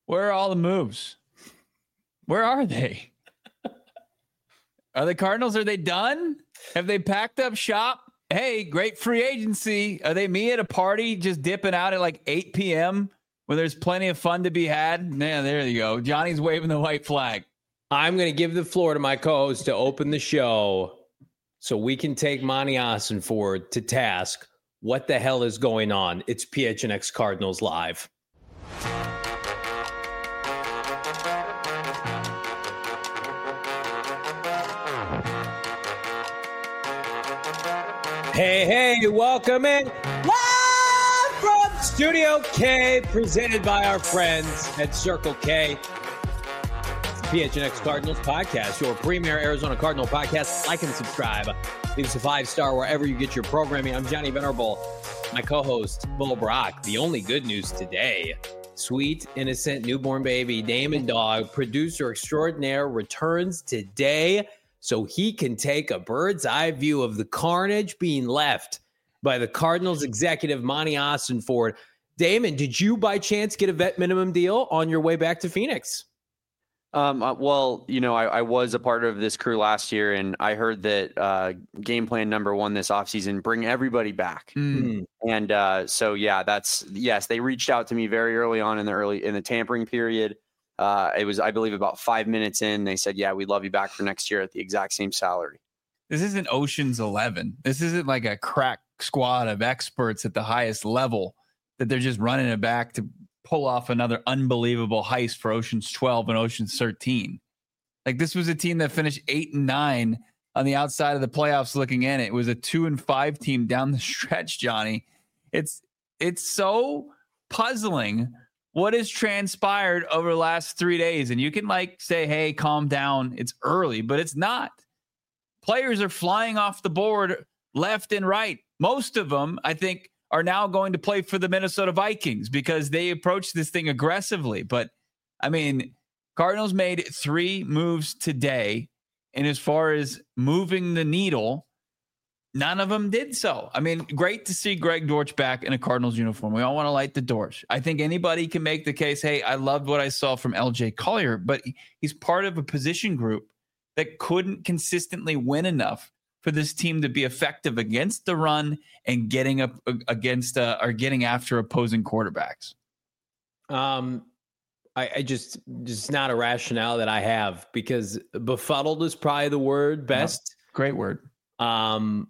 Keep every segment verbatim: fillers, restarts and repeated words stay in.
Where are all the moves? Where are they? Are the Cardinals, are they done? Have they packed up shop? Hey, great free agency. Are they me at a party just dipping out at like eight p.m. when there's plenty of fun to be had? Yeah, there you go. Johnny's waving the white flag. I'm going to give the floor to my co-host to open the show so we can take Monty Ossenfort to task. What the hell is going on? It's P H N X Cardinals Live. Hey, hey, welcome in. Live from Studio K, presented by our friends at Circle K. It's the P H N X Cardinals podcast, your premier Arizona Cardinal podcast. Like and subscribe. Leave us a five-star wherever you get your programming. I'm Johnny Venerable, my co-host, Bo Brock. The only good news today, sweet, innocent, newborn baby, Damon Dog, producer extraordinaire, returns today so he can take a bird's eye view of the carnage being left by the Cardinals executive, Monty Ossenfort. Damon, did you by chance get a vet minimum deal on your way back to Phoenix? Um, uh, well, you know, I, I was a part of this crew last year, and I heard that uh, game plan number one this offseason, bring everybody back. Mm. And uh, so, yeah, that's yes, they reached out to me very early on in the early in the tampering period. Uh, it was, I believe, about five minutes in. They said, yeah, we'd love you back for next year at the exact same salary. This isn't Ocean's eleven. This isn't like a crack squad of experts at the highest level that they're just running it back to pull off another unbelievable heist for Ocean's twelve and Ocean's thirteen. Like, this was a team that finished eight and nine on the outside of the playoffs looking in. It was a two and five team down the stretch, Johnny. It's, it's so puzzling what has transpired over the last three days. And you can like say, hey, calm down. It's early, but it's not. Players are flying off the board left and right. Most of them, I think, are now going to play for the Minnesota Vikings because they approach this thing aggressively. But I mean, Cardinals made three moves today. And as far as moving the needle, none of them did so. I mean, great to see Greg Dortch back in a Cardinals uniform. We all want to light the torch. I think anybody can make the case, hey, I loved what I saw from L J Collier, but he's part of a position group that couldn't consistently win enough for this team to be effective against the run and getting up against uh, or getting after opposing quarterbacks. Um, I, I just, just not a rationale that I have, because befuddled is probably the word best. No, great word. Um,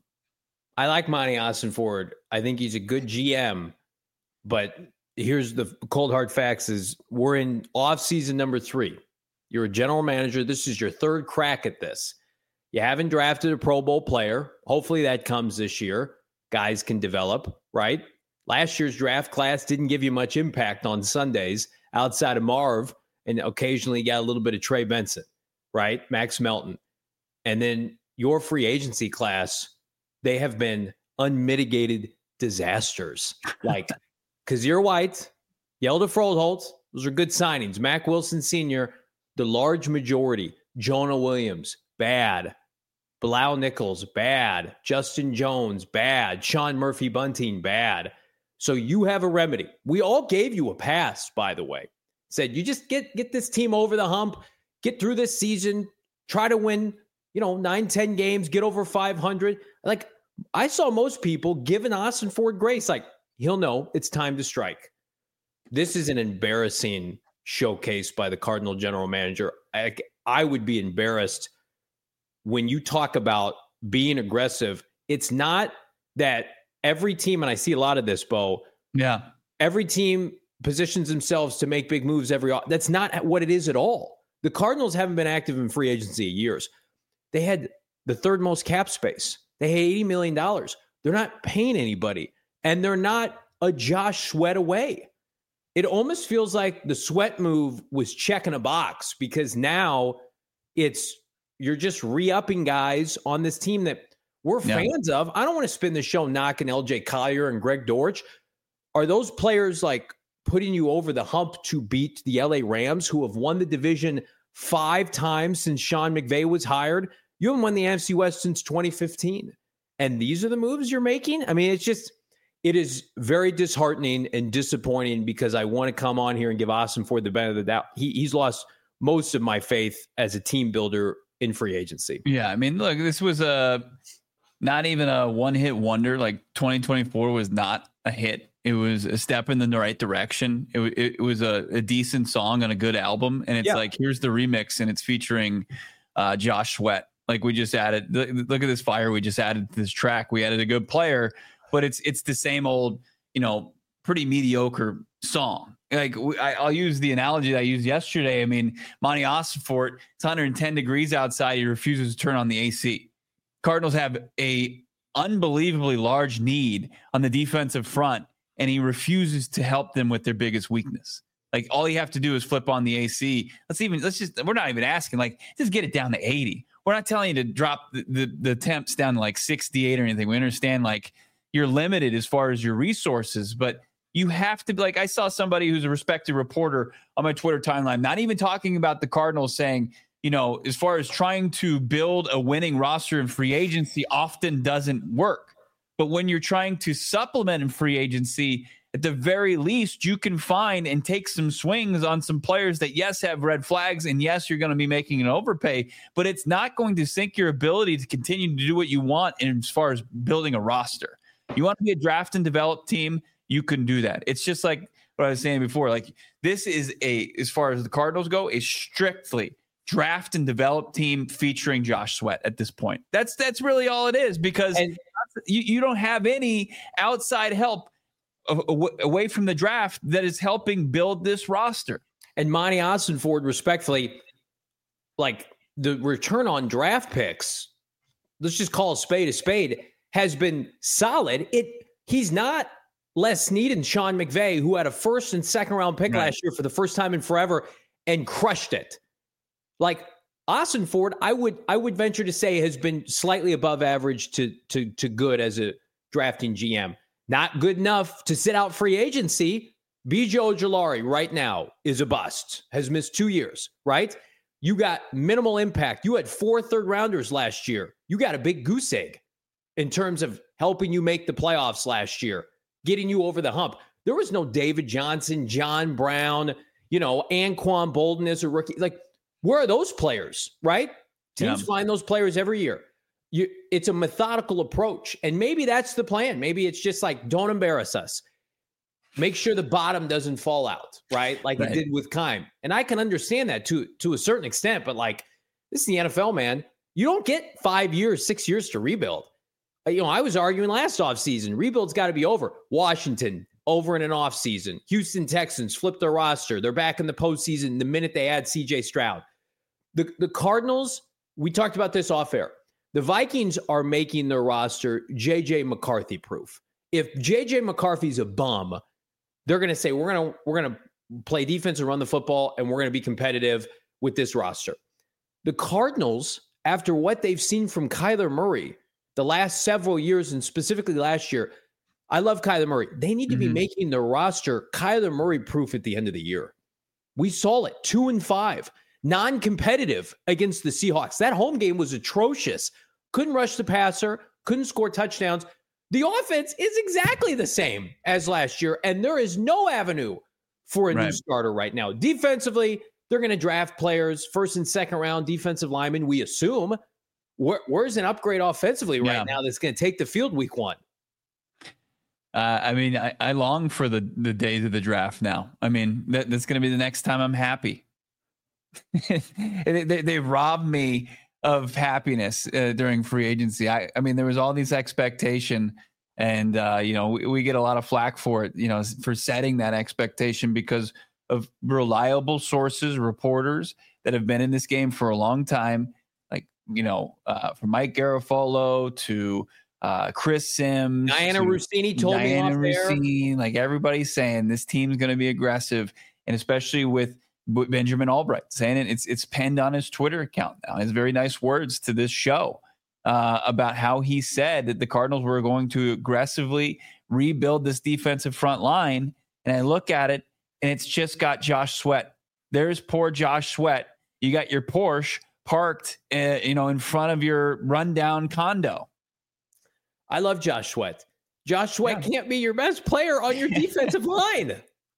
I like Monty Ossenfort. I think he's a good G M, but here's the cold hard facts is we're in off season number three. You're a general manager. This is your third crack at this. You haven't drafted a Pro Bowl player. Hopefully that comes this year. Guys can develop, right? Last year's draft class didn't give you much impact on Sundays outside of Marv, and occasionally you got a little bit of Trey Benson, right? Max Melton. And then your free agency class, they have been unmitigated disasters. Like Kazir White, Yelda Froholt, those are good signings. Mac Wilson Senior, the large majority. Jonah Williams, bad. Bilal Nichols, bad. Justin Jones, bad. Sean Murphy Bunting, bad. So you have a remedy. We all gave you a pass, by the way. Said you just get get this team over the hump, get through this season, try to win, you know, nine, ten games, get over five hundred. Like, I saw most people giving Ossenfort grace. Like, he'll know it's time to strike. This is an embarrassing showcase by the Cardinal general manager. I, I would be embarrassed when you talk about being aggressive. It's not that every team, and I see a lot of this, Bo. Yeah. Every team positions themselves to make big moves every. That's not what it is at all. The Cardinals haven't been active in free agency in years. They had the third most cap space. They had eighty million dollars. They're not paying anybody, and they're not a Josh Sweat away. It almost feels like the Sweat move was checking a box, because now it's you're just re-upping guys on this team that we're yeah. fans of. I don't want to spend the show knocking L J Collier and Greg Dortch. Are those players like putting you over the hump to beat the L A Rams, who have won the division five times since Sean McVay was hired? You haven't won the N F C West since twenty fifteen. And these are the moves you're making? I mean, it's just, it is very disheartening and disappointing because I want to come on here and give Austin Ford the benefit of the doubt. He, he's lost most of my faith as a team builder in free agency. Yeah, I mean, look, this was a not even a one-hit wonder. Like twenty twenty-four was not a hit. It was a step in the right direction. It, it, it was a, a decent song on a good album, and it's yeah. like, here's the remix, and it's featuring uh, Josh Sweat. Like we just added, look, look at this fire. We just added to this track. We added a good player, but it's it's the same old, you know, pretty mediocre song. Like I, I'll use the analogy that I used yesterday. I mean, Monty Ossenfort, it's one hundred ten degrees outside. He refuses to turn on the A C. Cardinals have a unbelievably large need on the defensive front, and he refuses to help them with their biggest weakness. Like all you have to do is flip on the A C. Let's even let's just we're not even asking, like, just get it down to eighty. We're not telling you to drop the, the, the temps down to like sixty-eight or anything. We understand like you're limited as far as your resources, but you have to be like, I saw somebody who's a respected reporter on my Twitter timeline, not even talking about the Cardinals, saying, you know, as far as trying to build a winning roster in free agency often doesn't work. But when you're trying to supplement in free agency, at the very least, you can find and take some swings on some players that, yes, have red flags. And yes, you're going to be making an overpay, but it's not going to sink your ability to continue to do what you want in, as far as building a roster. You want to be a draft and develop team, you can do that. It's just like what I was saying before. Like this is a, as far as the Cardinals go, a strictly draft and develop team featuring Josh Sweat at this point. That's that's really all it is, because and, you, you don't have any outside help away from the draft that is helping build this roster. And Monty Ossenfort, respectfully, like the return on draft picks, let's just call a spade a spade, has been solid. It he's not Les Snead and Sean McVay, who had a first and second round pick right. last year for the first time in forever and crushed it. Like Ossenfort, I would I would venture to say has been slightly above average to to to good as a drafting G M. Not good enough to sit out free agency. B J Ojulari right now is a bust, has missed two years, right? You got minimal impact. You had four third rounders last year. You got a big goose egg in terms of helping you make the playoffs last year, getting you over the hump. There was no David Johnson, John Brown, you know, Anquan Bolden as a rookie. Like, where are those players, right? Teams yeah. find those players every year. You, it's a methodical approach. And maybe that's the plan. Maybe it's just like, don't embarrass us. Make sure the bottom doesn't fall out, right? Like right. it did with Keim. And I can understand that to, to a certain extent, but like, this is the N F L, man. You don't get five years, six years to rebuild. You know, I was arguing last offseason, rebuild's got to be over. Washington, over in an offseason. Houston Texans flipped their roster. They're back in the postseason the minute they add C J Stroud. The, the Cardinals, we talked about this off air. The Vikings are making their roster J J McCarthy proof. If J J McCarthy's a bum, they're going to say, we're going to we're going to play defense and run the football, and we're going to be competitive with this roster. The Cardinals, after what they've seen from Kyler Murray the last several years, and specifically last year, I love Kyler Murray. They need to mm-hmm. be making the roster Kyler Murray proof at the end of the year. We saw it, two and five. Non-competitive against the Seahawks. That home game was atrocious. Couldn't rush the passer, couldn't score touchdowns. The offense is exactly the same as last year, and there is no avenue for a right. new starter right now. Defensively, they're going to draft players, first and second round defensive linemen, we assume. Where, where's an upgrade offensively right yeah. now that's going to take the field week one? Uh, I mean, I, I long for the, the days of the draft now. I mean, that, that's going to be the next time I'm happy. they, they, they robbed me of happiness uh, during free agency. I, I mean, there was all these expectation, and uh, you know, we, we get a lot of flack for it, you know, for setting that expectation because of reliable sources, reporters that have been in this game for a long time, like you know, uh, from Mike Garafolo to uh, Chris Sims, Diana Rossini told Diana me off Rossini, there. Like everybody's saying, this team's going to be aggressive, and especially with Benjamin Albright saying it, it's it's penned on his Twitter account now. His very nice words to this show uh, about how he said that the Cardinals were going to aggressively rebuild this defensive front line. And I look at it, and it's just got Josh Sweat. There's poor Josh Sweat. You got your Porsche parked, uh, you know, in front of your rundown condo. I love Josh Sweat. Josh Sweat yeah. can't be your best player on your defensive line.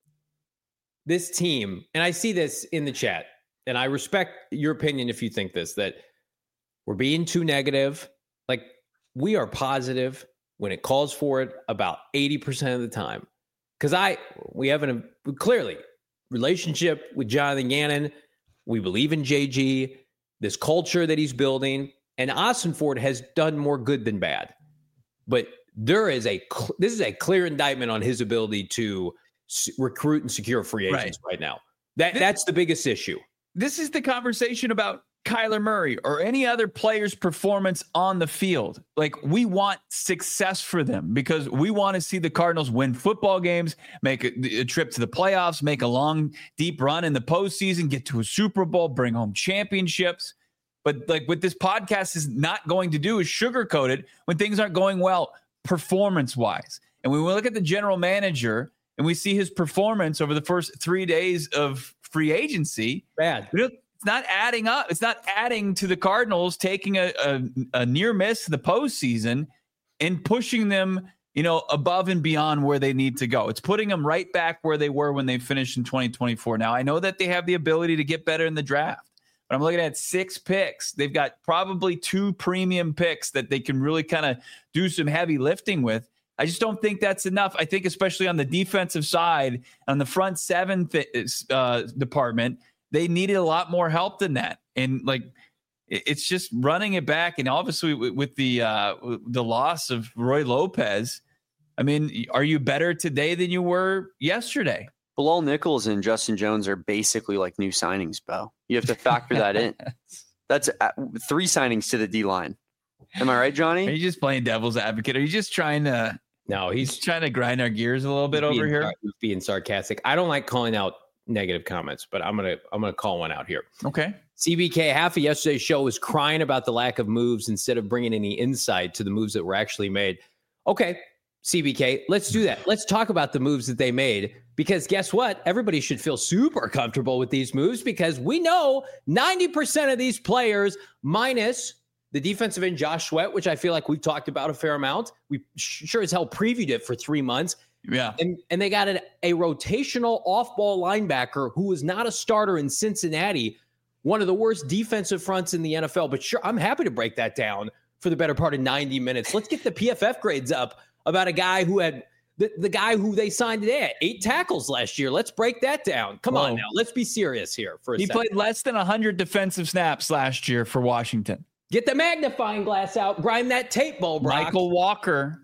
This team, and I see this in the chat, and I respect your opinion if you think this, that we're being too negative. Like, we are positive when it calls for it about eighty percent of the time. Because I, we have an, clearly, relationship with Jonathan Gannon. We believe in J G, this culture that he's building, and Ossenfort has done more good than bad. But there is a, this is a clear indictment on his ability to s- recruit and secure free agents right, right now. That That's the biggest issue. This is the conversation about Kyler Murray or any other player's performance on the field. Like, we want success for them because we want to see the Cardinals win football games, make a, a trip to the playoffs, make a long, deep run in the postseason, get to a Super Bowl, bring home championships. But like what this podcast is not going to do is sugarcoat it when things aren't going well performance-wise. And when we look at the general manager and we see his performance over the first three days of free agency, bad. It's not adding up. It's not adding to the Cardinals taking a, a, a near miss to the postseason and pushing them, you know, above and beyond where they need to go. It's putting them right back where they were when they finished in twenty twenty-four. Now, I know that they have the ability to get better in the draft, but I'm looking at six picks. They've got probably two premium picks that they can really kind of do some heavy lifting with. I just don't think that's enough. I think especially on the defensive side, on the front seven th- uh, department, they needed a lot more help than that. And like, it's just running it back. And obviously with, with the, uh, the loss of Roy Lopez, I mean, are you better today than you were yesterday? Bilal Nichols and Justin Jones are basically like new signings, Bo. You have to factor that in. That's three signings to the D line. Am I right, Johnny? Are you just playing devil's advocate? Are you just trying to, no, he's, he's trying to grind our gears a little bit over being, here? He's being sarcastic. I don't like calling out negative comments, but I'm gonna I'm gonna call one out here. Okay. C B K, half of yesterday's show was crying about the lack of moves instead of bringing any insight to the moves that were actually made. Okay, C B K, let's do that. Let's talk about the moves that they made, because guess what? Everybody should feel super comfortable with these moves because we know ninety percent of these players, minus the defensive end Josh Sweat, which I feel like we've talked about a fair amount. We sure as hell previewed it for three months. Yeah. And and they got an, a rotational off-ball linebacker who was not a starter in Cincinnati, one of the worst defensive fronts in the N F L. But sure, I'm happy to break that down for the better part of ninety minutes. Let's get the P F F grades up about a guy who had the, the guy who they signed today at eight tackles last year. Let's break that down. Come Whoa. on now. Let's be serious here for a he second. He played less than one hundred defensive snaps last year for Washington. Get the magnifying glass out. Grind that tape, Bo Brock. Michael Walker.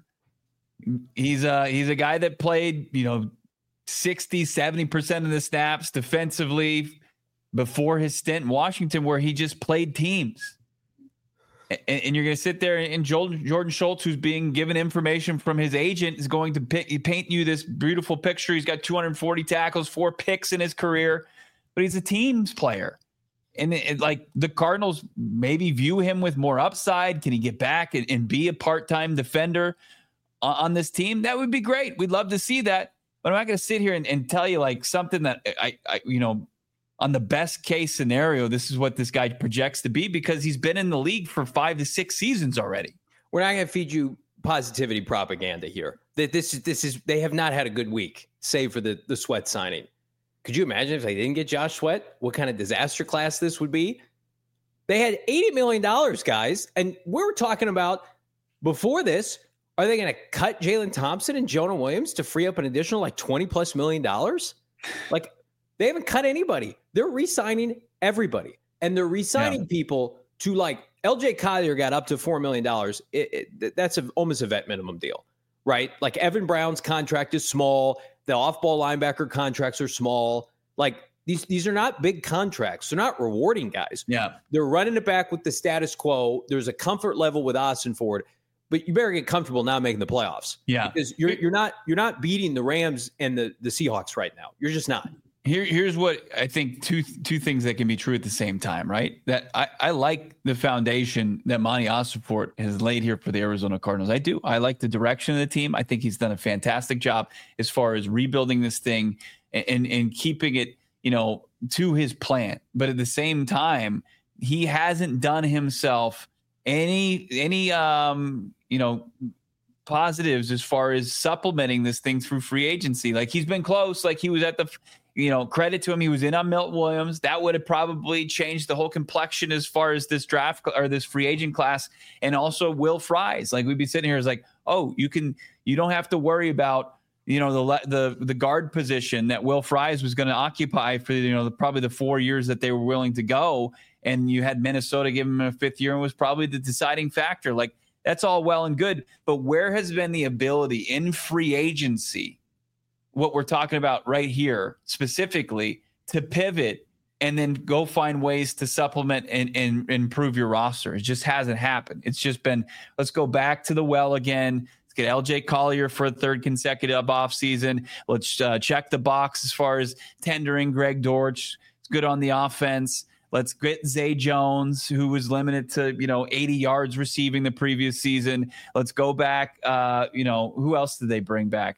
He's a, he's a guy that played, you know, sixty, seventy percent of the snaps defensively before his stint in Washington, where he just played teams. And, and you're going to sit there and Jordan, Jordan Schultz, who's being given information from his agent, is going to pick, paint you this beautiful picture. He's got two hundred forty tackles, four picks in his career, but he's a teams player. And it, it, like the Cardinals maybe view him with more upside. Can he get back and, and be a part-time defender on this team? That would be great. We'd love to see that, but I'm not going to sit here and, and tell you like something that I, I, you know, on the best case scenario, this is what this guy projects to be, because he's been in the league for five to six seasons already. We're not going to feed you positivity propaganda here. That this is, this is, they have not had a good week, save for the, the Sweat signing. Could you imagine if they didn't get Josh Sweat, what kind of disaster class this would be? They had eighty million dollars, guys. And we were talking about before this, are they going to cut Jalen Thompson and Jonah Williams to free up an additional like twenty plus million dollars? Like, they haven't cut anybody. They're re-signing everybody. And they're re-signing yeah. people to like L J Collier got up to four million dollars. It, it, that's a, almost a vet minimum deal, right? Like Evan Brown's contract is small. The off-ball linebacker contracts are small. Like these, these are not big contracts. They're not rewarding guys. Yeah. They're running it back with the status quo. There's a comfort level with Ossenfort. But you better get comfortable now making the playoffs. Yeah, because you're you're not you're not beating the Rams and the, the Seahawks right now. You're just not. Here, here's what I think two two things that can be true at the same time, right? That I, I like the foundation that Monty Ossenfort has laid here for the Arizona Cardinals. I do. I like the direction of the team. I think he's done a fantastic job as far as rebuilding this thing and and, and keeping it, you know, to his plan. But at the same time, he hasn't done himself any any um you know positives as far as supplementing this thing through free agency. Like he's been close. Like he was at the, you know, credit to him. He was in on Milton Williams. That would have probably changed the whole complexion as far as this draft or this free agent class. And also Will Fries. Like we'd be sitting here as like, oh, you can, you don't have to worry about, you know, the the the guard position that Will Fries was going to occupy for, you know, the, probably the four years that they were willing to go. And you had Minnesota give him a fifth year and was probably the deciding factor. Like that's all well and good. But where has been the ability in free agency, what we're talking about right here specifically, to pivot and then go find ways to supplement and, and improve your roster? It just hasn't happened. It's just been, let's go back to the well again. Get L J Collier for a third consecutive offseason. Let's uh, check the box as far as tendering Greg Dortch. It's good on the offense. Let's get Zay Jones, who was limited to, you know, eighty yards receiving the previous season. Let's go back. Uh, you know, who else did they bring back?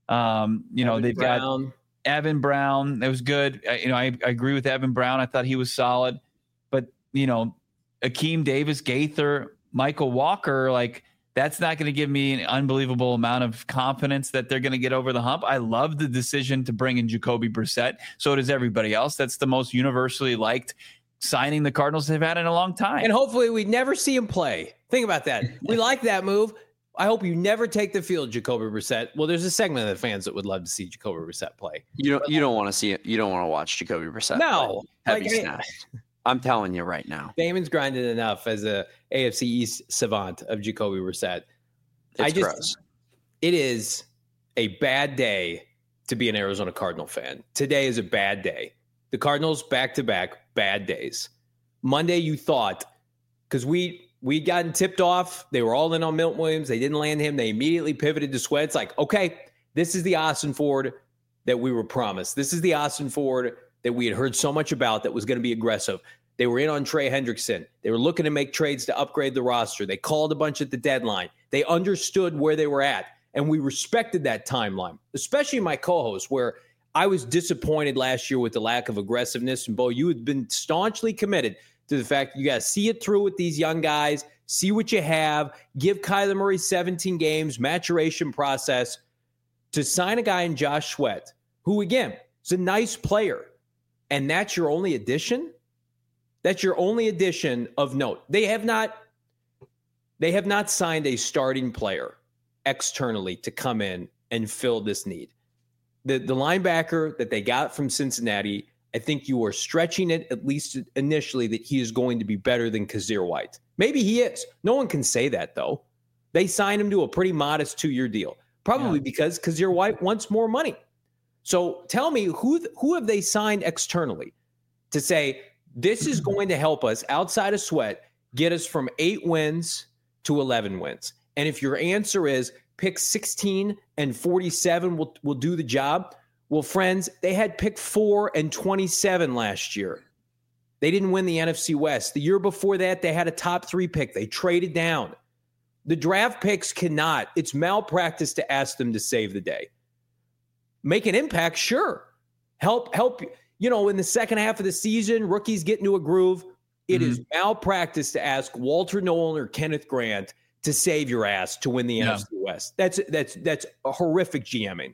Um, you know, Evan they've Brown. got Evan Brown. That was good. I, you know, I, I agree with Evan Brown. I thought he was solid. But, you know, Akeem Davis, Gaither, Michael Walker, like, that's not going to give me an unbelievable amount of confidence that they're going to get over the hump. I love the decision to bring in Jacoby Brissett. So does everybody else. That's the most universally liked signing the Cardinals have had in a long time. And hopefully we never see him play. Think about that. We like that move. I hope you never take the field, Jacoby Brissett. Well, there's a segment of the fans that would love to see Jacoby Brissett play. You don't. You don't want to see it. You don't want to watch Jacoby Brissett. No, play. Heavy like, snaps. I'm telling you right now. Damon's grinded enough as a A F C East savant of Jacoby Brissett. It's I just, gross. It is a bad day to be an Arizona Cardinal fan. Today is a bad day. The Cardinals back-to-back bad days. Monday, you thought, because we we'd gotten tipped off. They were all in on Milton Williams. They didn't land him. They immediately pivoted to Sweat. It's like, okay, this is the Austin Ford that we were promised. This is the Austin Ford that we had heard so much about that was going to be aggressive. They were in on Trey Hendrickson. They were looking to make trades to upgrade the roster. They called a bunch at the deadline. They understood where they were at, and we respected that timeline, especially my co-host, where I was disappointed last year with the lack of aggressiveness. And, Bo, you had been staunchly committed to the fact that you got to see it through with these young guys, see what you have, give Kyler Murray seventeen games, maturation process, to sign a guy in Josh Sweat, who, again, is a nice player, and that's your only addition? That's your only addition of note. They have not they have not signed a starting player externally to come in and fill this need. The the linebacker that they got from Cincinnati, I think you are stretching it, at least initially, that he is going to be better than Kazir White. Maybe he is. No one can say that, though. They signed him to a pretty modest two-year deal, probably yeah. because Kazir White wants more money. So tell me, who who have they signed externally to say, this is going to help us outside of Sweat, get us from eight wins to eleven wins. And if your answer is pick sixteen and forty-seven will, will do the job, well, friends, they had pick four and twenty-seven last year. They didn't win the N F C West. The year before that, they had a top three pick. They traded down. The draft picks cannot. It's malpractice to ask them to save the day. Make an impact, sure. Help, help. You know, in the second half of the season, rookies get into a groove. It mm-hmm. is malpractice to ask Walter Nolan or Kenneth Grant to save your ass to win the yeah. N F C West. That's that's that's a horrific GMing.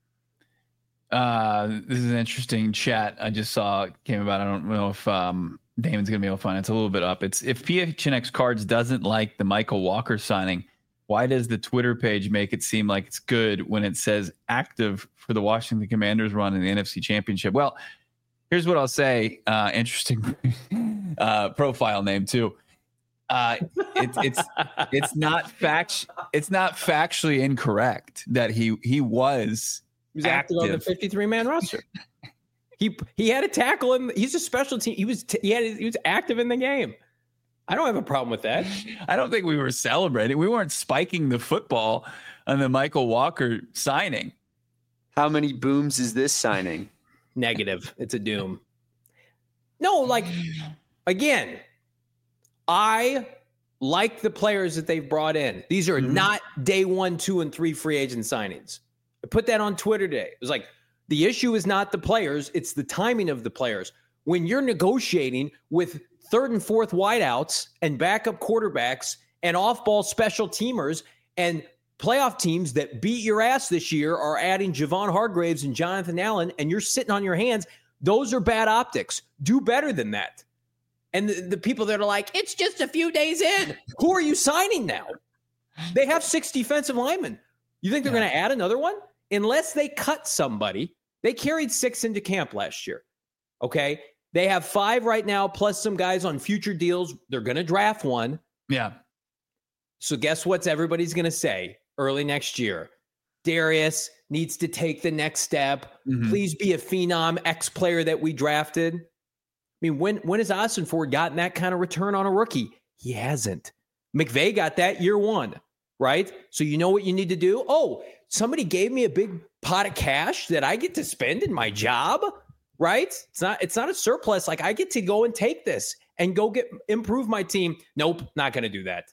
Uh, this is an interesting chat I just saw came about. I don't know if um, Damon's going to be able to find it. It's a little bit up. It's if P H N X Cards doesn't like the Michael Walker signing, why does the Twitter page make it seem like it's good when it says active for the Washington Commanders run in the N F C Championship? Well, here's what I'll say. Uh, interesting uh, profile name too. Uh, it, it's it's not fact it's not factually incorrect that he he was he was active on the fifty-three man roster. he he had a tackle and he's a special team. He was t- he had he was active in the game. I don't have a problem with that. I don't think we were celebrating. We weren't spiking the football on the Michael Walker signing. How many booms is this signing? Negative. It's a doom. No, like, again, I like the players that they've brought in. These are mm-hmm. not day one, two, and three free agent signings. I put that on Twitter today. It was like, the issue is not the players, it's the timing of the players. When you're negotiating with third and fourth wideouts and backup quarterbacks and off-ball special teamers and playoff teams that beat your ass this year are adding Javon Hargraves and Jonathan Allen, and you're sitting on your hands. Those are bad optics. Do better than that. And the, the people that are like, it's just a few days in. Who are you signing now? They have six defensive linemen. You think they're yeah. going to add another one? Unless they cut somebody. They carried six into camp last year. Okay? They have five right now, plus some guys on future deals. They're going to draft one. Yeah. So guess what everybody's going to say early next year? Darius needs to take the next step. Mm-hmm. Please be a phenom ex-player that we drafted. I mean, when when has Austin Ford gotten that kind of return on a rookie? He hasn't. McVay got that year one, right? So you know what you need to do? Oh, somebody gave me a big pot of cash that I get to spend in my job, right? It's not it's not a surplus. Like, I get to go and take this and go get improve my team. Nope, not going to do that.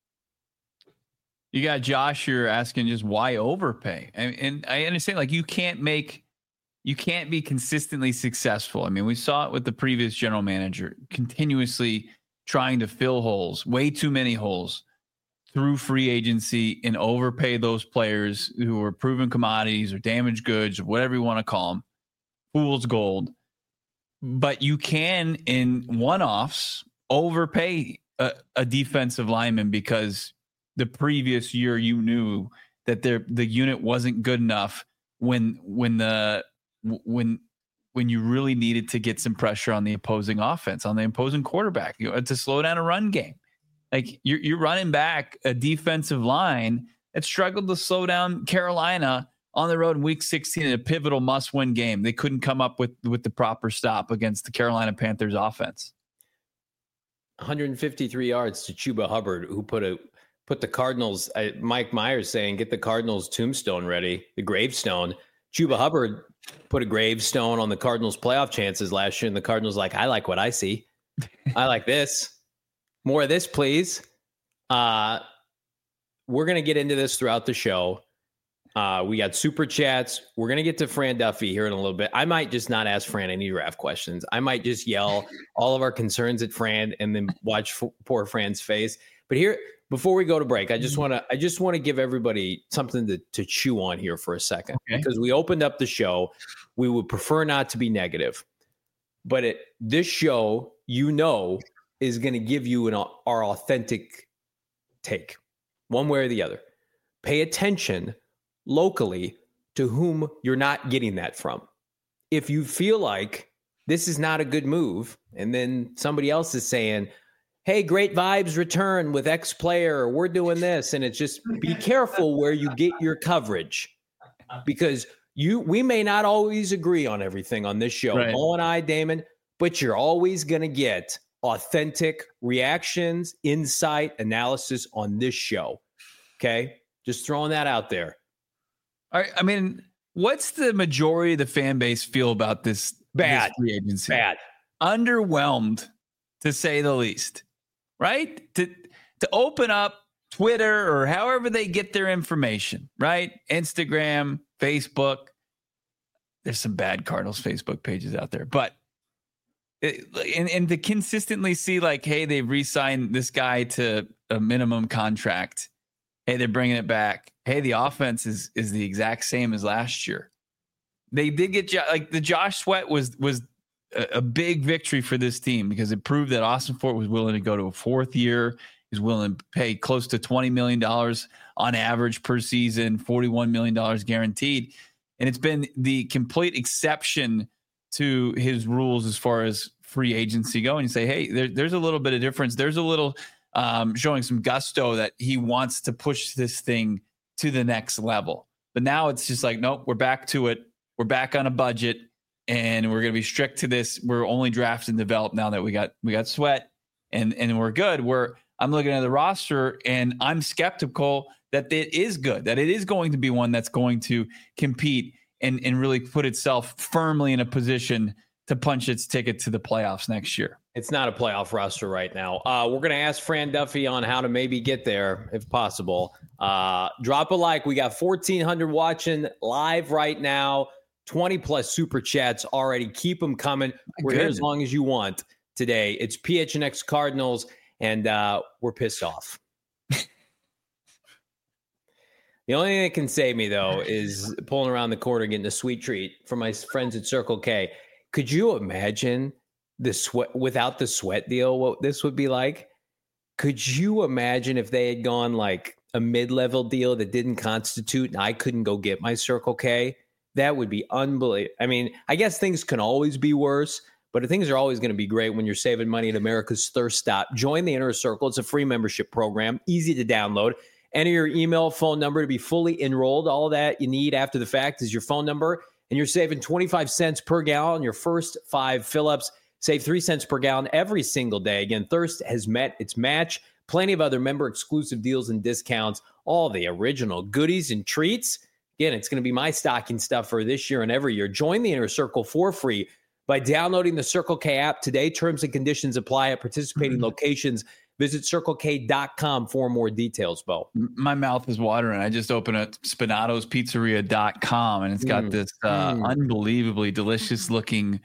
You got Josh, you're asking just why overpay. And, and I understand, like, you can't make, you can't be consistently successful. I mean, we saw it with the previous general manager, continuously trying to fill holes, way too many holes through free agency, and overpay those players who were proven commodities or damaged goods or whatever you want to call them, fool's gold. But you can, in one-offs, overpay a, a defensive lineman because the previous year you knew that there the unit wasn't good enough when when the when when you really needed to get some pressure on the opposing offense, on the opposing quarterback, you know, to slow down a run game. Like, you're you're running back a defensive line that struggled to slow down Carolina on the road in week sixteen in a pivotal must-win game. They couldn't come up with with the proper stop against the Carolina Panthers offense. one hundred fifty-three yards to Chuba Hubbard, who put a Put the Cardinals, uh, Mike Myers saying, get the Cardinals tombstone ready, the gravestone. Chuba Hubbard put a gravestone on the Cardinals playoff chances last year, and the Cardinals like, I like what I see. I like this. More of this, please. Uh, we're going to get into this throughout the show. Uh, we got super chats. We're going to get to Fran Duffy here in a little bit. I might just not ask Fran any draft questions. I might just yell all of our concerns at Fran and then watch f- poor Fran's face. But here, before we go to break, I just want to I just want to give everybody something to, to chew on here for a second, okay. Because we opened up the show. We would prefer not to be negative, but it, this show, you know, is going to give you an our authentic take, one way or the other. Pay attention locally to whom you're not getting that from. If you feel like this is not a good move, and then somebody else is saying, hey, great vibes return with X player, we're doing this. And it's just, be careful where you get your coverage, because you, we may not always agree on everything on this show, right. Mo and I, Damon, but you're always going to get authentic reactions, insight, analysis on this show. Okay. Just throwing that out there. All right. I mean, what's the majority of the fan base feel about this? Bad. This free agency? Bad. Underwhelmed, to say the least. Right? To to open up Twitter or however they get their information, right? Instagram, Facebook. There's some bad Cardinals Facebook pages out there, but it, and, and to consistently see like, hey, they've re-signed this guy to a minimum contract. Hey, they're bringing it back. Hey, the offense is is the exact same as last year. They did get like the Josh Sweat was was. a big victory for this team, because it proved that Austin Fort was willing to go to a fourth year. He's willing to pay close to twenty million dollars on average per season, forty-one million dollars guaranteed. And it's been the complete exception to his rules as far as free agency go. And you say, hey, there, there's a little bit of difference. There's a little um, showing some gusto that he wants to push this thing to the next level. But now it's just like, nope, we're back to it. We're back on a budget. And we're going to be strict to this. We're only draft and develop now that we got we got Sweat, and and we're good. We're I'm looking at the roster, and I'm skeptical that it is good, that it is going to be one that's going to compete and and really put itself firmly in a position to punch its ticket to the playoffs next year. It's not a playoff roster right now. Uh, we're going to ask Fran Duffy on how to maybe get there if possible. Uh, drop a like. We got fourteen hundred watching live right now. twenty plus super chats already. Keep them coming. We're here as long as you want today. It's P H N X Cardinals, and uh, we're pissed off. The only thing that can save me, though, is pulling around the corner, getting a sweet treat from my friends at Circle K. Could you imagine the sweat without the sweat deal? What this would be like? Could you imagine if they had gone like a mid-level deal that didn't constitute, and I couldn't go get my Circle K? That would be unbelievable. I mean, I guess things can always be worse, but things are always going to be great when you're saving money at America's Thirst Stop. Join the Inner Circle. It's a free membership program, easy to download. Enter your email, phone number to be fully enrolled. All that you need after the fact is your phone number, and you're saving twenty-five cents per gallon your first five fill-ups. Save three cents per gallon every single day. Again, Thirst has met its match. Plenty of other member-exclusive deals and discounts, all the original goodies and treats. Again, it's going to be my stocking stuff for this year and every year. Join the Inner Circle for free by downloading the Circle K app today. Terms and conditions apply at participating mm-hmm. locations. Visit circle k dot com for more details, Bo. My mouth is watering. I just opened up spinatos pizzeria dot com, and it's got mm. this uh, mm. unbelievably delicious looking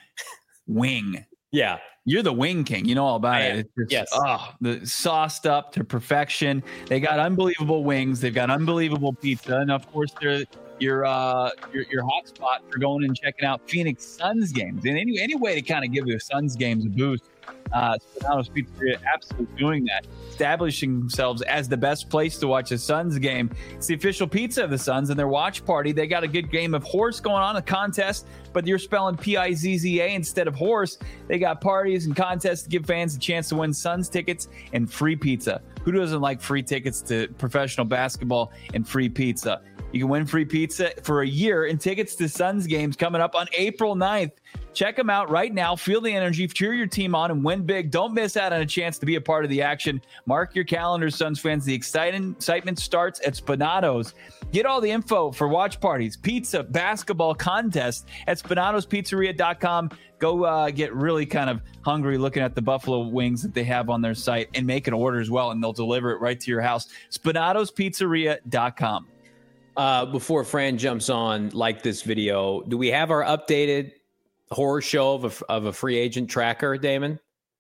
wing. Yeah. You're the wing king. You know all about I it. am. It's just, yes. Oh, the sauced up to perfection. They got unbelievable wings. They've got unbelievable pizza. And of course, they're your uh your your hot spot for going and checking out Phoenix Suns games. And any any way to kind of give the Suns games a boost. Uh, Spinatos Pizzeria absolutely doing that, establishing themselves as the best place to watch a Suns game. It's the official pizza of the Suns and their watch party. They got a good game of horse going on, a contest, but you're spelling P I Z Z A instead of horse. They got parties and contests to give fans a chance to win Suns tickets and free pizza. Who doesn't like free tickets to professional basketball and free pizza? You can win free pizza for a year and tickets to Suns games coming up on April ninth. Check them out right now. Feel the energy, cheer your team on, and win big. Don't miss out on a chance to be a part of the action. Mark your calendars, Suns fans. The exciting excitement starts at Spinatos. Get all the info for watch parties, pizza, basketball contests at spinatos pizzeria dot com. Go uh, get really kind of hungry looking at the buffalo wings that they have on their site and make an order as well, and they'll deliver it right to your house. spinatos pizzeria dot com. Uh, before Fran jumps on, like this video, do we have our updated horror show of a, of a free agent tracker, Damon?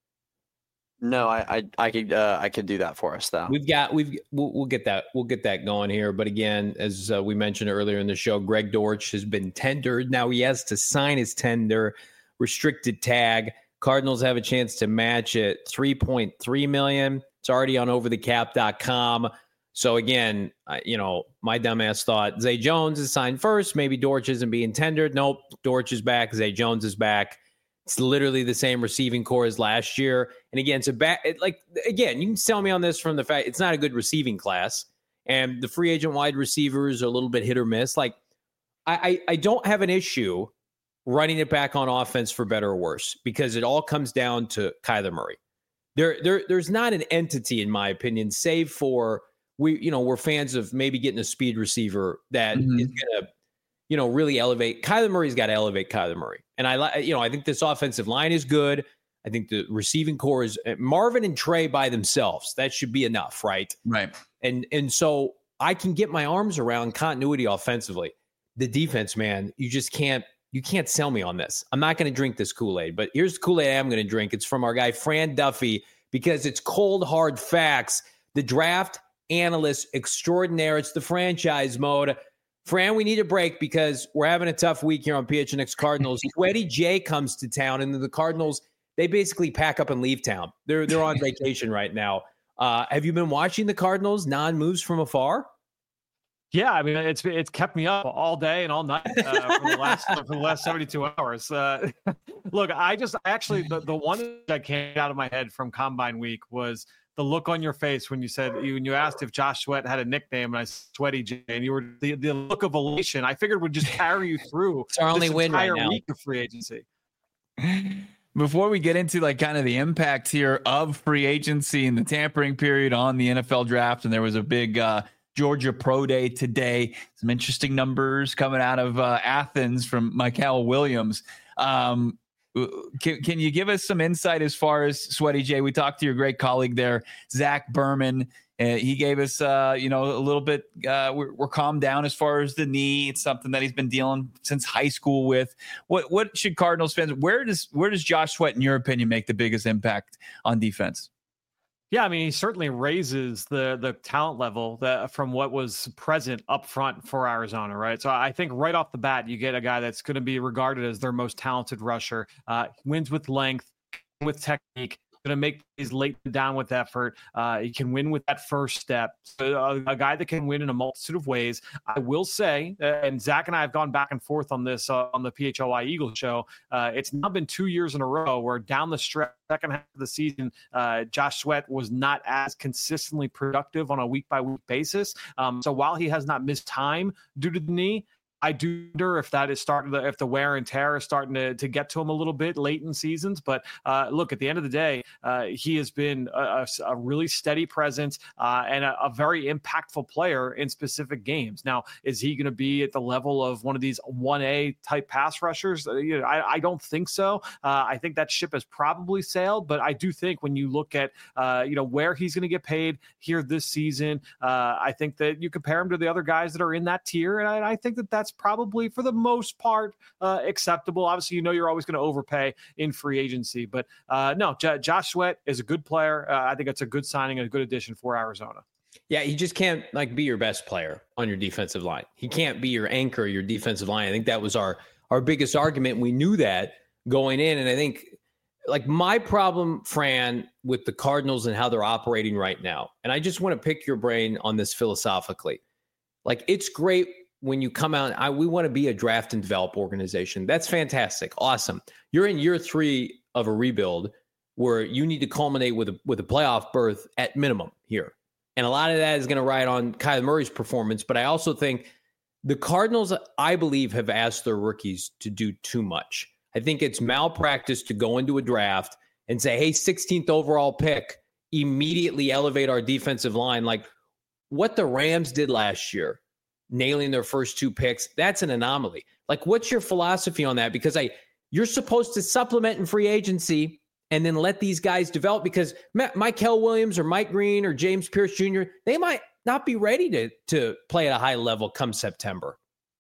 No, I I, I could uh, I could do that for us though. We've got we've we'll, we'll get that we'll get that going here. But again, as uh, we mentioned earlier in the show, Greg Dortch has been tendered. Now he has to sign his tender, restricted tag. Cardinals have a chance to match it, three point three million. It's already on over the cap dot com. So again, uh, you know, my dumbass thought Zay Jones is signed first. Maybe Dortch isn't being tendered. Nope, Dortch is back. Zay Jones is back. It's literally the same receiving core as last year. And again, it's a back. It, like again, you can sell me on this from the fact it's not a good receiving class, and the free agent wide receivers are a little bit hit or miss. Like I, I, I don't have an issue running it back on offense for better or worse because it all comes down to Kyler Murray. There, there, there's not an entity, in my opinion, save for. We, you know, we're fans of maybe getting a speed receiver that mm-hmm. is going to, you know, really elevate. Kyler Murray's got to elevate Kyler Murray. And I like, you know, I think this offensive line is good. I think the receiving core is Marvin and Trey by themselves. That should be enough, right? Right. And and so I can get my arms around continuity offensively. The defense, man, you just can't, you can't sell me on this. I'm not going to drink this Kool-Aid, but here's the Kool-Aid I am going to drink. It's from our guy, Fran Duffy, because it's cold, hard facts. The draft analyst extraordinaire. It's the franchise mode. Fran, we need a break because we're having a tough week here on P H N X Cardinals. Sweaty J comes to town, and the Cardinals, they basically pack up and leave town. They're they're on vacation right now. Uh, have you been watching the Cardinals non-moves from afar? Yeah, I mean it's it's kept me up all day and all night uh, for the last for the last seventy-two hours. Uh, look, I just actually the the one that came out of my head from Combine Week was the look on your face when you said when you asked if Josh Sweat had a nickname, and I said Sweaty J, and you were the, the look of elation. I figured would just carry you through it's our only this win entire right now. week of free agency. Before we get into like kind of the impact here of free agency and the tampering period on the N F L draft, and there was a big uh, Georgia Pro Day today. Some interesting numbers coming out of uh, Athens from Michael Williams. Um, Can, can you give us some insight as far as Sweaty J? We talked to your great colleague there, Zach Berman. Uh, he gave us, uh, you know, a little bit. Uh, we're, we're calmed down as far as the knee. It's something that he's been dealing since high school with. What what should Cardinals fans? Where does where does Josh Sweat, in your opinion, make the biggest impact on defense? Yeah, I mean, he certainly raises the the talent level that, from what was present up front for Arizona, right? So I think right off the bat, you get a guy that's going to be regarded as their most talented rusher, uh, wins with length, with technique, going to make these late down with effort. Uh, he can win with that first step. So a, a guy that can win in a multitude of ways. I will say, uh, and Zach and I have gone back and forth on this uh, on the P H L Y Eagles show. Uh, it's now been two years in a row where down the stretch, second half of the season, uh, Josh Sweat was not as consistently productive on a week by week basis. Um, so while he has not missed time due to the knee, I do wonder if that is starting to, if the wear and tear is starting to, to get to him a little bit late in seasons. But uh, look, at the end of the day, uh, he has been a, a really steady presence uh, and a, a very impactful player in specific games. Now, is he going to be at the level of one of these one A type pass rushers? Uh, you know, I, I don't think so. Uh, I think that ship has probably sailed. But I do think when you look at uh, you know where he's going to get paid here this season, uh, I think that you compare him to the other guys that are in that tier, and I, I think that that's probably for the most part uh, acceptable. Obviously, you know you're always going to overpay in free agency, but uh, no, J- Josh Sweat is a good player. Uh, I think it's a good signing and a good addition for Arizona. Yeah, he just can't like be your best player on your defensive line. He can't be your anchor, your defensive line. I think that was our our biggest argument. We knew that going in, and I think like my problem, Fran, with the Cardinals and how they're operating right now, and I just want to pick your brain on this philosophically. Like, it's great when you come out, I, we want to be a draft and develop organization. That's fantastic. Awesome. You're in year three of a rebuild where you need to culminate with a, with a playoff berth at minimum here. And a lot of that is going to ride on Kyler Murray's performance. But I also think the Cardinals, I believe, have asked their rookies to do too much. I think it's malpractice to go into a draft and say, hey, sixteenth overall pick, immediately elevate our defensive line. Like what the Rams did last year, nailing their first two picks, that's an anomaly. Like, what's your philosophy on that? Because I, you're supposed to supplement in free agency and then let these guys develop, because Mykel Williams or Mike Green or James Pierce Junior, they might not be ready to, to play at a high level come September.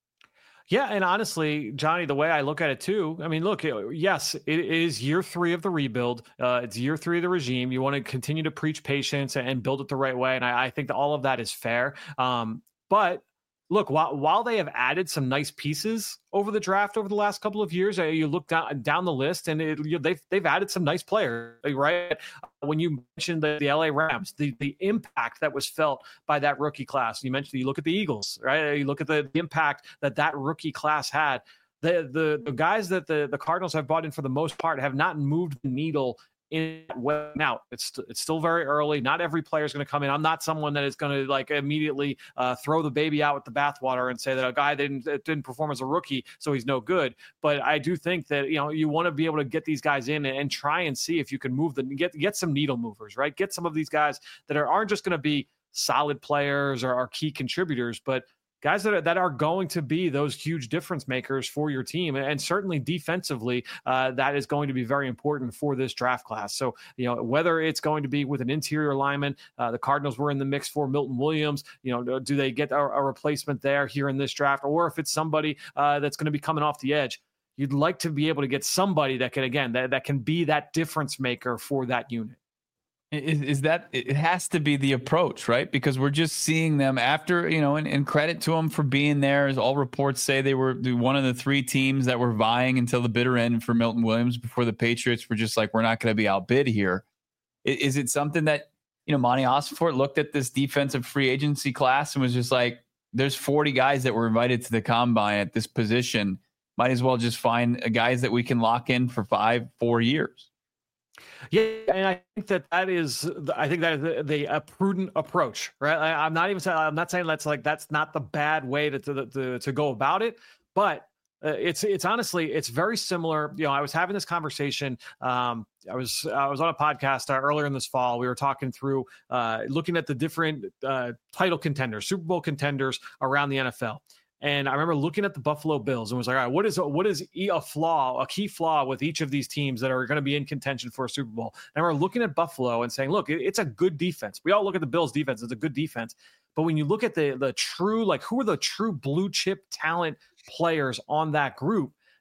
Yeah, and honestly, Johnny, the way I look at it too, I mean, look, yes, it is year three of the rebuild. Uh, it's year three of the regime. You want to continue to preach patience and build it the right way, and I, I think that all of that is fair. Um, but look, while while they have added some nice pieces over the draft over the last couple of years, uh, you look down down the list, and it, you know, they've they've added some nice players, right? When you mentioned the, the L A Rams, the the impact that was felt by that rookie class. You mentioned, you look at the Eagles, right? You look at the, the impact that that rookie class had. The the the guys that the the Cardinals have brought in for the most part have not moved the needle in that way. Now it's it's still very early. Not every player is going to come in. I'm not someone that is going to like immediately uh, throw the baby out with the bathwater and say that a guy didn't didn't perform as a rookie, so he's no good. But I do think that, you know, you want to be able to get these guys in and, and try and see if you can move them, get get some needle movers, right? Get some of these guys that are, aren't just going to be solid players or are key contributors, but guys that are, that are going to be those huge difference makers for your team. And certainly defensively, uh, that is going to be very important for this draft class. So, you know, whether it's going to be with an interior lineman, uh, the Cardinals were in the mix for Milton Williams, you know, do they get a, a replacement there here in this draft? Or if it's somebody uh, that's going to be coming off the edge, you'd like to be able to get somebody that can, again, that, that can be that difference maker for that unit. Is, is that it has to be the approach, right? Because we're just seeing them after, you know, and, and credit to them for being there. As all reports say, they were one of the three teams that were vying until the bitter end for Milton Williams before the Patriots were just like, we're not going to be outbid here. Is, is it something that, you know, Monty Ossenfort looked at this defensive free agency class and was just like, there's forty guys that were invited to the combine at this position. Might as well just find guys that we can lock in for five, four years. Yeah, and I think that that is, I think that is the, the a prudent approach, right? I, I'm not even saying, I'm not saying that's like, that's not the bad way to to to, to go about it, but uh, it's it's honestly, it's very similar. You know, I was having this conversation. Um, I was I was on a podcast uh, earlier in this fall. We were talking through uh, looking at the different uh, title contenders, Super Bowl contenders around the N F L. And I remember looking at the Buffalo Bills and was like, all right, what is what is a flaw, a key flaw with each of these teams that are going to be in contention for a Super Bowl? And I remember looking at Buffalo and saying, look, it's a good defense. We all look at the Bills defense. It's a good defense. But when you look at the the true, like who are the true blue chip talent players on that group,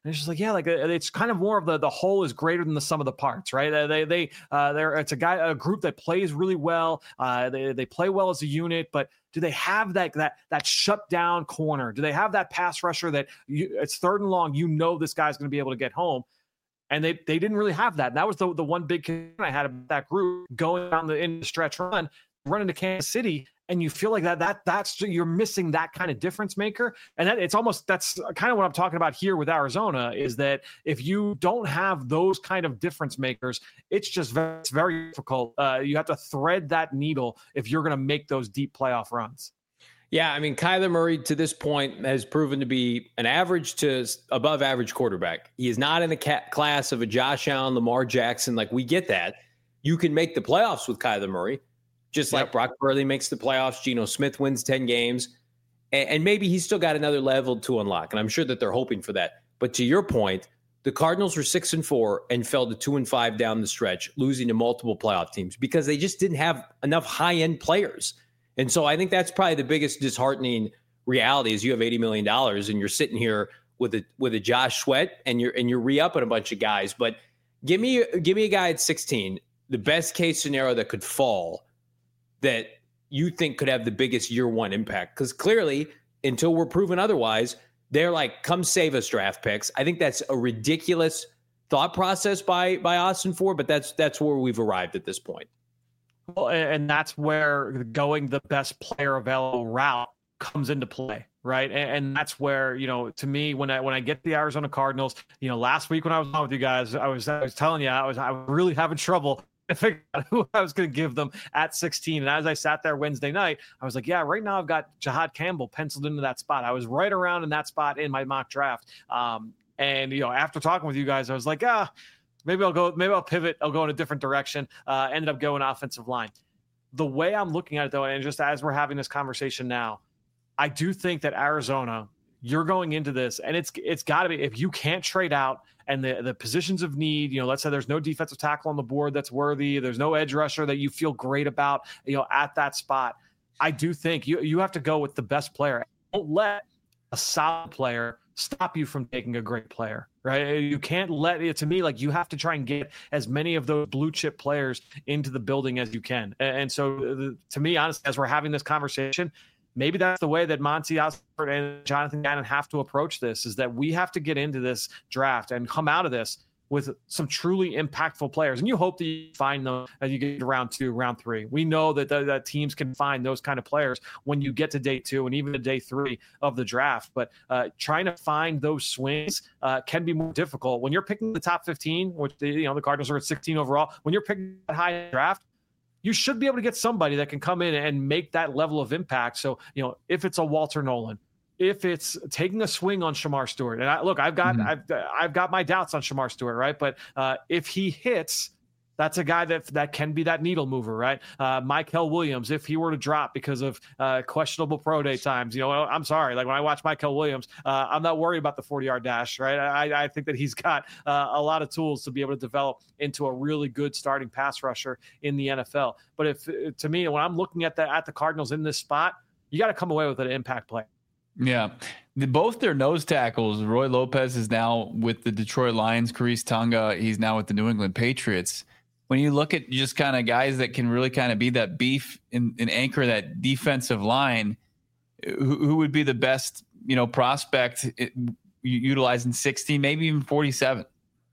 And it's just like, yeah, like it's kind of more of the the whole is greater than the sum of the parts, right? They they uh, they're it's a guy a group that plays really well. Uh, they they play well as a unit, but do they have that that that shut down corner? Do they have that pass rusher that you, it's third and long? You know this guy's going to be able to get home. And they they didn't really have that. And that was the, the one big concern I had about that group going down the in the stretch run, running to Kansas City, and you feel like that that that's you're missing that kind of difference maker. And that it's almost that's kind of what I'm talking about here with Arizona is that if you don't have those kind of difference makers, it's just very, it's very difficult. Uh, you have to thread that needle if you're going to make those deep playoff runs. Yeah, I mean, Kyler Murray to this point has proven to be an average to above average quarterback. He is not in the ca- class of a Josh Allen, Lamar Jackson. Like, we get that. You can make the playoffs with Kyler Murray, just like Yep. Brock Purdy makes the playoffs. Geno Smith wins ten games. And, and maybe he's still got another level to unlock. And I'm sure that they're hoping for that. But to your point, the Cardinals were six and four and fell to two and five down the stretch, losing to multiple playoff teams because they just didn't have enough high-end players. And so I think that's probably the biggest disheartening reality is you have eighty million dollars and you're sitting here with a with a Josh Sweat and you're and you're re-upping a bunch of guys. But give me give me a guy at sixteen, the best case scenario that could fall that you think could have the biggest year one impact. Because clearly, until we're proven otherwise, they're like, come save us draft picks. I think that's a ridiculous thought process by by Austin Ford, but that's that's where we've arrived at this point. Well, and that's where going the best player available route comes into play, right? And that's where, you know, to me, when I when I get the Arizona Cardinals, you know, last week when I was on with you guys, I was I was telling you I was I was really having trouble to figure out who I was going to give them at sixteen. And as I sat there Wednesday night, I was like, yeah, right now I've got Jihad Campbell penciled into that spot. I was right around in that spot in my mock draft. Um, and you know, after talking with you guys, I was like, ah. Maybe I'll go, maybe I'll pivot. I'll go in a different direction. Uh, ended up going offensive line. The way I'm looking at it though, and just as we're having this conversation now, I do think that Arizona, you're going into this and it's, it's gotta be, if you can't trade out and the, the positions of need, you know, let's say there's no defensive tackle on the board that's worthy. There's no edge rusher that you feel great about, you know, at that spot. I do think you, you have to go with the best player. Don't let a solid player stop you from taking a great player, right? You can't let it, to me, like you have to try and get as many of those blue chip players into the building as you can. And so to me, honestly, as we're having this conversation, maybe that's the way that Monty Osborne and Jonathan Gannon have to approach this, is that we have to get into this draft and come out of this with some truly impactful players. And you hope that you find them as you get to round two, round three. We know that, the, that teams can find those kind of players when you get to day two and even to day three of the draft. But uh, trying to find those swings uh, can be more difficult. When you're picking the top fifteen, which the, you know, the Cardinals are at sixteen overall, when you're picking that high draft, you should be able to get somebody that can come in and make that level of impact. So, you know, if it's a Walter Nolan, if it's taking a swing on Shamar Stewart, and I, look, I've got mm-hmm. I've I've got my doubts on Shamar Stewart, right? But uh, if he hits, that's a guy that that can be that needle mover, right? Uh, Mykel Williams, if he were to drop because of uh, questionable pro day times, you know, I'm sorry. Like when I watch Mykel Williams, uh, I'm not worried about the forty-yard dash, right? I, I think that he's got uh, a lot of tools to be able to develop into a really good starting pass rusher in the N F L. But if to me, when I'm looking at the at the Cardinals in this spot, you got to come away with an impact play. Yeah. The, both their nose tackles, Roy Lopez is now with the Detroit Lions, Khyiris Tonga, he's now with the New England Patriots. When you look at just kind of guys that can really kind of be that beef and, and anchor that defensive line, who, who would be the best, you know, prospect it, utilizing sixty, maybe even forty-seven?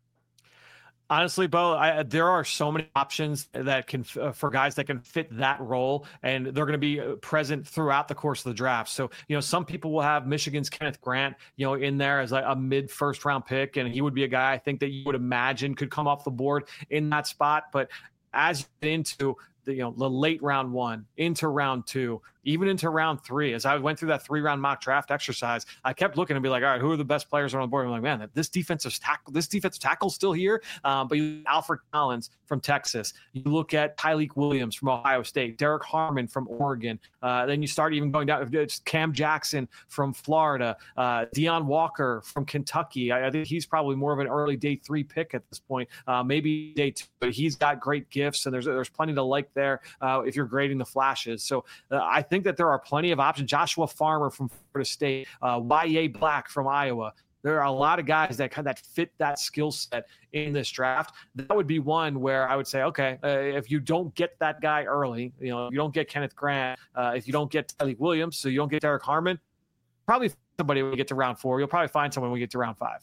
Honestly, Bo, I, there are so many options that can uh, for guys that can fit that role, and they're going to be present throughout the course of the draft. So, you know, some people will have Michigan's Kenneth Grant, you know, in there as a, a mid first round pick, and he would be a guy I think that you would imagine could come off the board in that spot. But as you get into the, you know, the late round one, into round two, even into round three, as I went through that three round mock draft exercise, I kept looking and be like, all right, who are the best players on the board? I'm like, man, this defensive tackle, this defensive tackle's still here. Um, but you Alfred Collins from Texas, you look at Tyleik Williams from Ohio State, Derek Harmon from Oregon. Uh, then you start even going down, it's Cam Jackson from Florida, uh, Deion Walker from Kentucky. I, I think he's probably more of an early day three pick at this point, uh, maybe day two, but he's got great gifts and there's, there's plenty to like there uh, if you're grading the flashes. So uh, I think that there are plenty of options. Joshua Farmer from Florida State, uh, Y A Black from Iowa. There are a lot of guys that kind of that fit that skill set in this draft. That would be one where I would say, okay, uh, if you don't get that guy early, you know, you don't get Kenneth Grant, uh, if you don't get Tyleik Williams, so you don't get Derek Harmon, probably somebody when you get to round four. You'll probably find someone when we get to round five.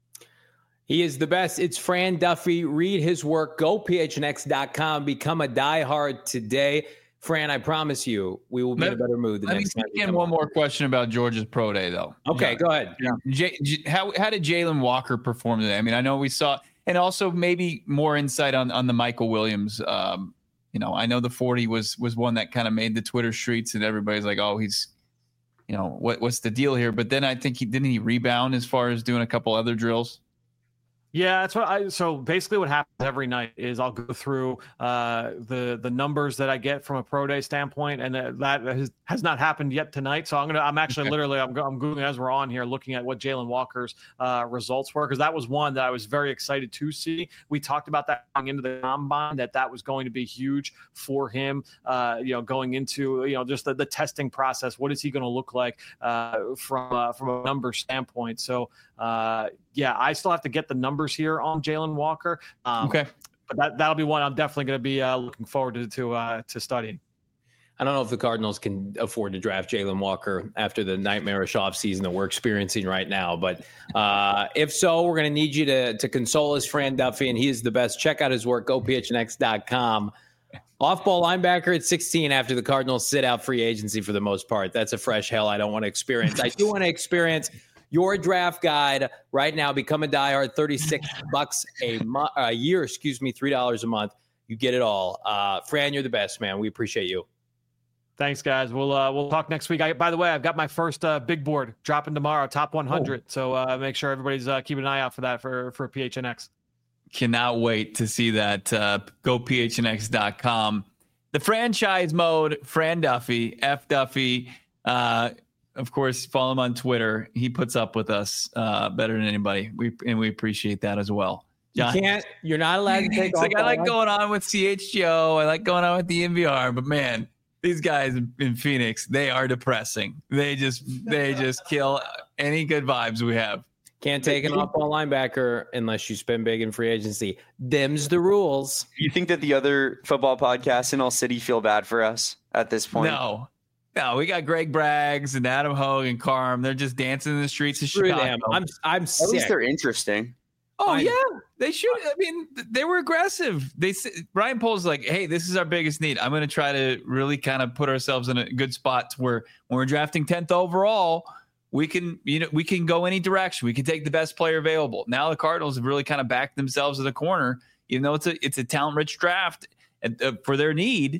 He is the best. It's Fran Duffy. Read his work. Go P H N X dot com. Become a diehard today. Fran, I promise you, we will be let, in a better mood the let next time. Let me one on. more question about Georgia's pro day, though. Okay, yeah. go ahead. Yeah. J- J- how how did Jalen Walker perform today? I mean, I know we saw, and also maybe more insight on on the Michael Williams. Um, you know, I know the forty was was one that kind of made the Twitter streets, and everybody's like, oh, he's, you know, what what's the deal here? But then I think he didn't he rebound as far as doing a couple other drills. Yeah, that's what I. So basically, what happens every night is I'll go through uh, the the numbers that I get from a pro day standpoint, and that, that has, has not happened yet tonight. So I'm gonna, I'm actually okay. literally, I'm, I'm googling as we're on here, looking at what Jalen Walker's uh, results were, because that was one that I was very excited to see. We talked about that going into the combine, that that was going to be huge for him. Uh, you know, going into you know just the, the testing process. What is he going to look like uh, from uh, from a number standpoint? So. Uh, yeah, I still have to get the numbers here on Jalen Walker. Um, okay, but that that'll be one I'm definitely going to be uh, looking forward to to, uh, to studying. I don't know if the Cardinals can afford to draft Jalen Walker after the nightmarish offseason that we're experiencing right now. But uh, if so, we're going to need you to to console us, Fran Duffy, and he is the best. Check out his work. Go P H N X dot com. Off-ball linebacker at sixteen after the Cardinals sit out free agency for the most part. That's a fresh hell I don't want to experience. I do want to experience your draft guide right now. Become a diehard. thirty-six bucks a month, a year, excuse me, three dollars a month. You get it all. Uh, Fran, you're the best, man. We appreciate you. Thanks, guys. We'll uh, we'll talk next week. I, by the way, I've got my first uh, big board dropping tomorrow, top one hundred. Oh. So uh, make sure everybody's uh, keeping an eye out for that for for P H N X. Cannot wait to see that. Uh, go P H N X dot com. The franchise mode. Fran Duffy, F Duffy. Uh, Of course, follow him on Twitter. He puts up with us uh, better than anybody. We and we appreciate that as well. John, you can't. You're not allowed to take. It's like I like going on with C H G O. I like going on with the N V R. But man, these guys in Phoenix, they are depressing. They just they just kill any good vibes we have. Can't take an off-ball linebacker unless you spend big in free agency. Them's the rules. You think that the other football podcasts in all city feel bad for us at this point? No. No, we got Greg Braggs and Adam Hogue and Carm. They're just dancing in the streets of Screw Chicago. Them. I'm I'm sick. At least they're interesting. Oh I'm, yeah, they should. I mean, they were aggressive. They Ryan Poles like, hey, this is our biggest need. I'm going to try to really kind of put ourselves in a good spot to where when we're drafting tenth overall, we can you know we can go any direction. We can take the best player available. Now the Cardinals have really kind of backed themselves in the corner, even though it's a it's a talent rich draft and, uh, for their need.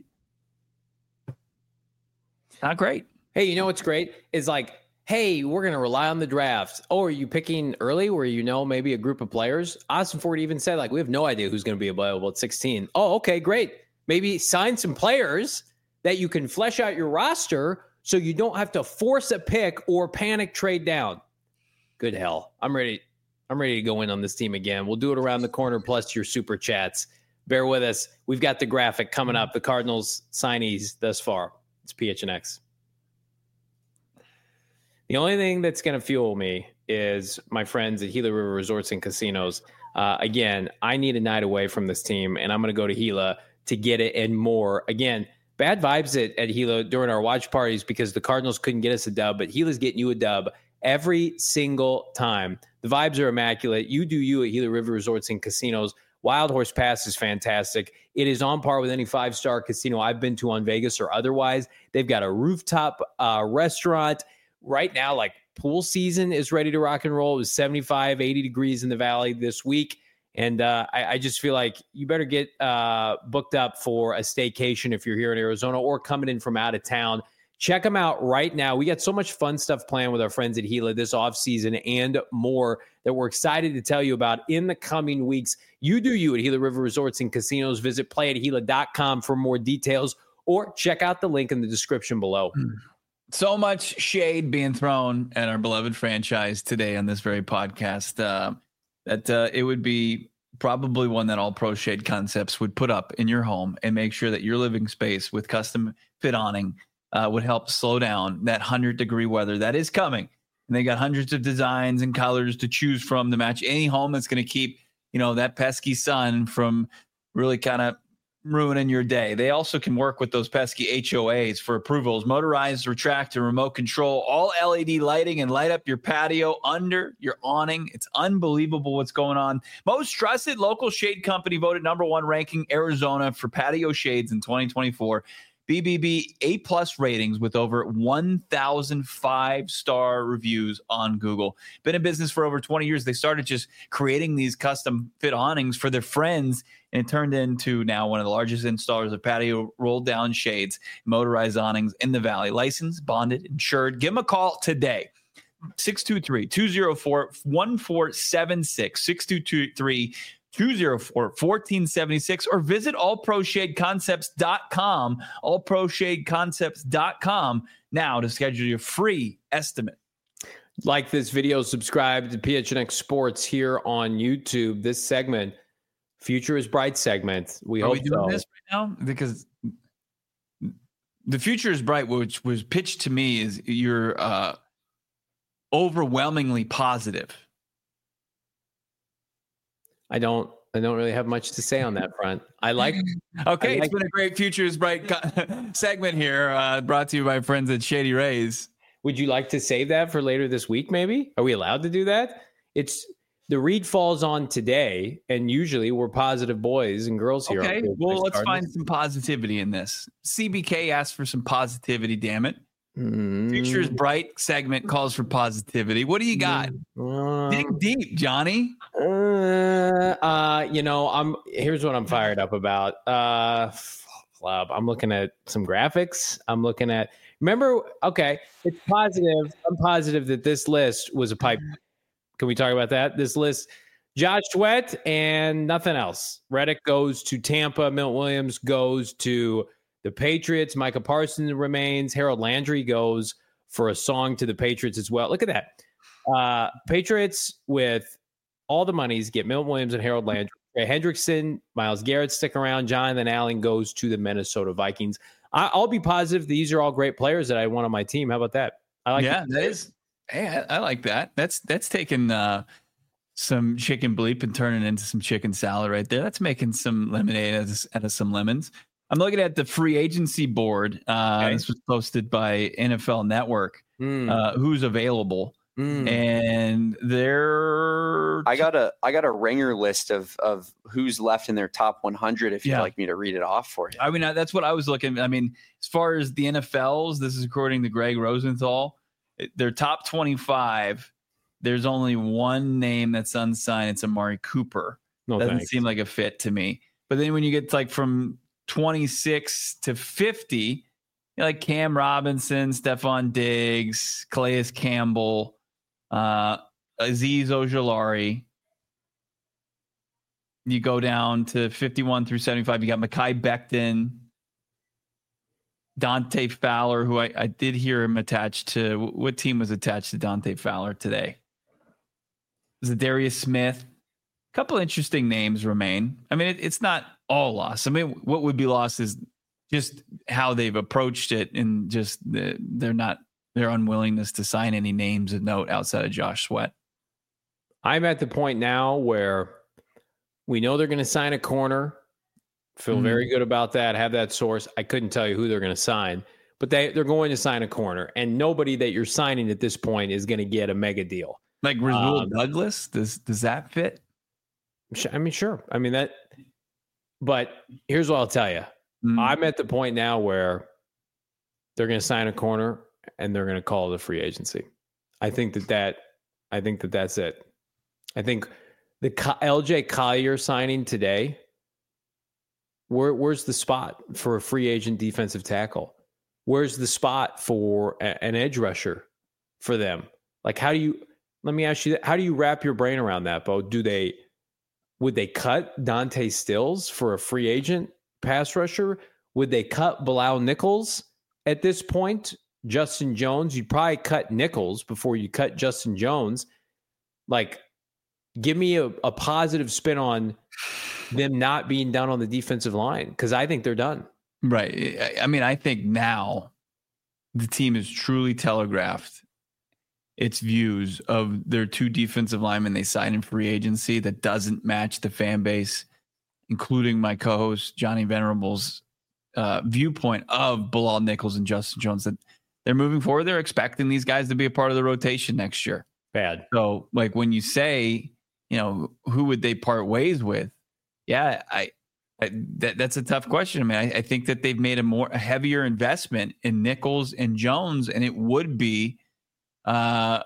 Not great. Hey, you know what's great is like, hey, we're going to rely on the draft. Oh, are you picking early where you know maybe a group of players? Austin Ford even said, like, we have no idea who's going to be available at sixteen. Oh, okay, great. Maybe sign some players that you can flesh out your roster so you don't have to force a pick or panic trade down. Good hell. I'm ready. I'm ready to go in on this team again. We'll do it around the corner plus your super chats. Bear with us. We've got the graphic coming up. The Cardinals signees thus far. It's P H N X. The only thing that's going to fuel me is my friends at Gila River Resorts and Casinos. Uh, again, I need a night away from this team, and I'm going to go to Gila to get it and more. Again, bad vibes at, at Gila during our watch parties because the Cardinals couldn't get us a dub, but Gila's getting you a dub every single time. The vibes are immaculate. You do you at Gila River Resorts and Casinos. Wild Horse Pass is fantastic. It is on par with any five-star casino I've been to on Vegas or otherwise. They've got a rooftop uh, restaurant. Right now, like pool season is ready to rock and roll. It was seventy-five, eighty degrees in the valley this week. And uh, I, I just feel like you better get uh, booked up for a staycation if you're here in Arizona or coming in from out of town. Check them out right now. We got so much fun stuff planned with our friends at Gila this offseason and more that we're excited to tell you about in the coming weeks. You do you at Gila River Resorts and Casinos. Visit play at gila dot com for more details or check out the link in the description below. So much shade being thrown at our beloved franchise today on this very podcast uh, that uh, it would be probably one that All Pro Shade Concepts would put up in your home and make sure that your living space with custom fit awning uh, would help slow down that one hundred degree weather that is coming and they got hundreds of designs and colors to choose from to match any home that's going to keep, you know, that pesky sun from really kind of ruining your day. They also can work with those pesky H O As for approvals, motorized, retract, and remote control, all L E D lighting, and light up your patio under your awning. It's unbelievable what's going on. Most trusted local shade company voted number one ranking Arizona for patio shades in twenty twenty-four. B B B A plus ratings with over one thousand five-star reviews on Google. Been in business for over twenty years. They started just creating these custom fit awnings for their friends, and it turned into now one of the largest installers of patio roll-down shades, motorized awnings in the Valley. Licensed, bonded, insured. Give them a call today. six two three, two oh four, one four seven six, six two two three, two oh four, one four seven six, or visit all pro shade concepts dot com, all pro shade concepts dot com now to schedule your free estimate. Like this video, subscribe to P H N X Sports here on YouTube. This segment, Future is Bright segment. We Are hope we doing so. this right now? Because the Future is Bright, which was pitched to me, is you're uh, overwhelmingly positive. I don't I don't really have much to say on that front. I like Okay, I like, it's been a great Future is Bright co- segment here, uh, brought to you by friends at Shady Rays. Would you like to save that for later this week, maybe? Are we allowed to do that? It's the read falls on today, and usually we're positive boys and girls here. Okay, on well, let's Cardinals. find some positivity in this. C B K asked for some positivity, damn it. Mm. Future is Bright segment calls for positivity. What do you got? Uh, Dig deep, Johnny. uh, uh, you know, I'm here's what I'm fired up about. Uh, club. I'm looking at some graphics. I'm looking at. Remember, okay, it's positive. I'm positive that this list was a pipe. Can we talk about that? This list, Josh Sweat and nothing else. Reddick goes to Tampa. Milton Williams goes to the Patriots. Micah Parsons remains. Harold Landry goes for a song to the Patriots as well. Look at that. Uh, Patriots with all the monies get Milton Williams and Harold Landry. Trey Hendrickson, Myles Garrett stick around. Jonathan Allen goes to the Minnesota Vikings. I, I'll be positive these are all great players that I want on my team. How about that? I like Yeah, that is. Hey, I, I like that. That's that's taking uh, some chicken bleep and turning it into some chicken salad right there. That's making some lemonade out of, out of some lemons. I'm looking at the free agency board. Uh, Okay. This was posted by N F L Network. Mm, Uh, who's available? mm. And they're I got a I got a ringer list of of who's left in their top one hundred. If you'd Yeah. like me to read it off for you. I mean, I- that's what I was looking. I mean, as far as the N F Ls, this is according to Greg Rosenthal. it- Their top twenty-five. There's only one name that's unsigned. It's Amari Cooper. no, Doesn't thanks. seem like a fit to me. But then when you get to like from twenty-six to fifty, you know, like Cam Robinson, Stephon Diggs, Calais Campbell, uh, Azeez Ojulari. You go down to fifty-one through seventy-five. You got Mekhi Becton, Dante Fowler, who I, I did hear him attached to. What team was attached to Dante Fowler today? Was it Darius Smith? A couple interesting names remain. I mean, it, it's not all lost. I mean, what would be lost is just how they've approached it, and just the, they're not their unwillingness to sign any names of note outside of Josh Sweat. I'm at the point now where we know they're going to sign a corner. Feel Mhm. very good about that. Have that source. I couldn't tell you who they're going to sign, but they, they're going to sign a corner. And nobody that you're signing at this point is going to get a mega deal. Like Rasul Um, Douglas, does does that fit? Sh- I mean, sure. I mean, that. But here's what I'll tell you. Mm. I'm at the point now where they're going to sign a corner and they're going to call it a free agency. I think that that I think that that's it. I think the Co- L J Collier signing today. Where where's the spot for a free agent defensive tackle? Where's the spot for a, an edge rusher for them? Like, how do you? Let me ask you that. How do you wrap your brain around that, Bo? Do they? Would they cut Dante Stills for a free agent pass rusher? Would they cut Bilal Nichols at this point? Justin Jones? You'd probably cut Nichols before you cut Justin Jones. Like, give me a, a positive spin on them not being done on the defensive line, because I think they're done. Right. I- I mean, I think now the team is truly telegraphed. its views of their two defensive linemen they signed in free agency that doesn't match the fan base, including my co-host Johnny Venerable's uh, viewpoint of Bilal Nichols and Justin Jones, that they're moving forward. They're expecting these guys to be a part of the rotation next year. Bad. So, like, when you say, you know, who would they part ways with? Yeah, I, I that that's a tough question. I mean, I, I think that they've made a more a heavier investment in Nichols and Jones, and it would be uh,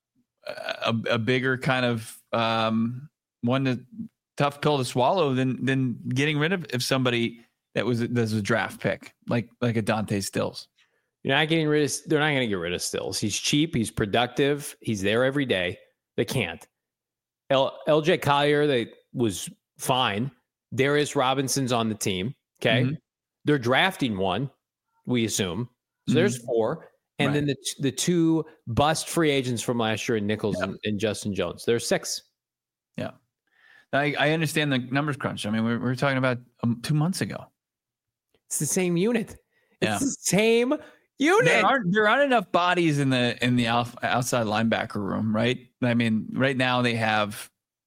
a, a bigger kind of um, one to, tough pill to swallow than than getting rid of if somebody that was that was a draft pick like like a Dante Stills. You're not getting rid of. They're not going to get rid of Stills. He's cheap. He's productive. He's there every day. They can't. L, LJ Collier, they was fine. Darius Robinson's on the team. Okay, mm-hmm. They're drafting one, we assume. So mm-hmm. there's four, and right. then the the two bust free agents from last year, Nichols yeah. and, and Justin Jones. There's six. Yeah, I, I understand the numbers crunch. I mean, we, we were talking about um, two months ago. It's the same unit. It's yeah. the same unit. There aren't there aren't enough bodies in the in the outside linebacker room, right? I mean, right now they have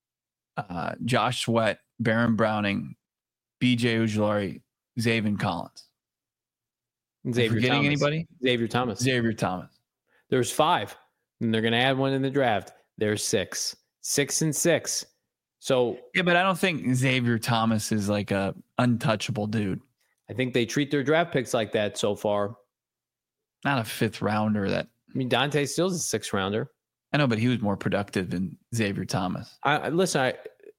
uh, Josh Sweat, Baron Browning, B J Ojulari, Zaven Collins. Xavier forgetting Thomas. anybody? Xavier Thomas. Xavier Thomas. There's five, and they're going to add one in the draft. There's six, six and six. So yeah, but I don't think Xavier Thomas is like a untouchable dude. I think they treat their draft picks like that so far. Not a fifth rounder. That I mean, Dante Stills is a sixth rounder. I know, but he was more productive than Xavier Thomas. I, I listen. I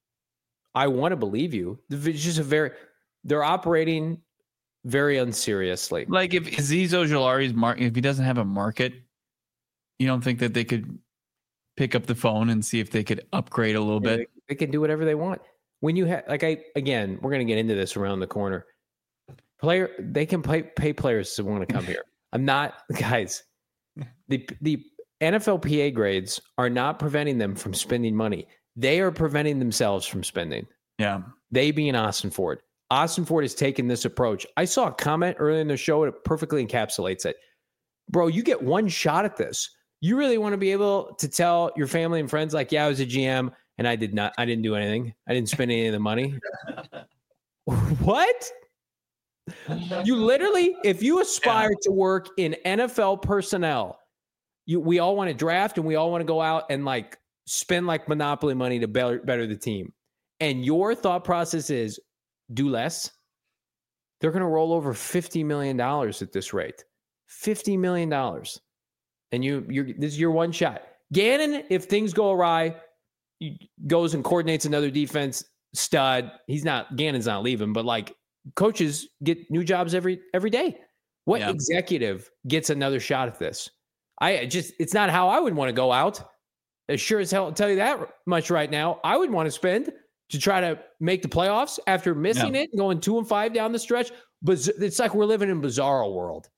I want to believe you. It's just a very. They're operating very unseriously. Like if Azeez Ojulari's market, if he doesn't have a market, you don't think that they could pick up the phone and see if they could upgrade a little yeah, bit? They, they can do whatever they want. When you have, like, I again, we're going to get into this around the corner. Player, they can pay pay players to want to come here. I'm not, guys. The the N F L P A grades are not preventing them from spending money. They are preventing themselves from spending. Yeah. They being Austin Ford. Austin Ford has taken this approach. I saw a comment earlier in the show. It perfectly encapsulates it. Bro, you get one shot at this. You really want to be able to tell your family and friends, like, yeah, I was a G M and I did not, I didn't do anything. I didn't spend any of the money. What? You literally, if you aspire yeah. to work in N F L personnel, you we all want to draft and we all want to go out and like spend like monopoly money to better, better the team. And your thought process is do less. They're going to roll over fifty million dollars at this rate. fifty million dollars. And you, you're, this is your one shot. Gannon, if things go awry, he goes and coordinates another defense stud. He's not, Gannon's not leaving, but like, coaches get new jobs every every day. What yeah. executive gets another shot at this? I just, it's not how I would want to go out. As sure as hell, I'll tell you that much right now. I would want to spend to try to make the playoffs after missing yeah. it, going two and five down the stretch. But it's like we're living in bizarro world.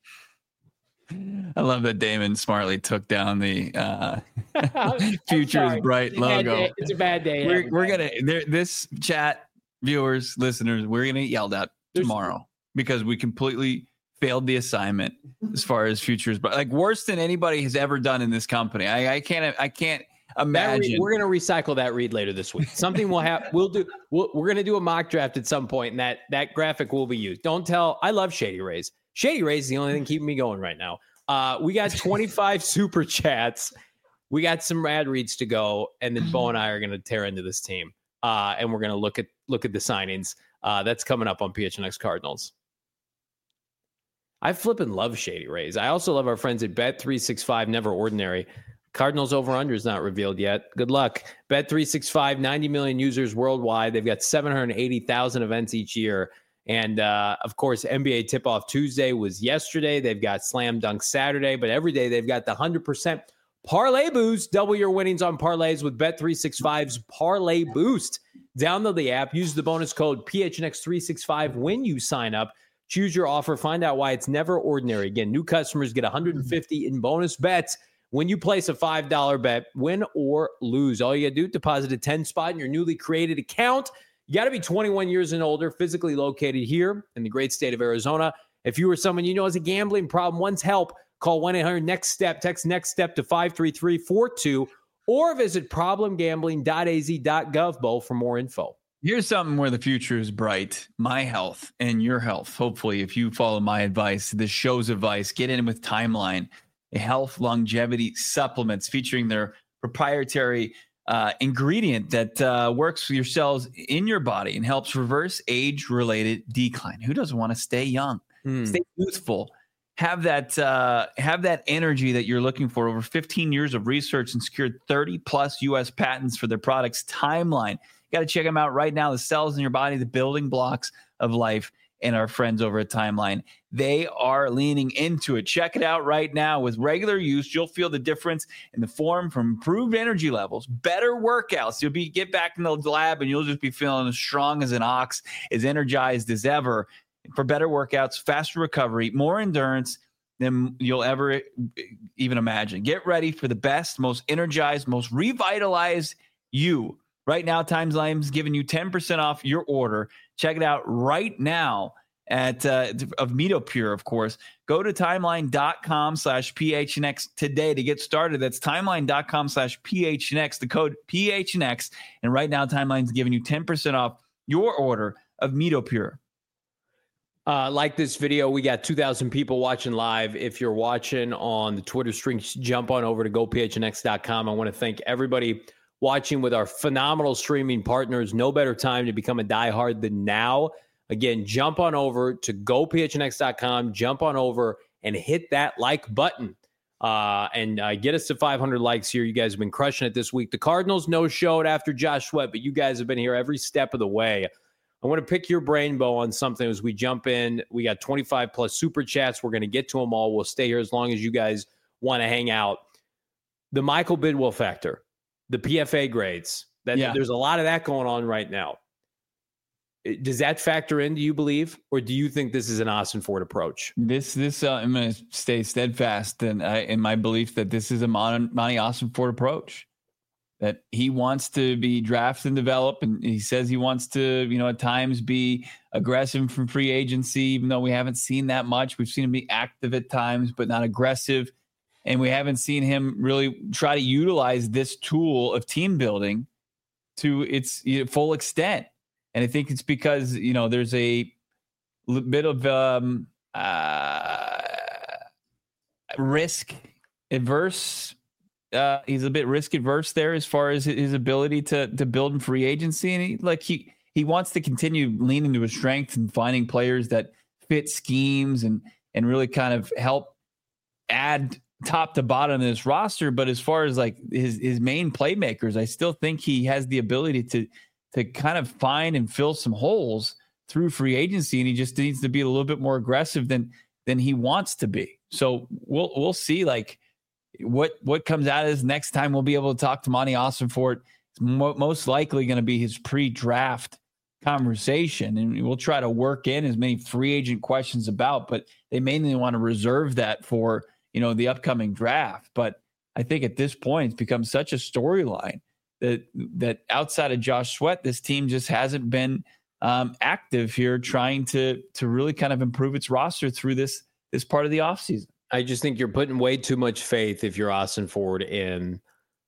I love that Damon smartly took down the uh, future is bright it's logo. It's a bad day. We're, we're gonna there, this chat. Viewers, listeners, we're going to get yelled at tomorrow because we completely failed the assignment as far as futures, but like worse than anybody has ever done in this company. I, I can't, I can't imagine. Read, we're going to recycle that read later this week. Something we'll have, we'll do, we'll, we're going to do a mock draft at some point, and that that graphic will be used. Don't tell. I love Shady Rays. Shady Rays is the only thing keeping me going right now. Uh, we got twenty-five super chats. We got some rad reads to go, and then Bo and I are going to tear into this team. Uh, and we're going to look at look at the signings. Uh, that's coming up on P H N X Cardinals. I flippin' love Shady Rays. I also love our friends at Bet three sixty-five, Never Ordinary. Cardinals over-under is not revealed yet. Good luck. Bet three sixty-five, ninety million users worldwide. They've got seven hundred eighty thousand events each year. And, uh, of course, N B A Tip-Off Tuesday was yesterday. They've got Slam Dunk Saturday. But every day they've got the one hundred percent Parlay Boost. Double your winnings on parlays with Bet three sixty-five's Parlay Boost. Download the app. Use the bonus code P H N X three sixty-five when you sign up. Choose your offer. Find out why it's never ordinary. Again, new customers get one hundred fifty in bonus bets when you place a five dollar bet, win or lose. All you got to do, deposit a ten spot in your newly created account. You got to be twenty-one years and older, physically located here in the great state of Arizona. If you or someone you know has a gambling problem, wants help, Call one eight hundred next step, text next step to five three three four two, or visit problem gambling dot a z dot gov, Bo, for more info. Here's something where the future is bright. My health and your health. Hopefully, if you follow my advice, this show's advice, get in with Timeline, a health longevity supplements featuring their proprietary uh, ingredient that uh, works with your cells in your body and helps reverse age-related decline. Who doesn't want to stay young, Hmm. stay youthful, have that uh, have that energy that you're looking for? Over fifteen years of research and secured thirty plus U S patents for their products. Timeline. You got to check them out right now. The cells in your body, the building blocks of life, and our friends over at Timeline. They are leaning into it. Check it out right now. With regular use, you'll feel the difference in the form from improved energy levels, better workouts. You'll be get back in the lab and you'll just be feeling as strong as an ox, as energized as ever. For better workouts, faster recovery, more endurance than you'll ever even imagine. Get ready for the best, most energized, most revitalized you. Right now, Timeline's giving you ten percent off your order. Check it out right now at uh, of MitoPure, of course. Go to timeline.com slash PHNX today to get started. That's timeline.com slash PHNX, the code P H N X. And right now, Timeline's giving you ten percent off your order of MitoPure. Uh, like this video, we got two thousand people watching live. If you're watching on the Twitter stream, jump on over to go P H N X dot com. I want to thank everybody watching with our phenomenal streaming partners. No better time to become a diehard than now. Again, jump on over to go P H N X dot com, jump on over and hit that like button uh, and uh, get us to five hundred likes here. You guys have been crushing it this week. The Cardinals no-showed after Josh Sweat, but you guys have been here every step of the way. I want to pick your brain, Bo, on something as we jump in. We got twenty-five plus super chats. We're going to get to them all. We'll stay here as long as you guys want to hang out. The Michael Bidwell factor, the P F A grades. That Yeah. There's a lot of that going on right now. Does that factor in, do you believe? Or do you think this is an Austin Ford approach? This, this, uh, I'm going to stay steadfast in, uh, in my belief that this is a Mon- Monty Austin Ford approach. That he wants to be drafted and develop, and he says he wants to, you know, at times be aggressive from free agency, even though we haven't seen that much. We've seen him be active at times, but not aggressive. And we haven't seen him really try to utilize this tool of team building to its you know, full extent. And I think it's because, you know, there's a bit of um, uh, risk adverse. Uh, he's a bit risk adverse there as far as his ability to to build in free agency, and he like he he wants to continue leaning to his strength and finding players that fit schemes and and really kind of help add top to bottom of this roster. But as far as like his his main playmakers, I still think he has the ability to to kind of find and fill some holes through free agency, and he just needs to be a little bit more aggressive than than he wants to be. So we'll we'll see like. What what comes out of this next time we'll be able to talk to Monty Austin Ford. It's mo- most likely going to be his pre-draft conversation, and we'll try to work in as many free agent questions about, but they mainly want to reserve that for, you know, the upcoming draft. But I think at this point it's become such a storyline that that outside of Josh Sweat, this team just hasn't been um, active here trying to to really kind of improve its roster through this this part of the offseason. I just think you're putting way too much faith if you're Austin Ford in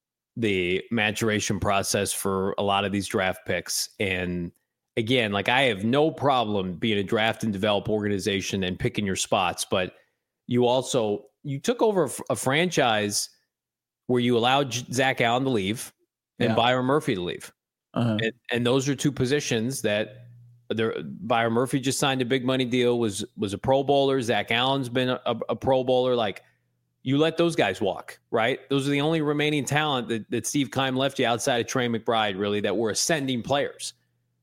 the maturation process for a lot of these draft picks. And again, like I have no problem being a draft and develop organization and picking your spots, but you also, you took over a, a franchise where you allowed Zach Allen to leave and Yeah. Byron Murphy to leave. Uh-huh. And, and those are two positions that there, Byron Murphy just signed a big money deal, was was a Pro Bowler. Zach Allen's been a, a Pro Bowler. Like, you let those guys walk, right? Those are the only remaining talent that, that Steve Keim left you outside of Trey McBride, really, that were ascending players.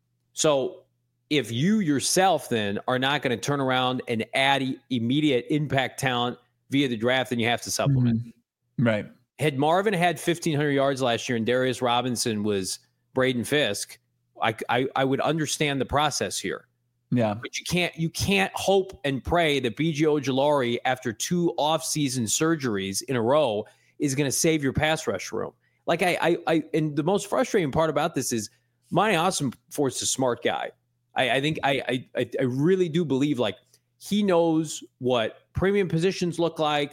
So if you yourself then are not going to turn around and add e- immediate impact talent via the draft, then you have to supplement. Mm-hmm. Right. Had Marvin had fifteen hundred yards last year and Darius Robinson was Braden Fisk, I, I, I would understand the process here. Yeah. But you can't you can't hope and pray that B J Ojulari, after two off-season surgeries in a row, is going to save your pass rush room. Like I, I, I, and the most frustrating part about this is Monty Austin Ford's a smart guy. I, I think I, I, I really do believe like he knows what premium positions look like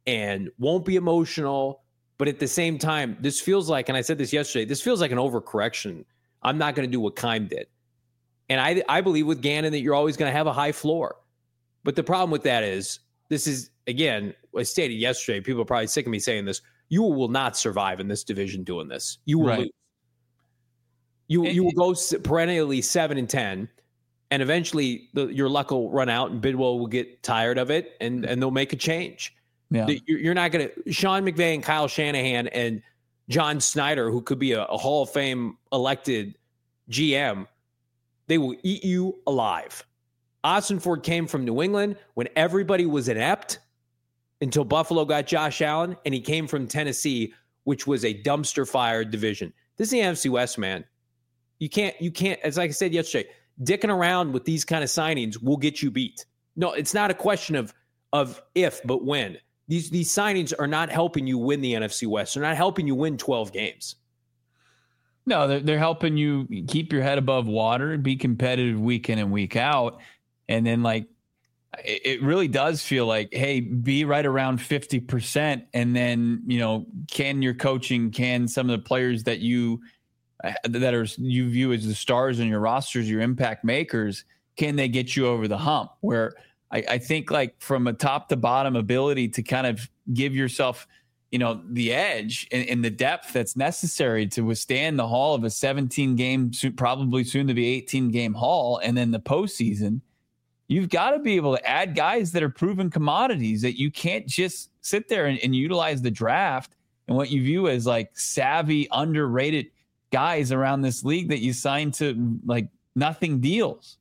and won't be emotional. But at the same time, this feels like, and I said this yesterday, this feels like an overcorrection. I'm not going to do what Keim did. And I, I believe with Gannon that you're always going to have a high floor. But the problem with that is, this is, again, I stated yesterday, people are probably sick of me saying this, you will not survive in this division doing this. You will right. lose. You, and, you will go perennially seven and ten, and eventually the, your luck will run out and Bidwell will get tired of it, and, and they'll make a change. Yeah. You're not going to – Sean McVay and Kyle Shanahan and John Snyder, who could be a, a Hall of Fame elected G M, they will eat you alive. Ossenford came from New England when everybody was inept until Buffalo got Josh Allen, and he came from Tennessee, which was a dumpster fire division. This is the N F C West, man. You can't – you can't – as like I said yesterday, dicking around with these kind of signings will get you beat. No, it's not a question of of if, but when. These these signings are not helping you win the N F C West. They're not helping you win twelve games. No, they're, they're helping you keep your head above water, be competitive week in and week out. And then, like, it, it really does feel like, hey, be right around fifty percent. And then, you know, can your coaching, can some of the players that you that are you view as the stars in your rosters, your impact makers, can they get you over the hump? Where I, I think, like, from a top to bottom ability to kind of give yourself, you know, the edge and, and the depth that's necessary to withstand the haul of a seventeen game, probably soon to be eighteen game haul, and then the postseason. You've got to be able to add guys that are proven commodities, that you can't just sit there and, and utilize the draft and what you view as like savvy, underrated guys around this league that you sign to like nothing deals.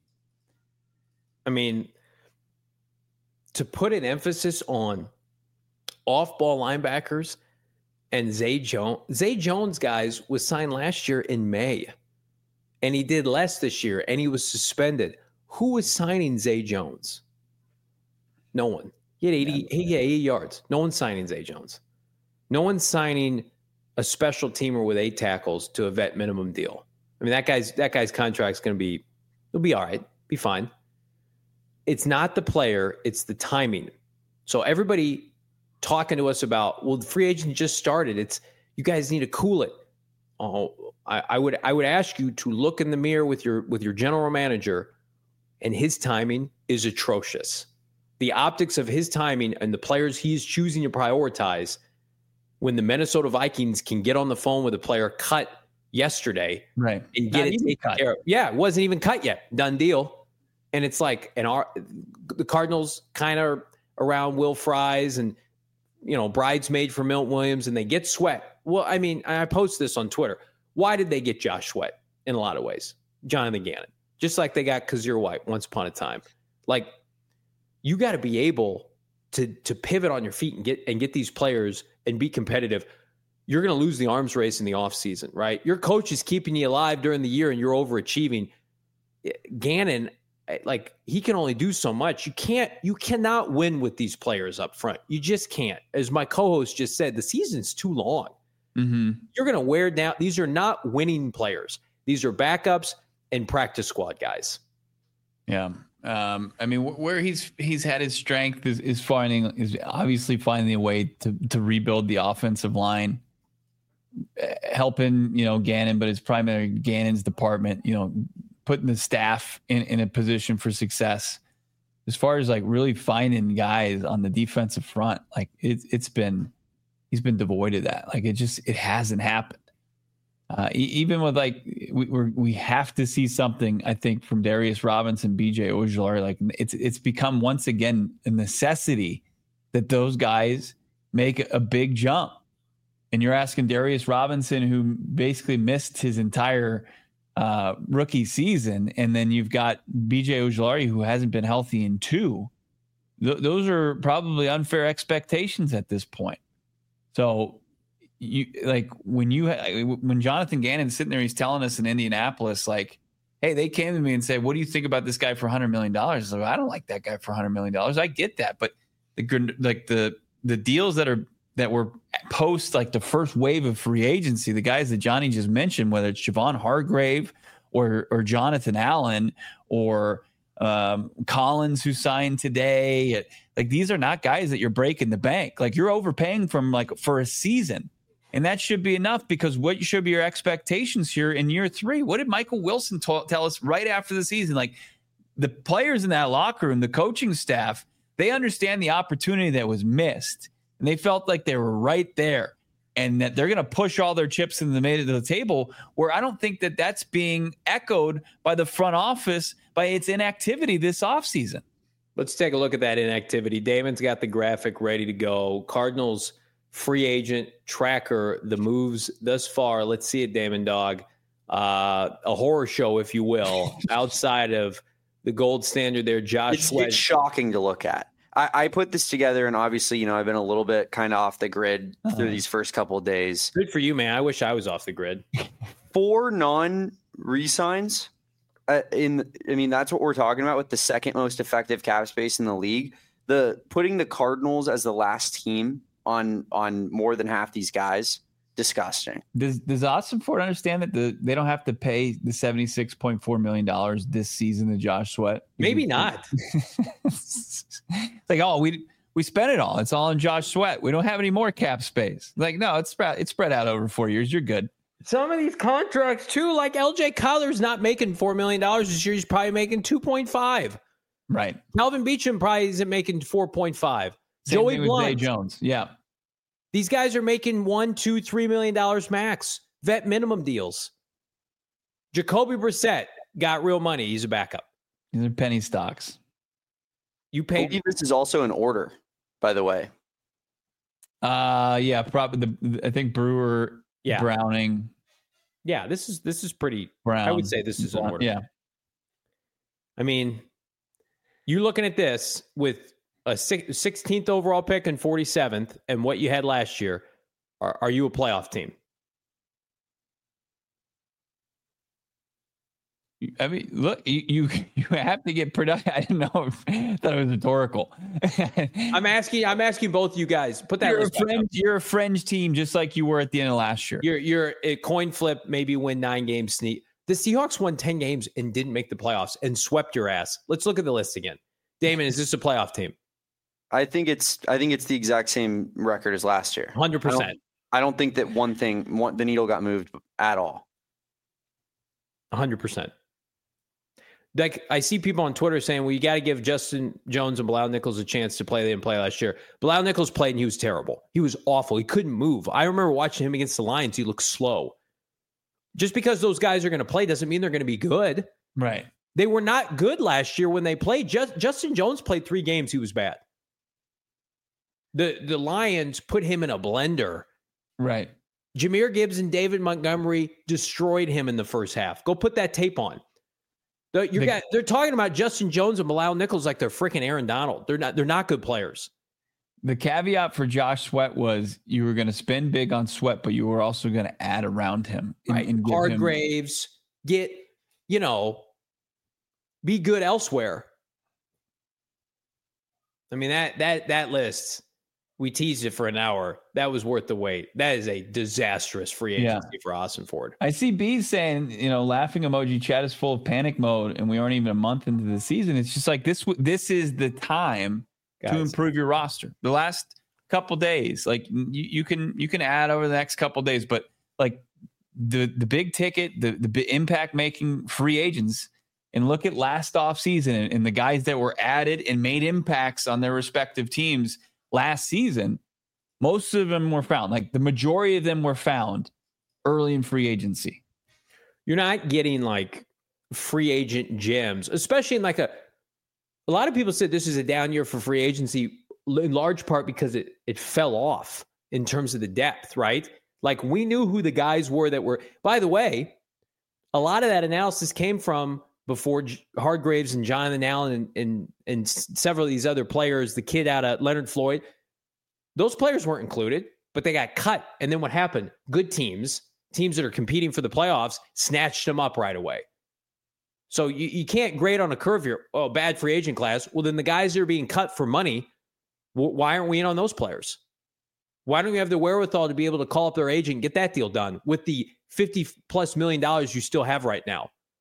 I mean, to put an emphasis on off-ball linebackers and Zay Jones, Zay Jones, guys, was signed last year in May, and he did less this year, and he was suspended. Who was signing Zay Jones? No one. He had eighty, he had eighty yards. No one's signing Zay Jones. No one's signing a special teamer with eight tackles to a vet minimum deal. I mean, that guy's that guy's contract's going to be, it'll be all right, be fine. It's not the player, it's the timing. So everybody talking to us about, well, the free agent just started. It's you guys need to cool it. Oh, I, I would I would ask you to look in the mirror with your with your general manager, and his timing is atrocious. The optics of his timing and the players he's choosing to prioritize, when the Minnesota Vikings can get on the phone with a player cut yesterday, right, and get Not it taken cut. care of. Yeah, it wasn't even cut yet. Done deal. And it's like, and our the Cardinals kind of around Will Fries and, you know, bridesmaid for Milton Williams, and they get Sweat. Well, I mean, I post this on Twitter. Why did they get Josh Sweat in a lot of ways? Jonathan Gannon. Just like they got Kazir White once upon a time. Like, you got to be able to to pivot on your feet and get and get these players and be competitive. You're going to lose the arms race in the offseason, right? Your coach is keeping you alive during the year and you're overachieving. Gannon, like, he can only do so much. You can't, you cannot win with these players up front. You just can't. As my co-host just said, the season's too long. Mm-hmm. You're going to wear down. These are not winning players. These are backups and practice squad guys. Yeah. Um, I mean, wh- where he's he's had his strength is, is finding is obviously finding a way to to rebuild the offensive line, uh, helping, you know, Gannon, but it's primarily Gannon's department, you know, putting the staff in, in a position for success. As far as like really finding guys on the defensive front, like it's it's been he's been devoid of that. Like it just it hasn't happened. Uh, e- even with like we we're, we have to see something, I think, from Darius Robinson, B J Ojulari. Like it's it's become once again a necessity that those guys make a big jump. And you're asking Darius Robinson, who basically missed his entire uh, rookie season, and then you've got B J Ojulari, who hasn't been healthy in two. Th- those are probably unfair expectations at this point. So. You like when you when Jonathan Gannon's sitting there, he's telling us in Indianapolis, like, hey, they came to me and said, what do you think about this guy for one hundred million dollars? I, like, I don't like that guy for one hundred million dollars. I get that. But the like the the deals that are that were post like the first wave of free agency, the guys that Johnny just mentioned, whether it's Javon Hargrave or or Jonathan Allen or Um, Collins, who signed today. Like, these are not guys that you're breaking the bank. Like, you're overpaying from like for a season. And that should be enough, because what should be your expectations here in year three? What did Michael Wilson t- tell us right after the season? Like, the players in that locker room, the coaching staff, they understand the opportunity that was missed. And they felt like they were right there, and that they're going to push all their chips in the middle of the table, where I don't think that that's being echoed by the front office by its inactivity this offseason. Let's take a look at that inactivity. Damon's got the graphic ready to go. Cardinals free agent tracker, the moves thus far. Let's see it, Damon Dog. Uh, a horror show, if you will, outside of the gold standard there, Josh It's, Sweat. it's shocking to look at. I, I put this together, and obviously, you know, I've been a little bit kind of off the grid uh-huh. through these first couple of days. Good for you, man. I wish I was off the grid. Four non-resigns. Uh, in, I mean, that's what we're talking about with the second most effective cap space in the league. The putting the Cardinals as the last team on on more than half these guys, disgusting. Does Does Austin Ford understand that the they don't have to pay the seventy-six point four million dollars this season to Josh Sweat? Maybe not. It's like, oh, we we spent it all. It's all in Josh Sweat. We don't have any more cap space. Like, no, it's spread it's spread out over four years. You're good. Some of these contracts too, like L J Collar's not making four million dollars this year. He's probably making two point five. Right. Calvin Beachum probably isn't making four point five. Same Joey thing with Blunt. Zay Jones. Yeah. These guys are making one, two, three million dollars max. Vet minimum deals. Jacoby Brissett got real money. He's a backup. These are penny stocks. You pay. This is also in order, by the way. Uh yeah, probably the I think Brewer, yeah. Browning. Yeah, this is this is pretty. Brown. I would say this is in order. Yeah. I mean, you're looking at this with a sixteenth overall pick and forty-seventh, and what you had last year. Are, are you a playoff team? I mean, look, you you, you have to get productive. I didn't know. If, I thought it was rhetorical. I'm asking. I'm asking both you guys. Put that. You're a fringe. You're a fringe team, just like you were at the end of last year. You're you're a coin flip. Maybe win nine games. Sneak. The Seahawks won ten games and didn't make the playoffs and swept your ass. Let's look at the list again. Damon, is this a playoff team? I think it's. I think it's the exact same record as last year. Hundred percent. I don't think that one thing, one, the needle got moved at all. Hundred percent. Like, I see people on Twitter saying, well, you got to give Justin Jones and Bilal Nichols a chance to play. They didn't play last year. Bilal Nichols played and he was terrible. He was awful. He couldn't move. I remember watching him against the Lions. He looked slow. Just because those guys are going to play doesn't mean they're going to be good. Right. They were not good last year when they played. Just, Justin Jones played three games. He was bad. The, the Lions put him in a blender. Right. Jahmyr Gibbs and David Montgomery destroyed him in the first half. Go put that tape on. They're, you got, they're talking about Justin Jones and Bilal Nichols like they're freaking Aaron Donald. They're not. They're not good players. The caveat for Josh Sweat was you were going to spend big on Sweat, but you were also going to add around him. And, right. And Hargraves, him... get, you know, be good elsewhere. I mean, that that that list, we teased it for an hour. That was worth the wait. That is a disastrous free agency yeah. for Austin Ford. I see B saying, you know, laughing emoji, chat is full of panic mode, and we aren't even a month into the season. It's just like this. This is the time Guys. to improve your roster. The last couple days, like you, you can you can add over the next couple days, but like the the big ticket, the the impact making free agents, and look at last off season and, and the guys that were added and made impacts on their respective teams last season, most of them were found, like the majority of them were found early in free agency. You're not getting like free agent gems, especially in like a, a lot of people said this is a down year for free agency in large part because it, it fell off in terms of the depth, right? Like we knew who the guys were that were, by the way, a lot of that analysis came from before Hargraves and Jonathan Allen and, and, and several of these other players, the kid out of Leonard Floyd, those players weren't included, but they got cut. And then what happened? Good teams, teams that are competing for the playoffs, snatched them up right away. So you, you can't grade on a curve here. Oh, bad free agent class. Well, then the guys that are being cut for money, why aren't we in on those players? Why don't we have the wherewithal to be able to call up their agent and get that deal done with the fifty plus million dollars you still have right now?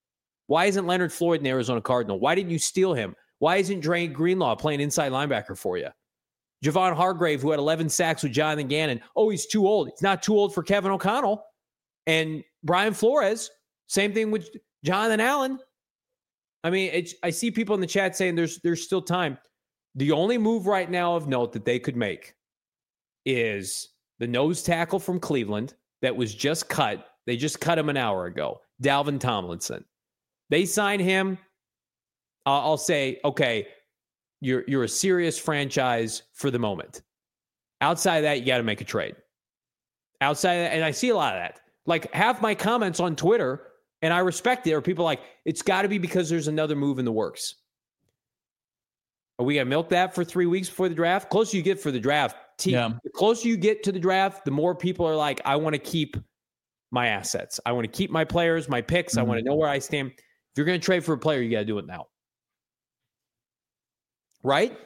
Why isn't Leonard Floyd an Arizona Cardinal? Why didn't you steal him? Why isn't Dre Greenlaw playing inside linebacker for you? Javon Hargrave, who had eleven sacks with Jonathan Gannon. Oh, he's too old. He's not too old for Kevin O'Connell. And Brian Flores, same thing with Jonathan Allen. I mean, it's, I see people in the chat saying there's there's still time. The only move right now of note that they could make is the nose tackle from Cleveland that was just cut. They just cut him an hour ago. Dalvin Tomlinson. They sign him. Uh, I'll say, okay, you're you're a serious franchise for the moment. Outside of that, you got to make a trade. Outside of that, and I see a lot of that. Like half my comments on Twitter, and I respect it, are people like, it's got to be because there's another move in the works. Are we going to milk that for three weeks before the draft? Closer you get for the draft, team, yeah. The closer you get to the draft, the more people are like, I want to keep my assets. I want to keep my players, my picks. Mm-hmm. I want to know where I stand. If you're going to trade for a player, you got to do it now. Right?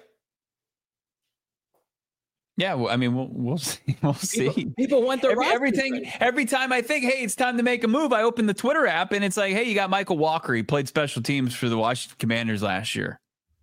Yeah, well, I mean, we'll we'll see. We'll see. People, people want the every, everything. Every time I think, hey, it's time to make a move, I open the Twitter app and it's like, hey, you got Michael Walker. He played special teams for the Washington Commanders last year.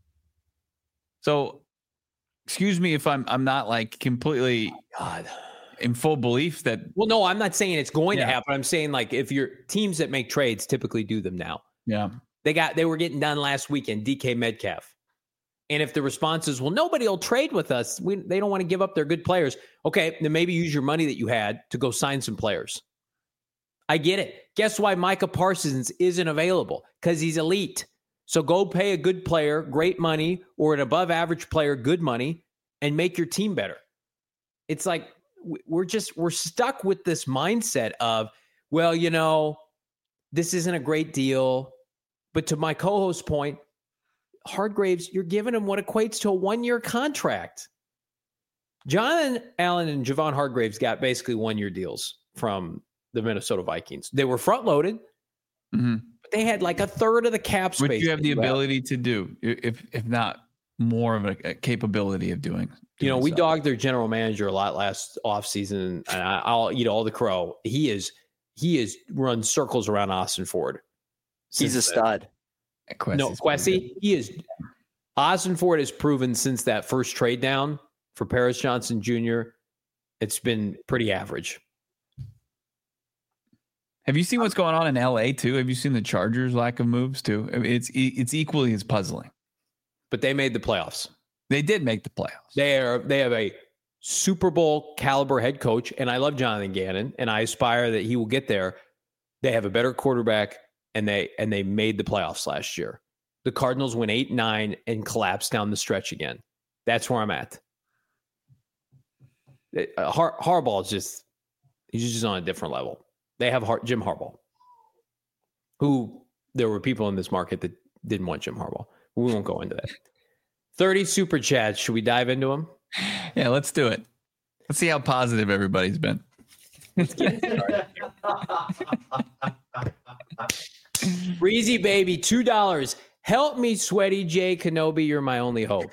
So, excuse me if I'm I'm not like completely oh God. in full belief that. Well, no, I'm not saying it's going yeah. to happen. I'm saying like if your teams that make trades typically do them now. Yeah, they got they were getting done last weekend. D K Metcalf. And if the response is, well, nobody will trade with us. We, they don't want to give up their good players. Okay, then maybe use your money that you had to go sign some players. I get it. Guess why Micah Parsons isn't available? Because he's elite. So go pay a good player, great money, or an above average player, good money, and make your team better. It's like we're just, we're stuck with this mindset of, well, you know, this isn't a great deal. But to my co-host's point, Hargraves, you're giving him what equates to a one-year contract. Jonathan Allen and Javon Hargraves got basically one-year deals from the Minnesota Vikings. They were front-loaded, mm-hmm. but they had like a third of the cap space. Which you have the ability to do, if if not more of a, a capability of doing. doing you know, we so. dogged their general manager a lot last offseason, and I, I'll eat all the crow. He is he is run circles around Austin Ford. He's a stud. Quessie's no, Quessie, he is. Austin Ford has proven since that first trade down for Paris Johnson Junior, it's been pretty average. Have you seen what's going on in L A too? Have you seen the Chargers' lack of moves too? I mean, it's it's equally as puzzling. But they made the playoffs. They did make the playoffs. They are. They have a Super Bowl caliber head coach, and I love Jonathan Gannon, and I aspire that he will get there. They have a better quarterback. And they and they made the playoffs last year. The Cardinals went eight nine and collapsed down the stretch again. That's where I'm at. Uh, Har- Harbaugh is just he's just on a different level. They have Har- Jim Harbaugh, who there were people in this market that didn't want Jim Harbaugh. We won't go into that. thirty super chats. Should we dive into them? Yeah, let's do it. Let's see how positive everybody's been. Let's get it started. Breezy baby, two dollars. Help me, Sweaty J Kenobi. You're my only hope.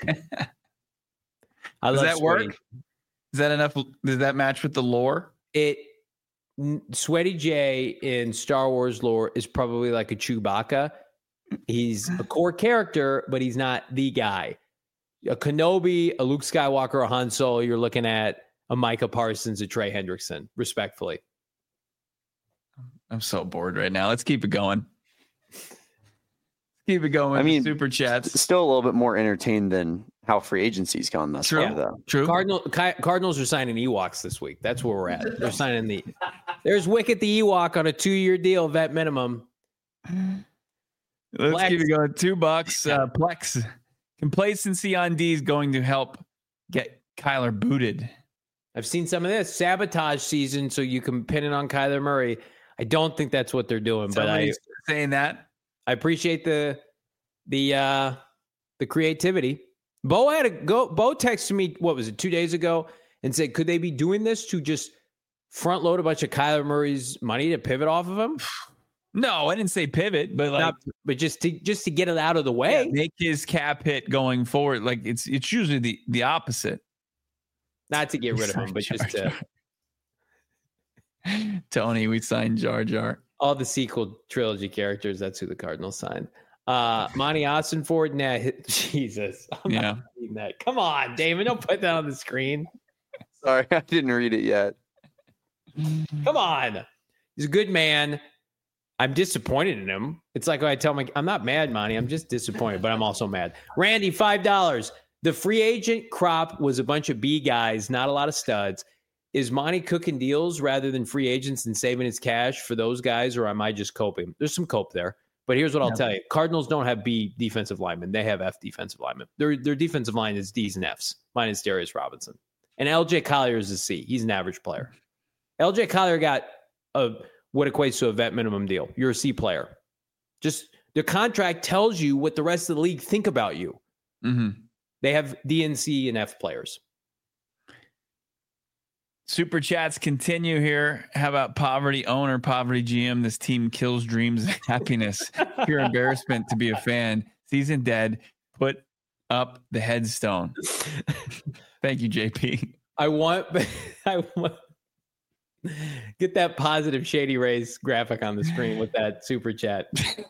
I Does love that Sweaty. work? Is that enough? Does that match with the lore? It Sweaty J in Star Wars lore is probably like a Chewbacca. He's a core character, but he's not the guy. A Kenobi, a Luke Skywalker, a Han Solo. You're looking at a Micah Parsons, a Trey Hendrickson, respectfully. I'm so bored right now. Let's keep it going. Keep it going. I mean, super chats. Still a little bit more entertained than how free agency's gone thus True. far, though. True. Cardinal, Cardinals are signing Ewoks this week. That's where we're at. They're signing the. There's Wicket the Ewok on a two-year deal, vet minimum. Let's Plex. keep it going. Two bucks. Uh, Plex. Complacency on D is going to help get Kyler booted. I've seen some of this sabotage season, so you can pin it on Kyler Murray. I don't think that's what they're doing, Somebody's but I saying that. I appreciate the the uh, the creativity. Bo had a go. Bo texted me, what was it, two days ago, and said, could they be doing this to just front load a bunch of Kyler Murray's money to pivot off of him? No, I didn't say pivot, but like, Not, but just to just to get it out of the way, yeah, make his cap hit going forward. Like it's it's usually the the opposite. Not to get rid of him, but just to. Tony, we signed Jar Jar. All the sequel trilogy characters, that's who the Cardinals signed. Uh, Monty Ossenford, nah, Jesus. I'm Yeah. not reading that. Come on, Damon, don't put that on the screen. Sorry, I didn't read it yet. Come on. He's a good man. I'm disappointed in him. It's like when I tell him, I'm not mad, Monty. I'm just disappointed, but I'm also mad. Randy, five dollars. The free agent crop was a bunch of B guys, not a lot of studs. Is Monty cooking deals rather than free agents and saving his cash for those guys, or am I just coping? There's some cope there. But here's what I'll yeah. tell you. Cardinals don't have B defensive linemen. They have F defensive linemen. Their, their defensive line is D's and F's, minus Darius Robinson. And L J Collier is a C. He's an average player. L J Collier got a what equates to a vet minimum deal. You're a C player. Just the contract tells you what the rest of the league think about you. Mm-hmm. They have D and C and F players. Super chats continue here. How about poverty owner, poverty G M? This team kills dreams and happiness. Pure embarrassment to be a fan. Season dead. Put up the headstone. Thank you, J P. I want, I want, get that positive Shady Rays graphic on the screen with that super chat.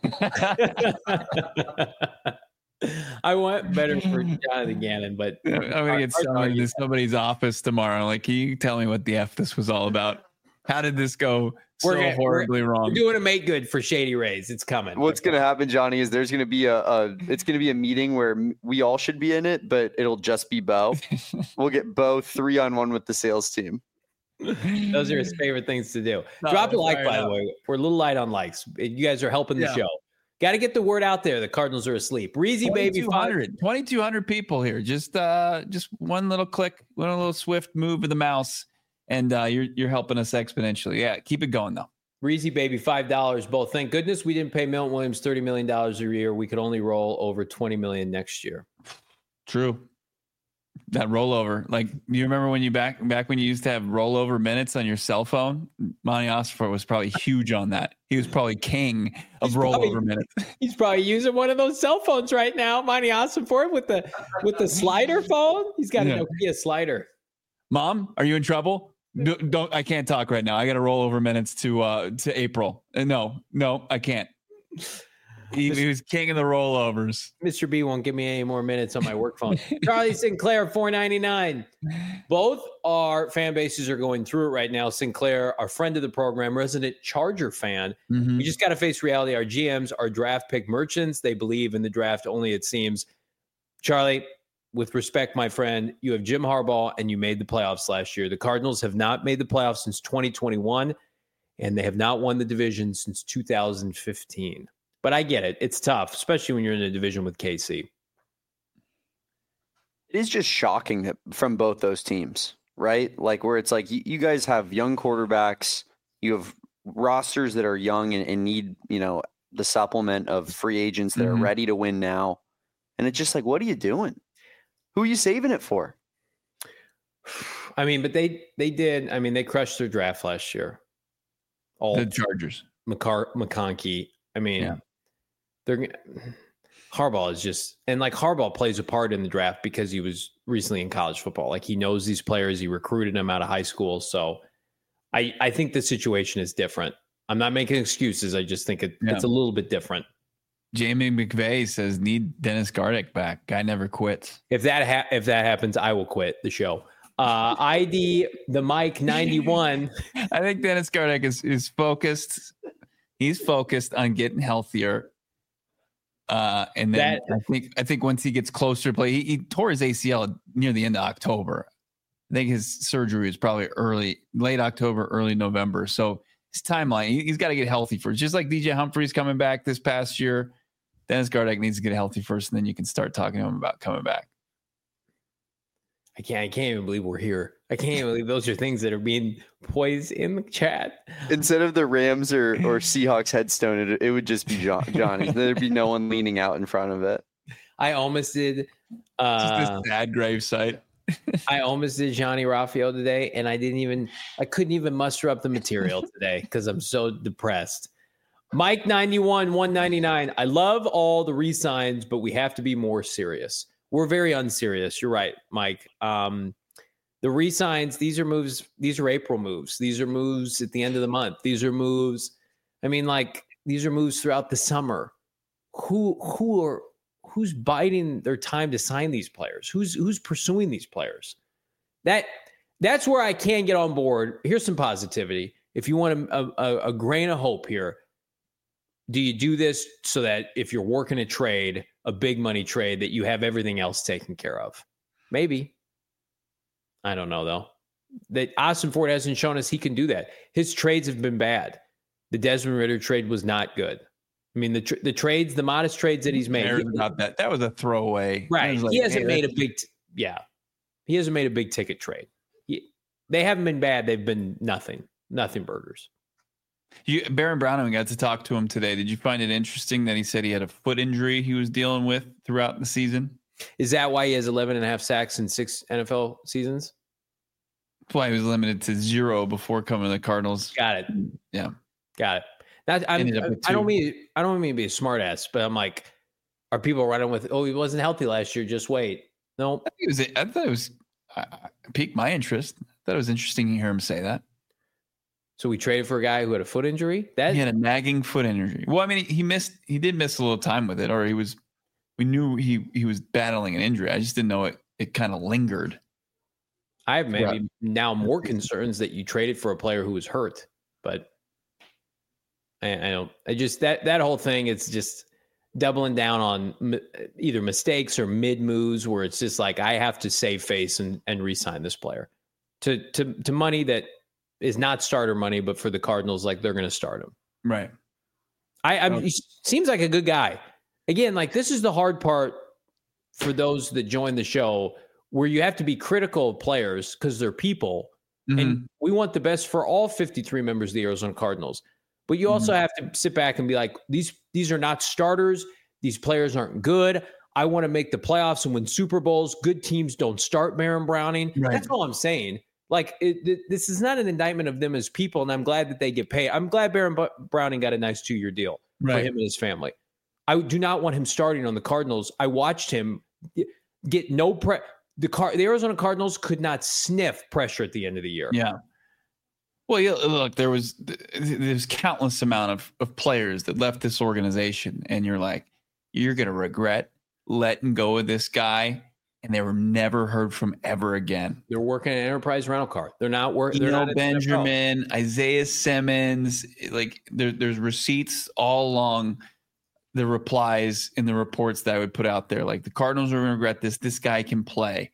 I want better for Jonathan Gannon, but I'm gonna get summoned to somebody's office tomorrow. Like, can you tell me what the F this was all about? How did this go so we're gonna, horribly we're, wrong? We're doing a make good for Shady Rays. It's coming. What's okay. gonna happen, Johnny, is there's gonna be a, a it's gonna be a meeting where we all should be in it, but it'll just be Bo. We'll get Bo three on one with the sales team. Those are his favorite things to do. No, Drop a like, by the way. We're a little light on likes. You guys are helping the yeah. show. Got to get the word out there. The Cardinals are asleep. Reezy baby, twenty-two hundred people here. Just uh, just one little click, one little swift move of the mouse, and uh, you're you're helping us exponentially. Yeah, keep it going though. Reezy baby, five dollars. Both. Thank goodness we didn't pay Milton Williams thirty million dollars a year. We could only roll over twenty million dollars next year. True. That rollover, like, do you remember when you back back when you used to have rollover minutes on your cell phone? Monty Ossenfort was probably huge on that. He was probably king of he's rollover probably, minutes. He's probably using one of those cell phones right now, Monty Ossenfort, with the with the slider phone. He's got yeah. a Nokia slider. Mom, are you in trouble? No, don't I can't talk right now. I got to roll over minutes to uh to April. Uh, no, no, I can't. He, he was king of the rollovers. Mister B won't give me any more minutes on my work phone. Charlie Sinclair, four ninety-nine. Both our fan bases are going through it right now. Sinclair, our friend of the program, resident Charger fan. Mm-hmm. We just got to face reality. Our G Ms are draft pick merchants. They believe in the draft only, it seems. Charlie, with respect, my friend, you have Jim Harbaugh and you made the playoffs last year. The Cardinals have not made the playoffs since twenty twenty-one, and they have not won the division since two thousand fifteen. But I get it. It's tough, especially when you're in a division with K C. It is just shocking that from both those teams, right? Like, where it's like you, you guys have young quarterbacks, you have rosters that are young and, and need, you know, the supplement of free agents that mm-hmm. are ready to win now. And it's just like, what are you doing? Who are you saving it for? I mean, but they they did. I mean, they crushed their draft last year. All the Chargers. McCar- McConkey. I mean, yeah. they're Harbaugh is just, and like Harbaugh plays a part in the draft because he was recently in college football. Like, he knows these players. He recruited them out of high school. So I, I think the situation is different. I'm not making excuses. I just think it, yeah. it's a little bit different. Jamie McVay says, need Dennis Gardeck back. Guy never quits. If that ha- if that happens, I will quit the show. Uh, I D the Mike ninety-one. I think Dennis Gardeck is is focused. He's focused on getting healthier. Uh, and then that, I think I think once he gets closer to play, he, he tore his A C L near the end of October. I think his surgery was probably early, late October, early November. So his timeline, he, he's got to get healthy first. Just like D J Humphries coming back this past year, Dennis Gardeck needs to get healthy first, and then you can start talking to him about coming back. I can't. I can't even believe we're here. I can't even believe those are things that are being poised in the chat. Instead of the Rams or, or Seahawks headstone, it, it would just be John, Johnny. There'd be no one leaning out in front of it. I almost did. Uh, just this sad grave site. I almost did Johnny Raffio today, and I didn't even. I couldn't even muster up the material today because I'm so depressed. Mike ninety-one, one ninety-nine. I love all the re-signs, but we have to be more serious. We're very unserious. You're right, Mike. Um, the re-signs, these are moves. These are April moves. These are moves at the end of the month. These are moves I mean, like these are moves throughout the summer. Who who are who's biding their time to sign these players? Who's who's pursuing these players? That that's where I can get on board. Here's some positivity. If you want a, a, a grain of hope here, do you do this so that if you're working a trade, a big money trade, that you have everything else taken care of? Maybe. I don't know, though. That Ossenfort hasn't shown us he can do that. His trades have been bad. The Desmond Ridder trade was not good. I mean, the tr- the trades, the modest trades that he's made. He, about that. That was a throwaway. Right. Like, he hasn't hey, made a big, t- yeah. He hasn't made a big ticket trade. He, they haven't been bad. They've been nothing, nothing burgers. You, Baron Browning, we got to talk to him today. Did you find it interesting that he said he had a foot injury he was dealing with throughout the season? Is that why he has eleven and a half sacks in six N F L seasons? That's why he was limited to zero before coming to the Cardinals. Got it. Yeah. Got it. That, I'm, I don't mean I don't mean to be a smart ass, but I'm like, are people running with, oh, he wasn't healthy last year, just wait. No. I, it was, I thought it was uh, piqued my interest. I thought it was interesting to hear him say that. So we traded for a guy who had a foot injury? That he had a nagging foot injury. Well, I mean, he, he missed he did miss a little time with it, or he was we knew he he was battling an injury. I just didn't know it it kind of lingered. I have maybe right. now more concerns that you traded for a player who was hurt, but I, I don't. I just that that whole thing. It's just doubling down on m- either mistakes or mid moves where it's just like I have to save face and and re-sign this player to to to money that is not starter money, but for the Cardinals, like they're going to start him. Right. I, I he seems like a good guy. Again, like this is the hard part for those that join the show, where you have to be critical of players because they're people, mm-hmm. and we want the best for all fifty-three members of the Arizona Cardinals. But you also mm-hmm. have to sit back and be like, these these are not starters. These players aren't good. I want to make the playoffs and win Super Bowls. Good teams don't start Baron Browning. Right. That's all I'm saying. Like, it, it, this is not an indictment of them as people, and I'm glad that they get paid. I'm glad Baron B- Browning got a nice two-year deal right. for him and his family. I do not want him starting on the Cardinals. I watched him get no pre. The Car- the Arizona Cardinals could not sniff pressure at the end of the year. Yeah. Well, yeah, look, there was there's countless amount of, of players that left this organization, and you're like, you're going to regret letting go of this guy, and they were never heard from ever again. They're working at Enterprise Rental Car. They're not working. They're not Benjamin, Isaiah Simmons. Like there, there's receipts all along the replies in the reports that I would put out there. Like the Cardinals are going to regret this. This guy can play.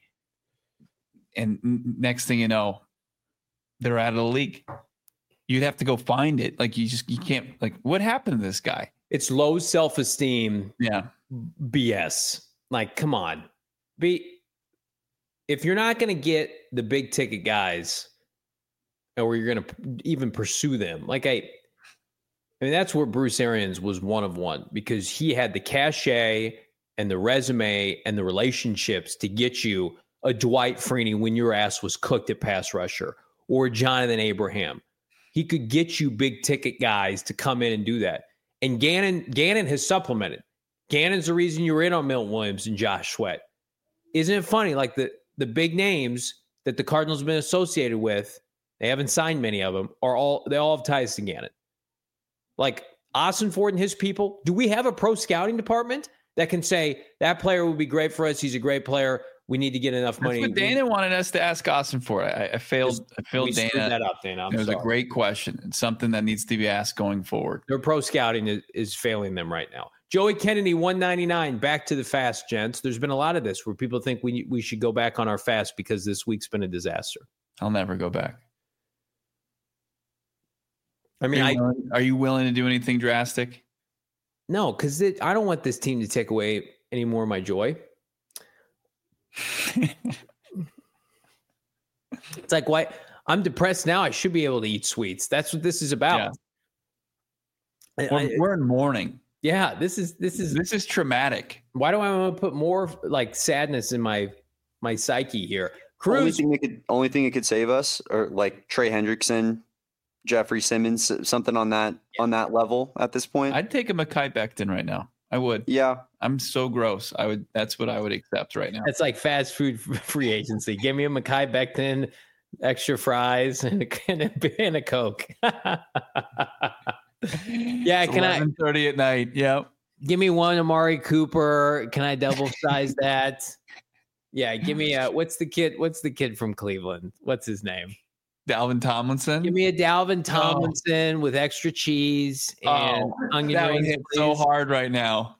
And next thing you know, they're out of the league. You'd have to go find it. Like you just, you can't, like what happened to this guy? It's low self-esteem. Yeah. B S. Like, come on. Be, if you're not going to get the big ticket guys or you're going to even pursue them, like I, I mean, that's where Bruce Arians was one of one because he had the cachet and the resume and the relationships to get you a Dwight Freeney when your ass was cooked at pass rusher or Jonathan Abraham. He could get you big ticket guys to come in and do that. And Gannon, Gannon has supplemented. Gannon's the reason you were in on Milton Williams and Josh Sweat. Isn't it funny? Like the, the big names that the Cardinals have been associated with, they haven't signed many of them, are all they all have ties to Gannon. Like Ossenfort and his people, do we have a pro scouting department that can say that player would be great for us? He's a great player. We need to get enough money. That's what Dana we, wanted us to ask Ossenfort. I, I failed. I failed Dana. That up, Dana. I'm it was sorry. a great question. It's something that needs to be asked going forward. Their pro scouting is, is failing them right now. Joey Kennedy, one ninety-nine. Back to the fast, gents. There's been a lot of this where people think we we should go back on our fast because this week's been a disaster. I'll never go back. I mean, are you, I, willing, are you willing to do anything drastic? No, because I don't want this team to take away any more of my joy. It's like, why? I'm depressed now. I should be able to eat sweets. That's what this is about. Yeah. We're, I, we're in mourning. Yeah, this is this is this is traumatic. Why do I want to put more like sadness in my my psyche here? Cruz, only thing that could only thing that could save us, or like Trey Hendrickson, Jeffrey Simmons, something on that yeah. on that level at this point. I'd take a Mekhi Becton right now. I would. Yeah, I'm so gross. I would. That's what I would accept right now. It's like fast food free agency. Give me a Mekhi Becton, extra fries, and a, and a, and a Coke. Yeah, It's can I eleven thirty at night? Yep. give me one Amari Cooper? Can I double size that? Yeah, give me a what's the kid? What's the kid from Cleveland? What's his name? Dalvin Tomlinson. Give me a Dalvin Tomlinson oh. with extra cheese and oh, onion that rings. Would hit so hard right now.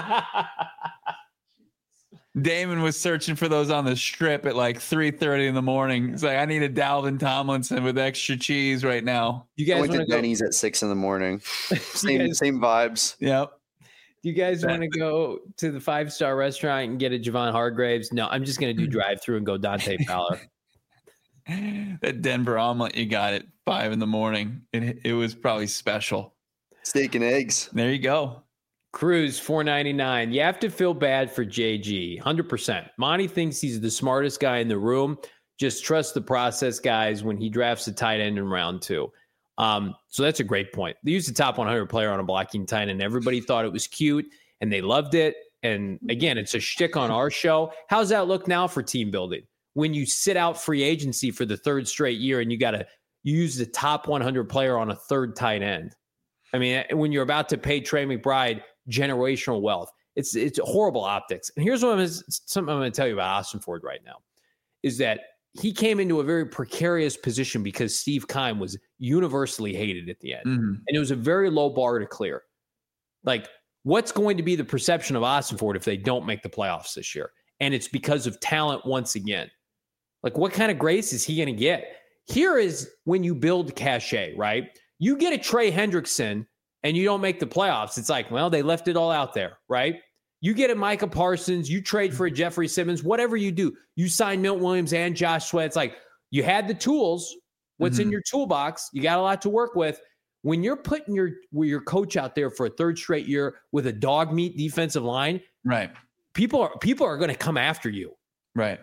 Damon was searching for those on the strip at like three thirty in the morning. He's like, I need a Dalvin Tomlinson with extra cheese right now. You guys I went to go- Denny's at six in the morning. Same guys- same vibes. Yep. Do you guys want to go to the five-star restaurant and get a Javon Hargraves? No, I'm just going to do drive-through and go Dante Fowler. That Denver omelet you got at five in the morning. It, it was probably special. Steak and eggs. There you go. Cruz, four ninety-nine. You have to feel bad for J G, one hundred percent. Monty thinks he's the smartest guy in the room. Just trust the process, guys, when he drafts a tight end in round two. Um, so that's a great point. They used the top one hundred player on a blocking tight end. Everybody thought it was cute, and they loved it. And again, it's a shtick on our show. How's that look now for team building? When you sit out free agency for the third straight year and you got to use the top one hundred player on a third tight end. I mean, when you're about to pay Trey McBride generational wealth, it's it's horrible optics. And here's what I'm, something I'm going to tell you about Austin Ford right now is that he came into a very precarious position because Steve Keim was universally hated at the end. Mm-hmm. And it was a very low bar to clear. Like, what's going to be the perception of Austin Ford if they don't make the playoffs this year? And it's because of talent once again. Like, what kind of grace is he going to get? Here is when you build cachet, right? You get a Trey Hendrickson and you don't make the playoffs. It's like, well, they left it all out there, right? You get a Micah Parsons, you trade for a Jeffrey Simmons, whatever you do, you sign Milt Williams and Josh Sweat. It's like you had the tools. What's mm-hmm. in your toolbox? You got a lot to work with. When you're putting your your coach out there for a third straight year with a dog meat defensive line, right? People are people are going to come after you, right?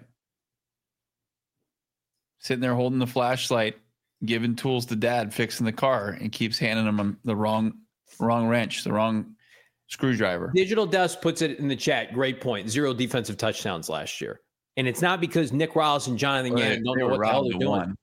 Sitting there holding the flashlight, giving tools to dad, fixing the car, and keeps handing him the wrong wrong wrench, the wrong screwdriver. Digital Dust puts it in the chat. Great point. Zero defensive touchdowns last year. And it's not because Nick Rawls and Jonathan Gannon don't know what the hell they're doing. One.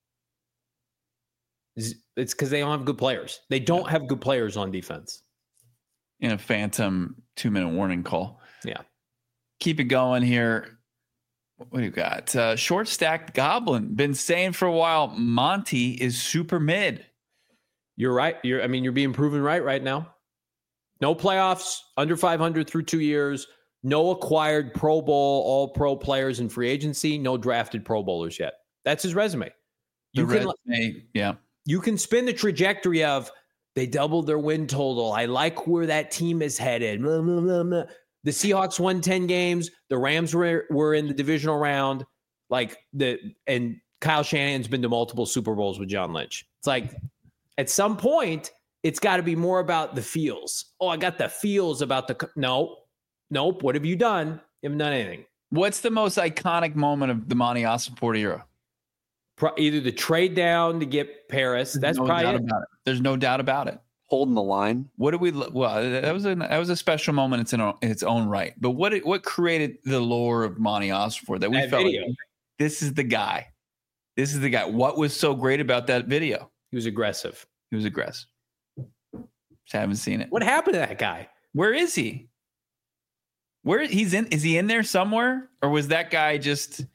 It's because they don't have good players. They don't have good players on defense. In a phantom two-minute warning call. Yeah. Keep it going here. What do you got? Uh, short stacked Goblin. Been saying for a while, Monty is super mid. You're right. You're. I mean, you're being proven right right now. No playoffs, under five hundred through two years. No acquired Pro Bowl, all pro players in free agency. No drafted Pro Bowlers yet. That's his resume. You the can, resume, yeah. You can spin the trajectory of they doubled their win total. I like where that team is headed. Blah, blah, blah, blah. The Seahawks won ten games. The Rams were were in the divisional round. Like the and Kyle Shanahan's been to multiple Super Bowls with John Lynch. It's like at some point it's got to be more about the feels. Oh, I got the feels about the no, nope. What have you done? You haven't done anything. What's the most iconic moment of the Monty Ossenfort era? Pro, either the trade down to get Paris. There's That's no probably doubt it. about it. There's no doubt about it. Holding the line. What did we? Well, that was a that was a special moment. It's in, a, in its own right. But what what created the lore of Monty Ossenfort that we that felt video. like this is the guy. This is the guy. What was so great about that video? He was aggressive. He was aggressive. Just haven't seen it. What happened to that guy? Where is he? Where he's in? Is he in there somewhere, or was that guy just?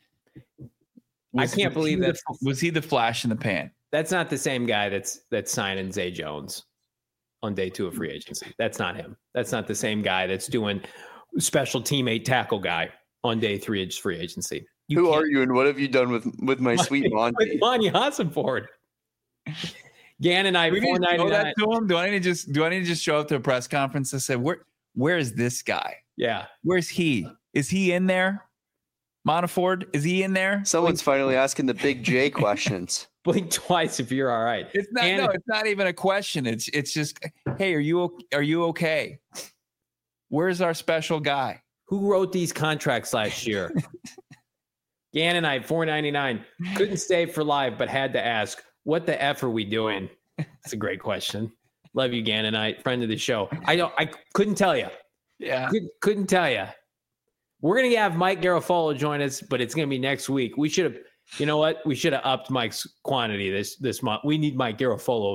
I can't believe that. Was he the flash in the pan? That's not the same guy that's that's signing Zay Jones on day two of free agency. That's not him. That's not the same guy that's doing special teammate tackle guy on day three of free agency. You Who are you and what have you done with with my sweet Monty? With Monty Ossenfort. Gannon, I four ninety nine. To him? Do I need to just do I need to just show up to a press conference and say where where is this guy? Yeah, where's he? Is he in there? Montefiore, is he in there? Someone's finally asking the big J questions. Blink twice if you're all right. It's not. And no, it's not even a question. It's it's just, hey, are you are you okay? Where's our special guy? Who wrote these contracts last year? Gannon, I four ninety nine. Couldn't stay for live, but had to ask, what the F are we doing? That's a great question. Love you, Gannon, I friend of the show. I don't. I couldn't tell you. Yeah, Could, couldn't tell you. We're gonna have Mike Garafolo join us, but it's gonna be next week. We should have. You know what? We should have upped Mike's quantity this this month. We need Mike Garafolo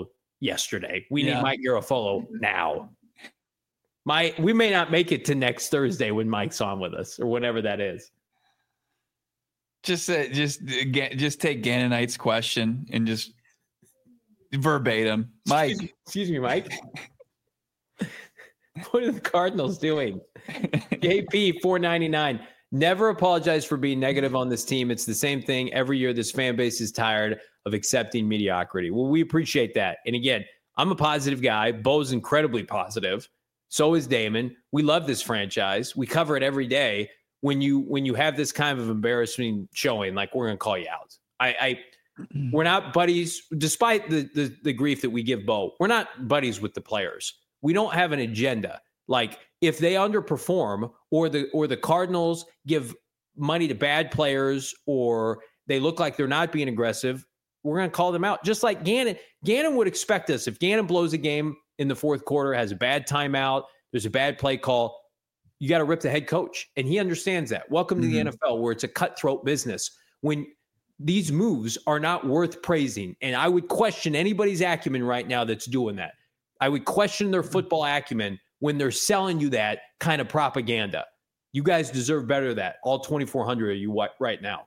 yesterday. We Yeah. need Mike Garafolo now. My, we may not make it to next Thursday when Mike's on with us or whenever that is. Just uh, just uh, ga- just take Gannonite's question and just verbatim. Mike. Excuse, excuse me, Mike. What are the Cardinals doing? J P four ninety-nine. Never apologize for being negative on this team. It's the same thing every year. This fan base is tired of accepting mediocrity. Well, we appreciate that. And again, I'm a positive guy. Bo's incredibly positive. So is Damon. We love this franchise. We cover it every day. When you when you have this kind of embarrassing showing, like, we're going to call you out. I, I we're not buddies, despite the, the the grief that we give Bo. We're not buddies with the players. We don't have an agenda. Like, if they underperform or the or the Cardinals give money to bad players or they look like they're not being aggressive, we're going to call them out. Just like Gannon. Gannon would expect us. If Gannon blows a game in the fourth quarter, has a bad timeout, there's a bad play call, you got to rip the head coach. And he understands that. Welcome to mm-hmm. the N F L, where it's a cutthroat business. When these moves are not worth praising, and I would question anybody's acumen right now that's doing that. I would question their football acumen when they're selling you that kind of propaganda. You guys deserve better than that. All twenty-four hundred of you right now.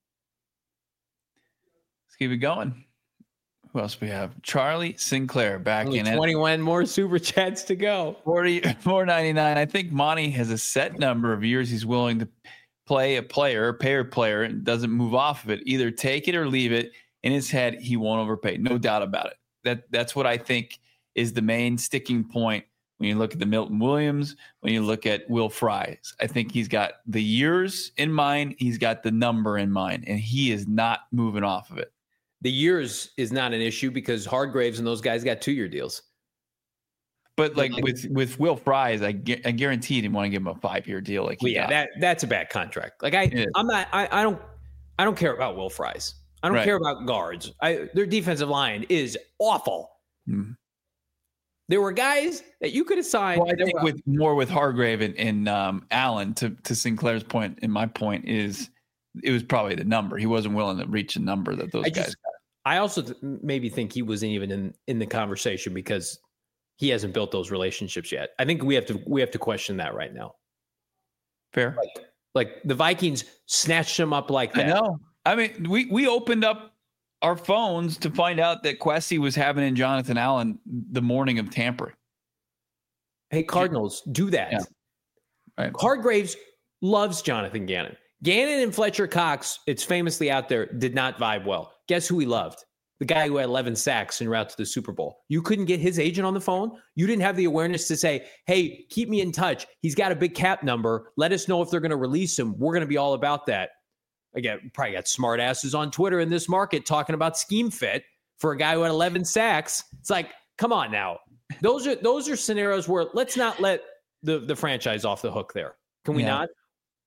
Let's keep it going. Who else we have? Charlie Sinclair back Only in it. twenty-one more super chats to go. forty-four ninety-nine. I think Monty has a set number of years he's willing to play a player, pay a player, and doesn't move off of it. Either take it or leave it. In his head, he won't overpay. No doubt about it. That That's what I think is the main sticking point when you look at the Milton Williams, when you look at Will Fries. I think he's got the years in mind. He's got the number in mind, and he is not moving off of it. The years is not an issue because Hargraves and those guys got two-year deals. But like with, with Will Fries, I, gu- I guarantee he didn't want to give him a five-year deal. Like, well, he yeah, got. that that's a bad contract. Like I, I'm not. I, I don't. I don't care about Will Fries. I don't Right. care about guards. I, their defensive line is awful. Mm-hmm. There were guys that you could have signed. Well, I think with more with Hargrave and, and um, Allen, to to Sinclair's point, and my point is, it was probably the number. He wasn't willing to reach a number that those I guys just, got. I also th- maybe think he wasn't even in, in the conversation because he hasn't built those relationships yet. I think we have to we have to question that right now. Fair. Like, like the Vikings snatched him up like that. I know. I mean, we we opened up our phones to find out that Kwesi was having in Jonathan Allen the morning of tampering. Hey, Cardinals, do that. Yeah. Right. Hargraves loves Jonathan Gannon. Gannon and Fletcher Cox, it's famously out there, did not vibe well. Guess who he loved? The guy who had eleven sacks en route to the Super Bowl. You couldn't get his agent on the phone. You didn't have the awareness to say, hey, keep me in touch. He's got a big cap number. Let us know if they're going to release him. We're going to be all about that. Again, probably got smart asses on Twitter in this market talking about scheme fit for a guy who had eleven sacks. It's like, come on now. Those are those are scenarios where let's not let the, the franchise off the hook there. Can we Yeah. not?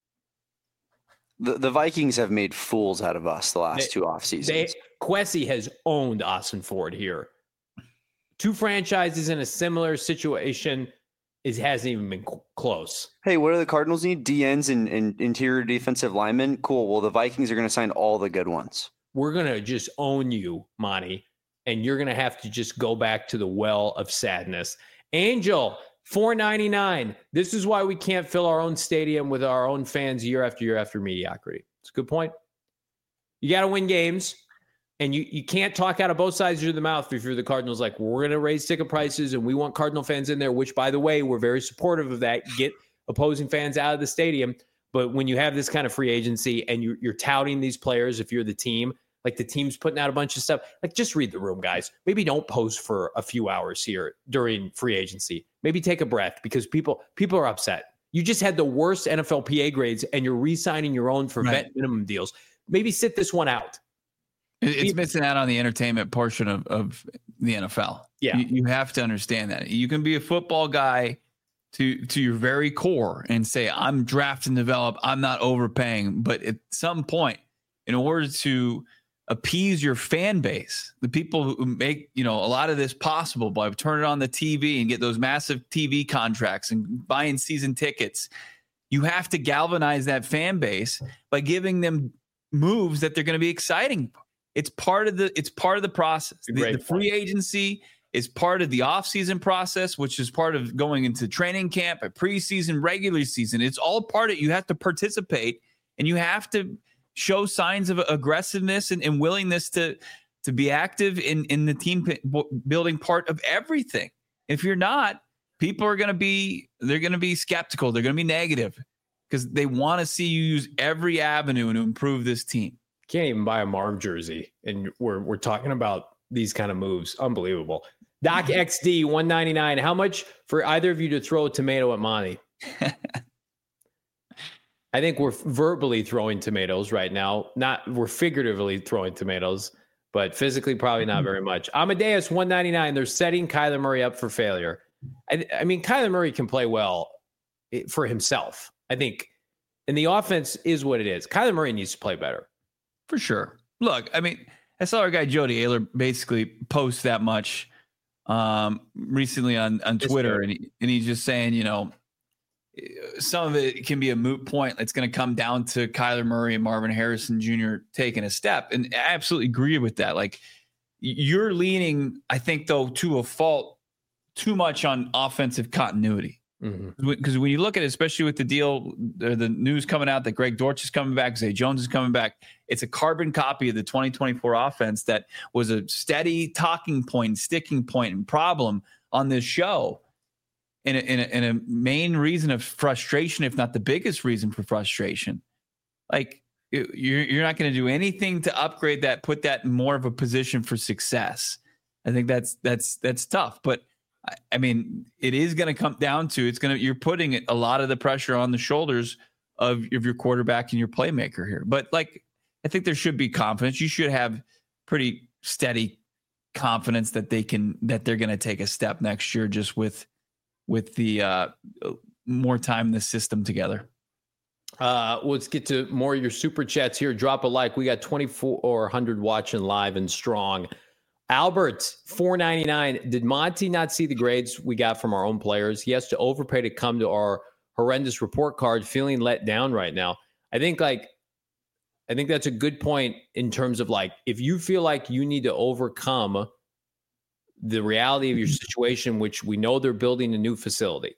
The, the Vikings have made fools out of us the last They- two off seasons. They, Kwesi has owned Austin Ford here. Two franchises in a similar situation. It hasn't even been cl- close. Hey, what do the Cardinals need? D Ns and, and interior defensive linemen? Cool. Well, the Vikings are going to sign all the good ones. We're going to just own you, Monty, and you're going to have to just go back to the well of sadness. Angel, four ninety-nine. This is why we can't fill our own stadium with our own fans year after year after mediocrity. It's a good point. You got to win games, and you, you can't talk out of both sides of the mouth if you're the Cardinals. Like, we're going to raise ticket prices, and we want Cardinal fans in there, which, by the way, we're very supportive of that. Get opposing fans out of the stadium. But when you have this kind of free agency and you, you're touting these players, if you're the team, like the team's putting out a bunch of stuff, like just read the room, guys. Maybe don't post for a few hours here during free agency. Maybe take a breath because people people are upset. You just had the worst N F L P A grades and you're re-signing your own for Right. vet minimum deals. Maybe sit this one out. It- It's missing out on the entertainment portion of, of the N F L. Yeah. You, you have to understand that. You can be a football guy to to your very core and say, I'm draft and develop, I'm not overpaying. But at some point, in order to appease your fan base, the people who make, you know, a lot of this possible by turning on the T V and get those massive T V contracts and buying season tickets, you have to galvanize that fan base by giving them moves that they're going to be exciting. It's part of the it's part of the process. The, Great the free agency is part of the offseason process, which is part of going into training camp, a preseason, regular season. It's all part of it. You have to participate, and you have to show signs of aggressiveness and, and willingness to, to be active in, in the team building part of everything. If you're not, people are going to be, they're going to be skeptical. They're going to be negative because they want to see you use every avenue to improve this team. Can't even buy a Marv jersey, and we're we're talking about these kind of moves. Unbelievable. Doc X D one ninety-nine. How much for either of you to throw a tomato at Monty? I think we're verbally throwing tomatoes right now. Not we're figuratively throwing tomatoes, but physically probably not very much. Amadeus one ninety-nine. They're setting Kyler Murray up for failure. I, I mean, Kyler Murray can play well for himself, I think, and the offense is what it is. Kyler Murray needs to play better. For sure. Look, I mean, I saw our guy Jody Ayler basically post that much um, recently on, on Twitter, and, he, and he's just saying, you know, some of it can be a moot point. It's going to come down to Kyler Murray and Marvin Harrison Junior taking a step. And I absolutely agree with that. Like, you're leaning, I think, though, to a fault too much on offensive continuity. Because mm-hmm. when you look at it, especially with the deal, the, the news coming out that Greg Dortch is coming back, Zay Jones is coming back, it's a carbon copy of the twenty twenty-four offense that was a steady talking point, sticking point, and problem on this show. And a, and a, and a main reason of frustration, if not the biggest reason for frustration. Like, you're, you're not going to do anything to upgrade that, put that in more of a position for success. I think that's that's that's tough. But I mean, it is going to come down to it's going to you're putting a lot of the pressure on the shoulders of, of your quarterback and your playmaker here. But like, I think there should be confidence. You should have pretty steady confidence that they can that they're going to take a step next year, just with with the uh, more time in the system together. Uh, let's get to more of your super chats here. Drop a like. We got twenty-four hundred watching live and strong. Albert, four ninety-nine. Did Monty not see the grades we got from our own players? He has to overpay to come to our horrendous report card, feeling let down right now. I think like, I think that's a good point in terms of like, if you feel like you need to overcome the reality of your situation, which we know they're building a new facility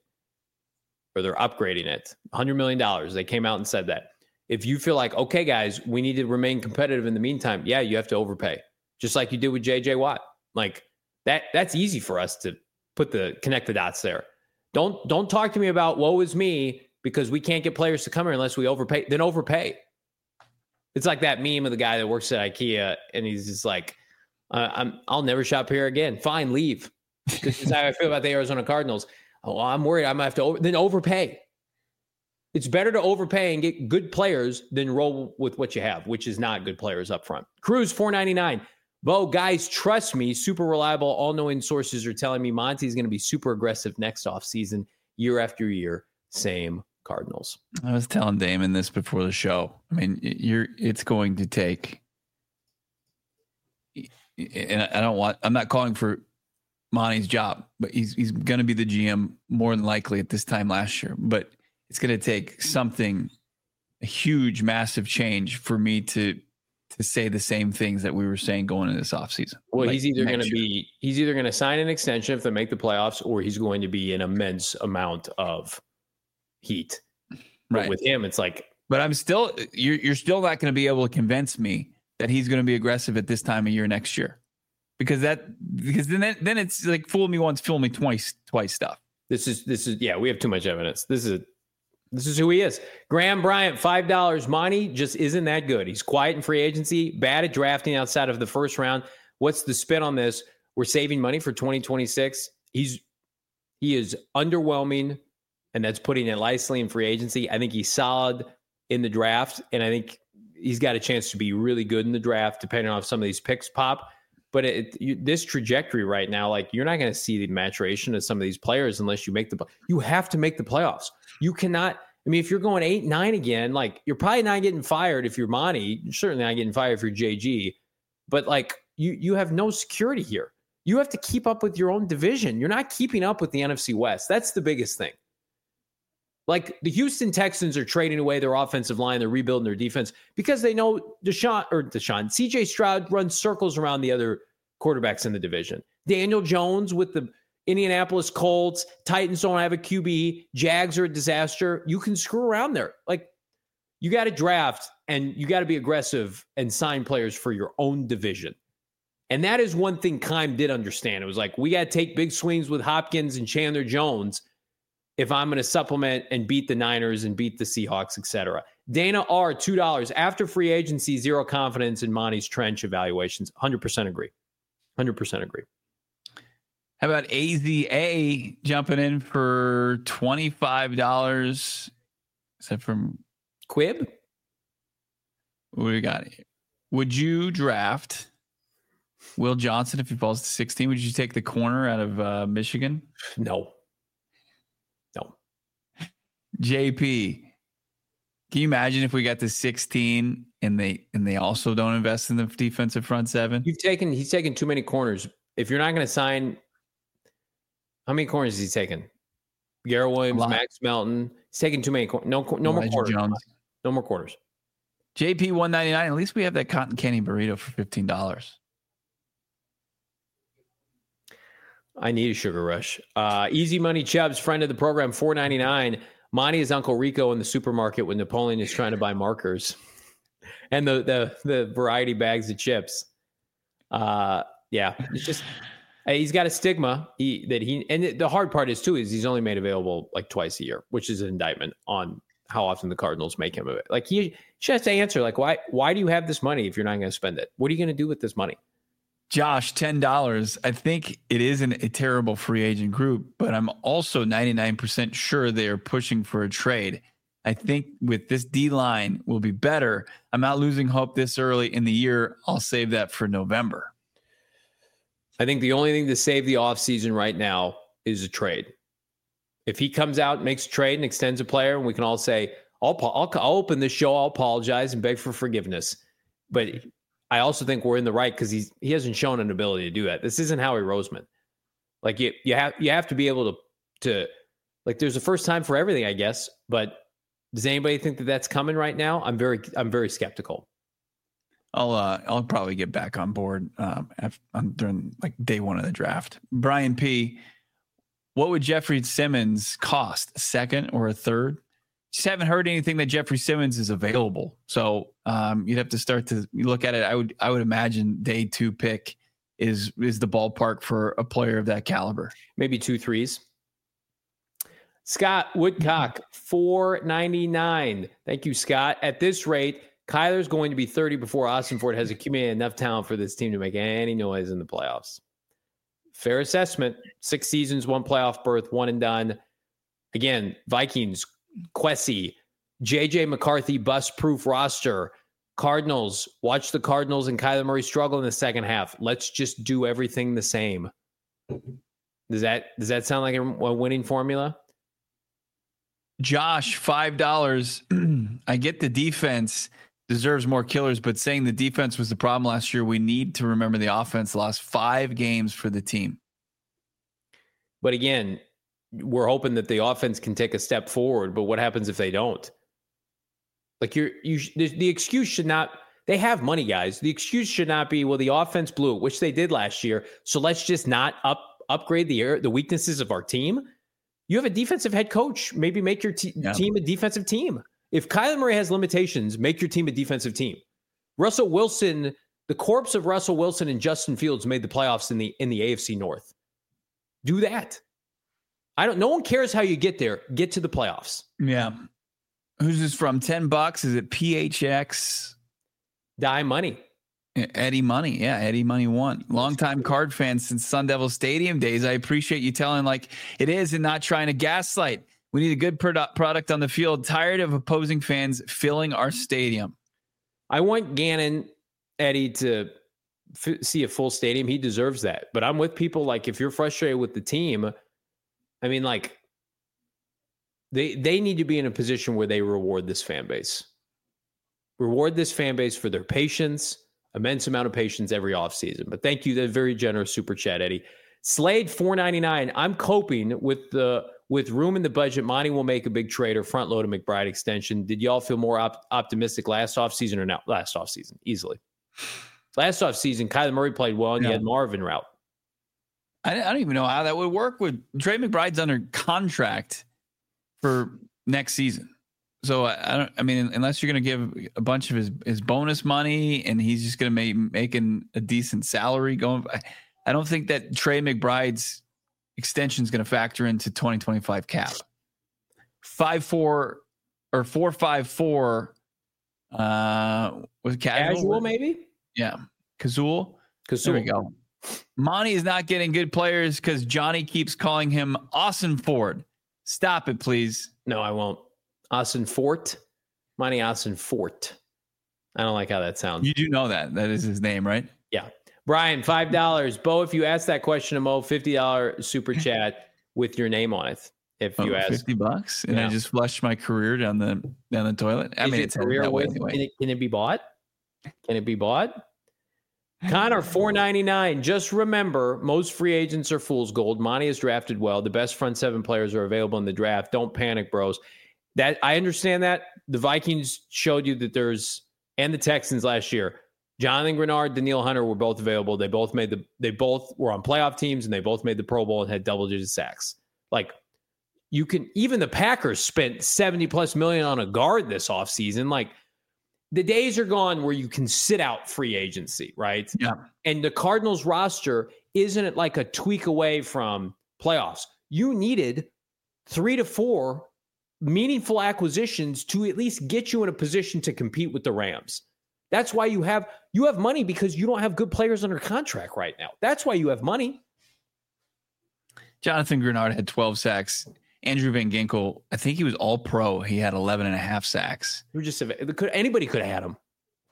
or they're upgrading it, one hundred million dollars. They came out and said that. If you feel like, okay, guys, we need to remain competitive in the meantime, yeah, you have to overpay. Just like you did with J J Watt. Like that, that's easy for us to put the connect the dots there. Don't don't talk to me about woe is me because we can't get players to come here unless we overpay. Then overpay. It's like that meme of the guy that works at IKEA and he's just like, uh, I'm I'll never shop here again. Fine, leave. This is how I feel about the Arizona Cardinals. Oh, I'm worried I'm gonna have to over, then overpay. It's better to overpay and get good players than roll with what you have, which is not good players up front. Cruz four ninety-nine. Bo, guys, trust me, super reliable, all-knowing sources are telling me Monty's going to be super aggressive next offseason, year after year. Same Cardinals. I was telling Damon this before the show. I mean, you're it's going to take, and I don't want, I'm not calling for Monty's job, but he's he's going to be the G M more than likely at this time last year. But it's going to take something, a huge, massive change for me to to say the same things that we were saying going into this offseason. Well, like he's either going to be, he's either going to sign an extension if they make the playoffs, or he's going to be an immense amount of heat. Right. But with him, it's like, but I'm still, you're, you're still not going to be able to convince me that he's going to be aggressive at this time of year next year, because that, because then, then it's like fool me once, fool me twice, twice stuff. This is, this is, yeah, we have too much evidence. This is, This is who he is. Graham Bryant, five dollars. Monty just isn't that good. He's quiet in free agency, bad at drafting outside of the first round. What's the spin on this? We're saving money for twenty twenty-six. He's he is underwhelming, and that's putting it lightly in free agency. I think he's solid in the draft, and I think he's got a chance to be really good in the draft, depending on if some of these picks pop. But it, you, this trajectory right now, like you're not going to see the maturation of some of these players unless you make the. You have to make the playoffs. You cannot. I mean, if you're going eight, nine again, like you're probably not getting fired if you're Monty. You're certainly not getting fired if you're J G. But like you, you have no security here. You have to keep up with your own division. You're not keeping up with the N F C West. That's the biggest thing. Like the Houston Texans are trading away their offensive line, they're rebuilding their defense because they know Deshaun or Deshaun, C J Stroud runs circles around the other quarterbacks in the division. Daniel Jones with the Indianapolis Colts, Titans don't have a Q B, Jags are a disaster. You can screw around there. Like, you got to draft and you got to be aggressive and sign players for your own division. And that is one thing Keim did understand. It was like, we got to take big swings with Hopkins and Chandler Jones if I'm going to supplement and beat the Niners and beat the Seahawks, et cetera. Dana R, two dollars. After free agency, zero confidence in Monty's trench evaluations. one hundred percent agree. one hundred percent agree. How about A Z A jumping in for twenty-five dollars? Is that from Quib? What do we got here? Would you draft Will Johnson if he falls to sixteen? Would you take the corner out of uh, Michigan? No. No. J P, can you imagine if we got to sixteen and they and they also don't invest in the defensive front seven? You've taken he's taken too many corners. If you're not going to sign, how many corners is he taken? Garrett Williams, Max Melton. He's taking too many corners. No, no more corners. Jones. No more corners. J P one ninety-nine. At least we have that cotton candy burrito for fifteen dollars. I need a sugar rush. Uh, Easy Money Chubbs, friend of the program, four ninety-nine. Monty is Uncle Rico in the supermarket when Napoleon is trying to buy markers and the the the variety bags of chips. Uh, yeah, it's just he's got a stigma he, that he and the hard part is too is he's only made available like twice a year, which is an indictment on how often the Cardinals make him of it. Like he just has to answer like why why do you have this money if you're not going to spend it? What are you going to do with this money? Josh, ten dollars. I think it isn't a terrible free agent group, but I'm also ninety-nine percent sure they are pushing for a trade. I think with this D-line will be better. I'm not losing hope this early in the year. I'll save that for November. I think the only thing to save the offseason right now is a trade. If he comes out, makes a trade, and extends a player, and we can all say, I'll, I'll, I'll open this show, I'll apologize and beg for forgiveness. But I also think we're in the right because he's he hasn't shown an ability to do that. This isn't Howie Roseman. Like you, you have you have to be able to to like. There's a first time for everything, I guess. But does anybody think that that's coming right now? I'm very I'm very skeptical. I'll uh, I'll probably get back on board um, after, um, during like day one of the draft. Brian P, what would Jeffrey Simmons cost? A second or a third? Just haven't heard anything that Jeffrey Simmons is available. So um, you'd have to start to look at it. I would I would imagine day two pick is is the ballpark for a player of that caliber. Maybe two threes. Scott Woodcock, four ninety-nine. Thank you, Scott. At this rate, Kyler's going to be thirty before Ossenfort has accumulated enough talent for this team to make any noise in the playoffs. Fair assessment. Six seasons, one playoff berth, one and done. Again, Vikings, Quessy, J J McCarthy, bust-proof roster. Cardinals, watch the Cardinals and Kyler Murray struggle in the second half. Let's just do everything the same. Does that does that sound like a, a winning formula? Josh, five dollars. I get the defense deserves more killers, but saying the defense was the problem last year, we need to remember the offense lost five games for the team. But again, we're hoping that the offense can take a step forward, but what happens if they don't? Like you're, you, the, the excuse should not, they have money, guys. The excuse should not be, well, the offense blew it, which they did last year. So let's just not up, upgrade the the weaknesses of our team. You have a defensive head coach. Maybe make your te- yeah. team a defensive team. If Kyler Murray has limitations, make your team a defensive team. Russell Wilson, the corpse of Russell Wilson and Justin Fields made the playoffs in the in the A F C North. Do that. I don't. No one cares how you get there. Get to the playoffs. Yeah. Who's this from? Ten bucks? Is it P H X? Die Money. Eddie Money. Yeah, Eddie Money won. Longtime Card fan since Sun Devil Stadium days. I appreciate you telling like it is and not trying to gaslight. We need a good product product on the field. Tired of opposing fans filling our stadium. I want Gannon, Eddie, to f- see a full stadium. He deserves that. But I'm with people like if you're frustrated with the team, I mean, like they they need to be in a position where they reward this fan base. Reward this fan base for their patience, immense amount of patience every offseason. But thank you. That very generous super chat, Eddie. Slade four ninety-nine. I'm coping with the with room in the budget. Monty will make a big trade or front load a McBride extension. Did y'all feel more op- optimistic last offseason or not? Last offseason, easily. Last offseason, Kyler Murray played well and yeah. you had Marvin route. I, I don't even know how that would work. With Trey McBride's under contract for next season, so I, I don't. I mean, unless you're going to give a bunch of his, his bonus money and he's just going to make making a decent salary going. I, I don't think that Trey McBride's extension is going to factor into twenty twenty-five cap. Five four or four five four. Uh, was it casual? Casual, maybe. Yeah, Kazul. Kazul. There we go. Monty is not getting good players because Johnny keeps calling him Austin Ford. Stop it, please. No, I won't. Austin Fort. Monty Austin Fort. I don't like how that sounds. You do know that. That is his name, right? Yeah. Brian, five dollars. Bo, if you ask that question to Mo, fifty dollars super chat with your name on it. If you oh, ask fifty bucks and yeah. I just flushed my career down the down the toilet. I Is mean, it it's career that way with, anyway. Can it, can it be bought? Can it be bought? Connor, four ninety-nine. Just remember, most free agents are fool's gold. Monty is drafted well. The best front seven players are available in the draft. Don't panic, bros. That I understand that. The Vikings showed you that there's, and the Texans last year, Jonathan Grenard, Daniil Hunter were both available. They both made the, they both were on playoff teams and they both made the Pro Bowl and had double-digit sacks. Like, you can, even the Packers spent seventy plus million on a guard this offseason. Like, the days are gone where you can sit out free agency, right? Yeah. And the Cardinals roster isn't it like a tweak away from playoffs. You needed three to four meaningful acquisitions to at least get you in a position to compete with the Rams. That's why you have you have money, because you don't have good players under contract right now. That's why you have money. Jonathan Grenard had twelve sacks. Andrew Van Ginkel, I think he was all pro. He had eleven and a half sacks. We're just could anybody could have had him.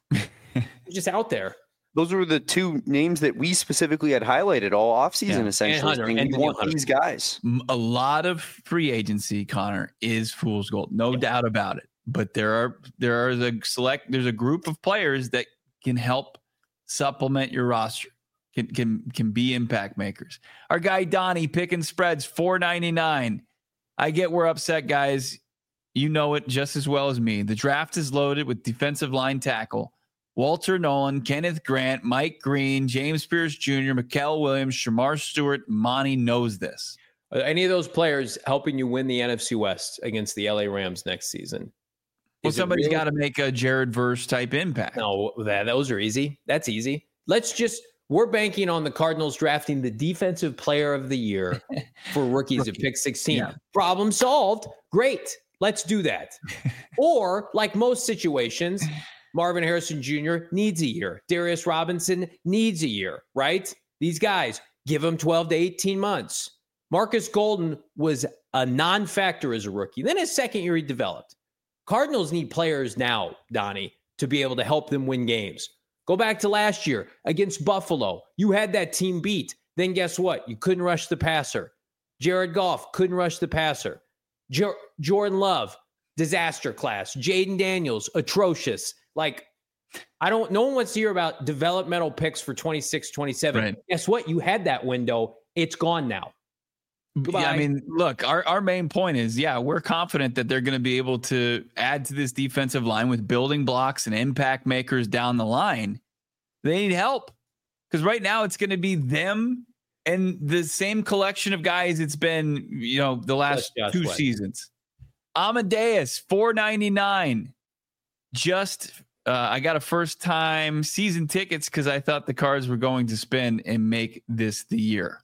He's just out there. Those were the two names that we specifically had highlighted all offseason, Yeah. essentially. And Hunter, saying and we want Hunter. these guys. A lot of free agency, Connor, is fool's gold. No Yeah. doubt about it. But there are there are a select there's a group of players that can help supplement your roster. Can can can be impact makers. Our guy Donnie picking spreads four ninety-nine. I get we're upset, guys. You know it just as well as me. The draft is loaded with defensive line tackle Walter Nolan, Kenneth Grant, Mike Green, James Pierce Junior, Mikael Williams, Shamar Stewart. Monty knows this. Are any of those players helping you win the N F C West against the L A Rams next season? Well, Is it somebody's really- got to make a Jared Verse type impact. No, that those are easy. That's easy. Let's just we're banking on the Cardinals drafting the defensive player of the year for rookies Rookie. at pick sixteen. Yeah. Problem solved. Great. Let's do that. Or like most situations, Marvin Harrison Junior needs a year. Darius Robinson needs a year, right? These guys, give them twelve to eighteen months. Marcus Golden was a non-factor as a rookie. Then his second year he developed. Cardinals need players now, Donnie, to be able to help them win games. Go back to last year against Buffalo. You had that team beat. Then guess what? You couldn't rush the passer. Jared Goff couldn't rush the passer. Jo- Jordan Love, disaster class. Jaden Daniels, atrocious. Like, I don't, no one wants to hear about developmental picks for twenty-six, twenty-seven. Right. Guess what? You had that window. It's gone now. Goodbye. Yeah, I mean, look, our, our main point is, yeah, we're confident that they're going to be able to add to this defensive line with building blocks and impact makers down the line. They need help because right now it's going to be them and the same collection of guys it's been, you know, the last Josh two White. seasons. Amadeus, four ninety-nine. Just, uh, I got a first time season tickets because I thought the Cards were going to spin and make this the year.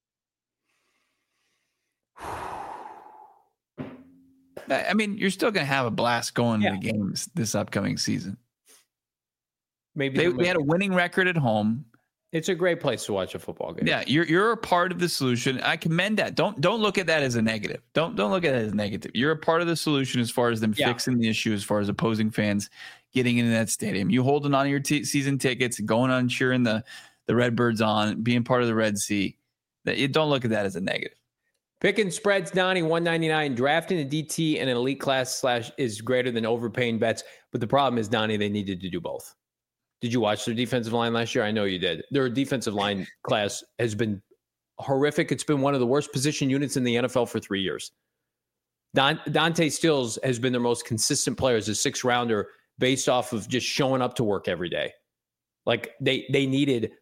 I mean, you're still going to have a blast going Yeah. to the games this upcoming season. Maybe They, they'll they had a make- winning record at home. it's a great place to watch a football game. Yeah, you're you're a part of the solution. I commend that. Don't don't look at that as a negative. Don't don't look at it as negative. You're a part of the solution as far as them Yeah. fixing the issue, as far as opposing fans getting into that stadium. You holding on to your t- season tickets, going on cheering the the Redbirds on, being part of the Red Sea. That you don't look at that as a negative. Picking spreads, Donnie, one ninety-nine. Drafting a D T and an elite class slash is greater than overpaying bets. But the problem is, Donnie, they needed to do both. Did you watch their defensive line last year? I know you did. Their defensive line class has been horrific. It's been one of the worst position units in the N F L for three years. Don, Dante Stills has been their most consistent player as a six rounder based off of just showing up to work every day. Like they they needed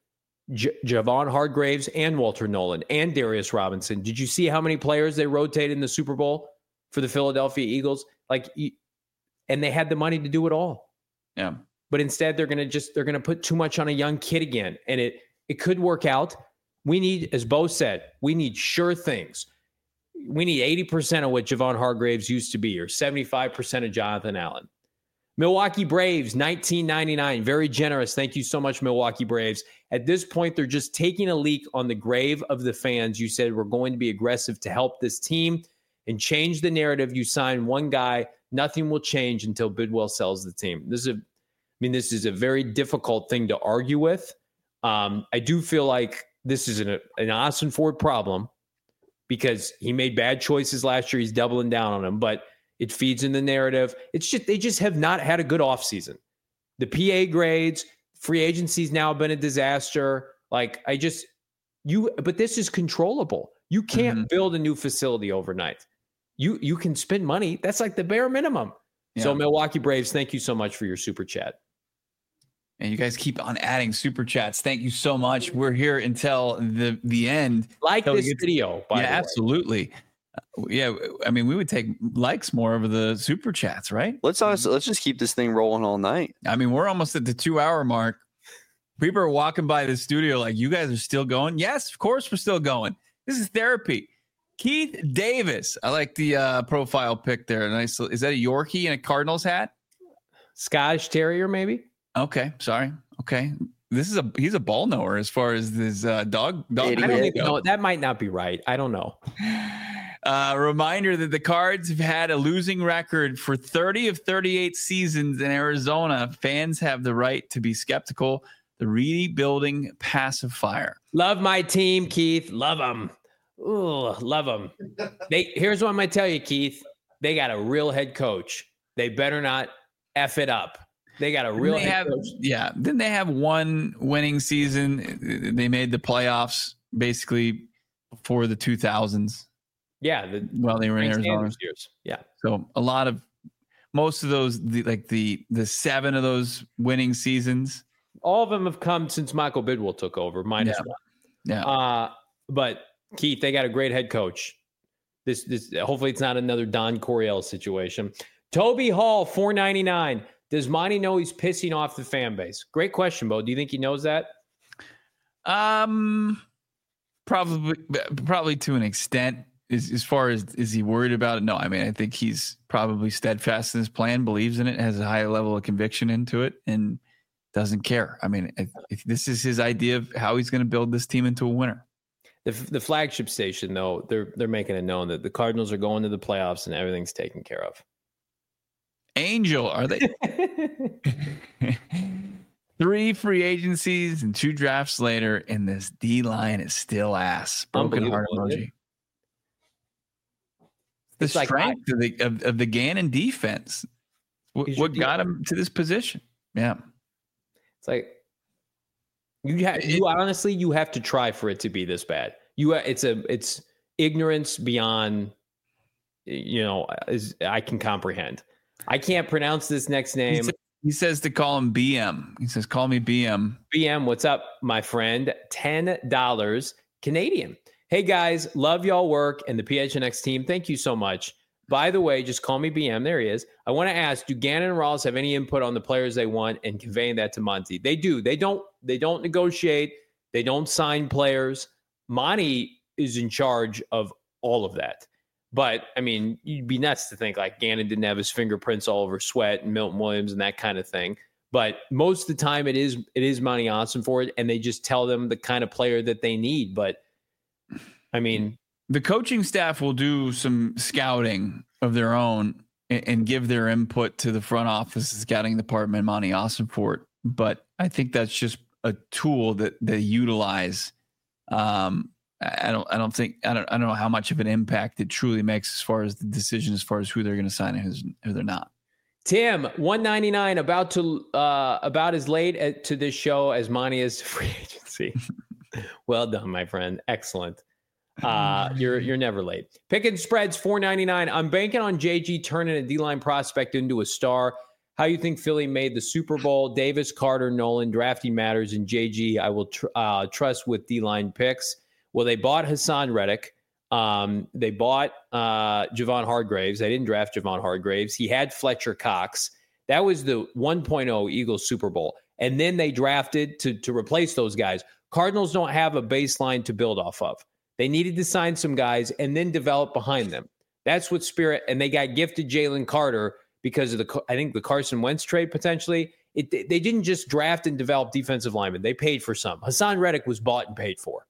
J- Javon Hargraves and Walter Nolan and Darius Robinson. Did you see how many players they rotated in the Super Bowl for the Philadelphia Eagles? Like, and they had the money to do it all. Yeah. But instead, they're going to just, they're going to put too much on a young kid again. And it, it could work out. We need, as Bo said, we need sure things. We need eighty percent of what Javon Hargraves used to be, or seventy-five percent of Jonathan Allen. Milwaukee Braves, nineteen ninety-nine. Very generous. Thank you so much, Milwaukee Braves. At this point, they're just taking a leak on the grave of the fans. You said we're going to be aggressive to help this team and change the narrative. You sign one guy, nothing will change until Bidwell sells the team. This is a, I mean, this is a very difficult thing to argue with. Um, I do feel like this is an, an Austin Ford problem because he made bad choices last year. He's doubling down on them, but it feeds in the narrative. It's just, they just have not had a good offseason. The P A grades, free agency's now been a disaster. Like I just, you, but this is controllable. You can't mm-hmm. build a new facility overnight. You, you can spend money. That's like the bare minimum. Yeah. So Milwaukee Braves, thank you so much for your super chat. And you guys keep on adding super chats. Thank you so much. We're here until the, the end. Like this video, by yeah, the way. Absolutely. Yeah, I mean, we would take likes more over the super chats, right? Let's honestly, let's just keep this thing rolling all night. I mean, we're almost at the two hour mark. People are walking by the studio like, you guys are still going? Yes, of course we're still going. This is therapy. Keith Davis. I like the uh, profile pic there. Nice. Is that a Yorkie in a Cardinals hat? Scottish Terrier, maybe? Okay, sorry. Okay. This is a he's a ball knower as far as this uh, dog. dog I don't even know. That might not be right. I don't know. Uh, reminder that the Cards have had a losing record for thirty of thirty-eight seasons in Arizona. Fans have the right to be skeptical. The rebuilding pacifier. Love my team, Keith. Love them. Ooh, love them. They here's what I'm gonna tell you, Keith. They got a real head coach. They better not F it up. They got a real head have, coach. Yeah. Then they have one winning season. They made the playoffs basically before the two thousands. Yeah. The, while they were in Arizona. Years. Yeah. So a lot of, most of those, the, like the, the seven of those winning seasons. All of them have come since Michael Bidwell took over, minus yeah. one. Yeah. Uh, but Keith, they got a great head coach. This, this, hopefully it's not another Don Coryell situation. Toby Hall, four ninety-nine. Does Monty know he's pissing off the fan base? Great question, Bo. Do you think he knows that? Um, probably, probably to an extent. As, as far as is he worried about it? No, I mean, I think he's probably steadfast in his plan, believes in it, has a high level of conviction into it, and doesn't care. I mean, if, if this is his idea of how he's going to build this team into a winner. The, the flagship station, though, they're they're making it known that the Cardinals are going to the playoffs and everything's taken care of. Angel, are they? Three free agencies and two drafts later, and this D line is still ass. Broken heart emoji. The it's strength like, of the of, of the Gannon defense. What, what got him to this position? Yeah, it's like you have. You honestly, you have to try for it to be this bad. You, it's a, it's ignorance beyond, you know, is I can comprehend. I can't pronounce this next name. He, says, he says to call him B M. He says, call me B M. B M, what's up, my friend? ten dollars Canadian. Hey, guys, love y'all work and the P H N X team. Thank you so much. By the way, just call me B M. There he is. I want to ask, do Gannon and Rawls have any input on the players they want and conveying that to Monty? They do. They don't, they don't negotiate. They don't sign players. Monty is in charge of all of that. But, I mean, you'd be nuts to think like Gannon didn't have his fingerprints all over Sweat and Milton Williams and that kind of thing. But most of the time it is it is Monty Ossenfort, and they just tell them the kind of player that they need. But, I mean. The coaching staff will do some scouting of their own and, and give their input to the front office scouting department, Monty Ossenfort. But I think that's just a tool that they utilize. Um I don't. I don't think. I don't. I don't know how much of an impact it truly makes as far as the decision, as far as who they're going to sign and who's, who they're not. Tim, one ninety-nine, about to uh, about as late at, to this show as Monty is free agency. Well done, my friend. Excellent. Uh, you're you're never late. Pick and spreads four ninety-nine. I'm banking on J G turning a D-line prospect into a star. how you think Philly made the Super Bowl. Davis, Carter, Nolan, drafting matters, and J G, I will tr- uh, trust with D-line picks. Well, they bought Hassan Reddick. Um, they bought uh, Javon Hargraves. They didn't draft Javon Hargraves. He had Fletcher Cox. That was the one point oh Eagles Super Bowl. And then they drafted to, to replace those guys. Cardinals don't have a baseline to build off of. They needed to sign some guys and then develop behind them. That's what Spirit, and they got gifted Jalen Carter because of the, I think the Carson Wentz trade potentially. It, they didn't just draft and develop defensive linemen. They paid for some. Hassan Reddick was bought and paid for.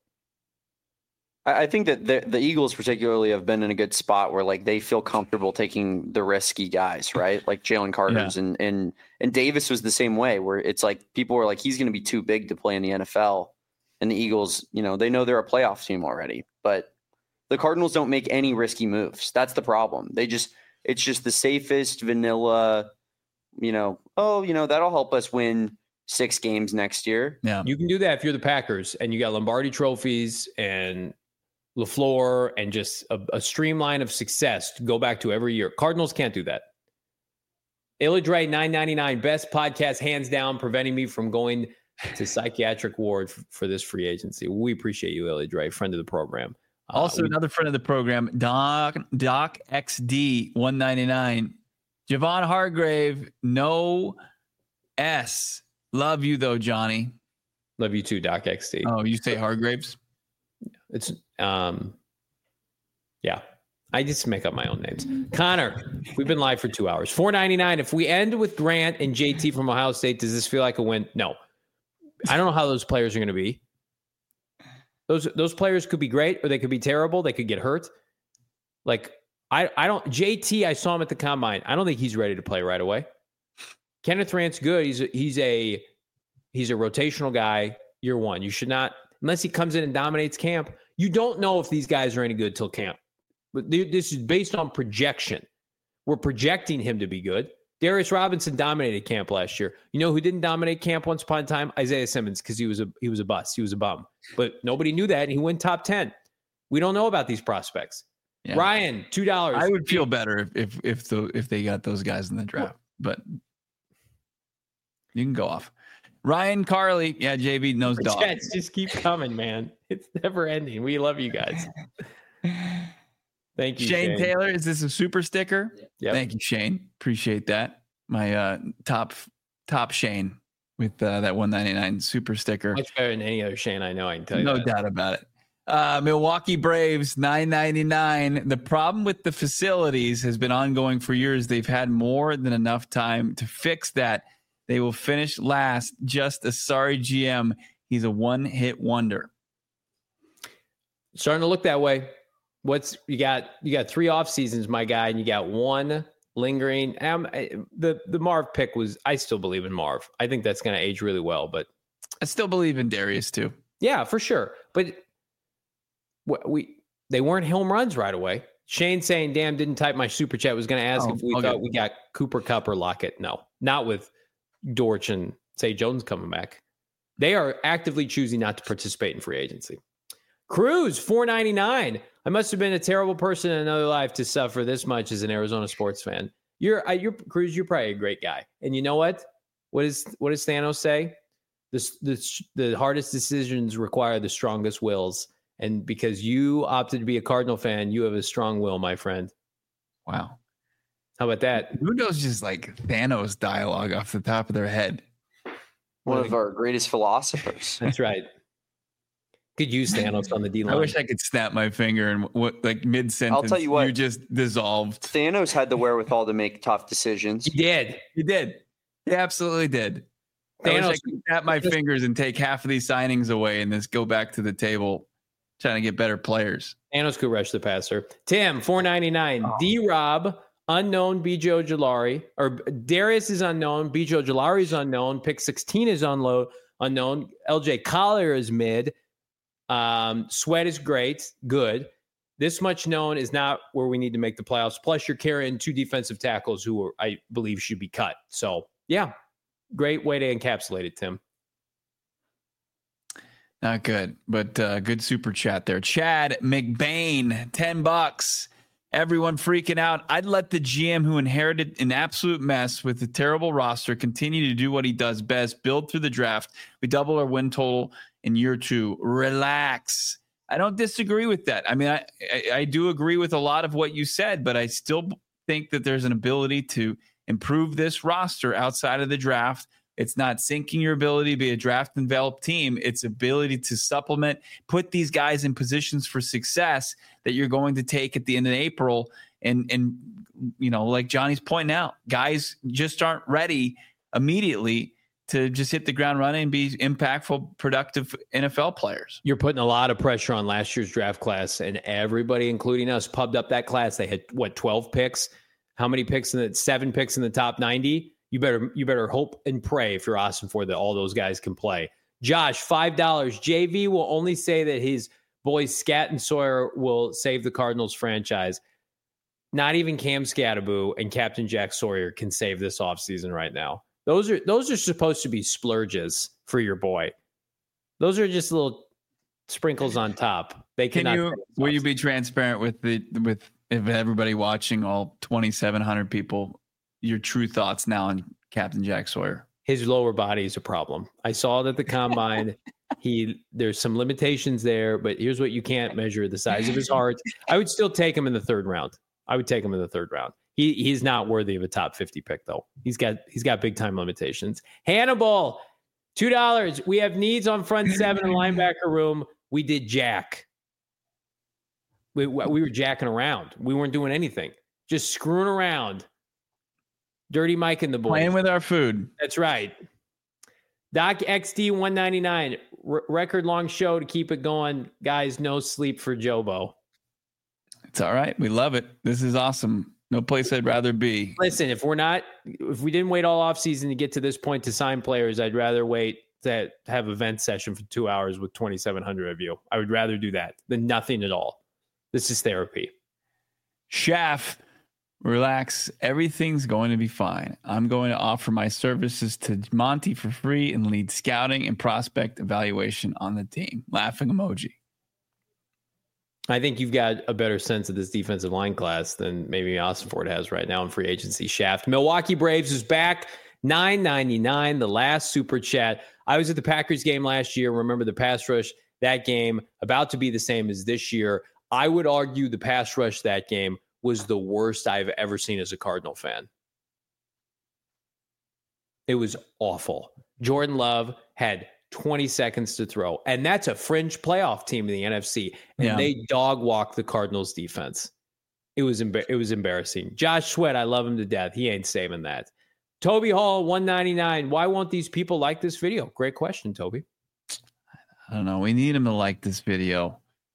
I think that the, the Eagles particularly have been in a good spot where like they feel comfortable taking the risky guys, right? Like Jalen Carter's yeah. and, and, and Davis was the same way where it's like people were like, he's going to be too big to play in the N F L. And the Eagles, you know, they know they're a playoff team already, but the Cardinals don't make any risky moves. That's the problem. They just, it's just the safest vanilla, you know, oh, you know, that'll help us win six games next year. Yeah. You can do that if you're the Packers and you got Lombardi trophies and LaFleur and just a, a streamline of success to go back to every year. Cardinals can't do that. Illidrae nine ninety-nine, best podcast, hands down, preventing me from going to psychiatric ward for, for this free agency. We appreciate you, Illidrae, friend of the program. Uh, also, we, another friend of the program, Doc Doc X D one ninety-nine. Javon Hargrave, no S. Love you though, Johnny. Love you too, Doc X D. Oh, you say Hargraves? It's um, yeah. I just make up my own names. Connor, we've been live for two hours. four ninety-nine. If we end with Grant and J T from Ohio State, does this feel like a win? No. I don't know how those players are going to be. Those those players could be great or they could be terrible. They could get hurt. Like I I don't J T. I saw him at the combine. I don't think he's ready to play right away. Kenneth Rant's good. He's a, he's a he's a rotational guy. Year one. You should not. Unless he comes in and dominates camp, you don't know if these guys are any good till camp. But this is based on projection. We're projecting him to be good. Darius Robinson dominated camp last year. You know who didn't dominate camp once upon a time? Isaiah Simmons, because he was a he was a bust. He was a bum. But nobody knew that, and he went top ten. We don't know about these prospects. Yeah. Ryan, two dollars. I would feel better if if if the if they got those guys in the draft, but you can go off. Ryan Carley, yeah, J B knows dog. Jets just keep coming, man. It's never ending. We love you guys. Thank you, Shane, Shane Taylor. Is this a super sticker? Yep. Thank you, Shane. Appreciate that. My uh, top top Shane with uh, that one ninety-nine super sticker. Much better than any other Shane I know. I can tell you. No that. doubt about it. Uh, Milwaukee Braves nine ninety-nine. The problem with the facilities has been ongoing for years. They've had more than enough time to fix that. They will finish last. Just a sorry G M. He's a one-hit wonder. Starting to look that way. What's you got? You got three off seasons, my guy, and you got one lingering. Um, the the Marv pick was. I still believe in Marv. I think that's going to age really well. But I still believe in Darius too. Yeah, for sure. But we they weren't home runs right away. Shane saying, "Damn, didn't type my super chat." Was going to ask oh, if we okay. thought we got Cooper Kupp or Lockett. No, not with Dortch and Say Jones coming back. They are actively choosing not to participate in free agency. Cruz four ninety-nine. I must have been a terrible person in another life to suffer this much as an Arizona sports fan. You're, uh, you're Cruz. You're probably a great guy. And you know what? What is what does Thanos say? This, this, the hardest decisions require the strongest wills. And because you opted to be a Cardinal fan, you have a strong will, my friend. Wow. How about that? Who knows just like Thanos dialogue off the top of their head? One of our greatest philosophers. That's right. Could use Thanos on the D line. I wish I could snap my finger and what like mid sentence. I'll tell you what, you just dissolved. Thanos had the wherewithal to make tough decisions. He did. He did. He absolutely did. Thanos, I wish I could snap my just, fingers and take half of these signings away and just go back to the table trying to get better players. Thanos could rush the passer. Tim, four ninety-nine. Oh. D-Rob, unknown, B J Ojulari. Or Darius is unknown. B J Ojulari is unknown. Pick sixteen is unload, unknown. L J Collier is mid. Um, Sweat is great. Good. This much known is not where we need to make the playoffs. Plus, you're carrying two defensive tackles who are, I believe should be cut. So, yeah, great way to encapsulate it, Tim. Not good, but uh, good super chat there. Chad McBain, ten bucks. Everyone freaking out. I'd let the G M who inherited an absolute mess with a terrible roster continue to do what he does best, build through the draft. We double our win total in year two. Relax. I don't disagree with that. I mean, I, I, I do agree with a lot of what you said, but I still think that there's an ability to improve this roster outside of the draft. It's not sinking your ability to be a draft and develop team. It's ability to supplement, put these guys in positions for success that you're going to take at the end of April. And, and you know, like Johnny's pointing out, guys just aren't ready immediately to just hit the ground running and be impactful, productive N F L players. You're putting a lot of pressure on last year's draft class, and everybody, including us, pubbed up that class. They had, what, twelve picks? How many picks in the seven picks in the top ninety? You better you better hope and pray if you're Austin Ford that all those guys can play. Josh, five dollars. J V will only say that his boys Scat and Sawyer will save the Cardinals franchise. Not even Cam Scattaboo and Captain Jack Sawyer can save this offseason right now. Those are those are supposed to be splurges for your boy. Those are just little sprinkles on top. They can cannot. You, will you be transparent with the with if everybody watching, all twenty-seven hundred people, your true thoughts now on Captain Jack Sawyer? His lower body is a problem. I saw that the combine. he there's some limitations there, but here's what you can't measure: the size of his heart. I would still take him in the third round. I would take him in the third round. He he's not worthy of a top fifty pick though. He's got he's got big time limitations. Hannibal, two dollars. We have needs on front seven and linebacker room. We did jack. We we were jacking around. We weren't doing anything. Just screwing around. Dirty Mike and the boys. Playing with our food. That's right. Doc X D one ninety-nine. R- record long show to keep it going. Guys, no sleep for Jobo. It's all right. We love it. This is awesome. No place I'd rather be. Listen, if we're not, if we didn't wait all offseason to get to this point to sign players, I'd rather wait to have a vent session for two hours with twenty-seven hundred of you. I would rather do that than nothing at all. This is therapy. Shaft, relax. Everything's going to be fine. I'm going to offer my services to Monty for free and lead scouting and prospect evaluation on the team. Laughing emoji. I think you've got a better sense of this defensive line class than maybe Austin Ford has right now in free agency. Shaft. Milwaukee Braves is back. nine ninety-nine, the last super chat. I was at the Packers game last year. Remember the pass rush that game, about to be the same as this year. I would argue the pass rush that game was the worst I've ever seen as a Cardinal fan. It was awful. Jordan Love had twenty seconds to throw. And that's a fringe playoff team in the N F C. And yeah. they dog walked the Cardinals defense. It was embar- it was embarrassing. Josh Sweat, I love him to death. He ain't saving that. Toby Hall, one ninety-nine. Why won't these people like this video? Great question, Toby. I don't know. We need him to like this video.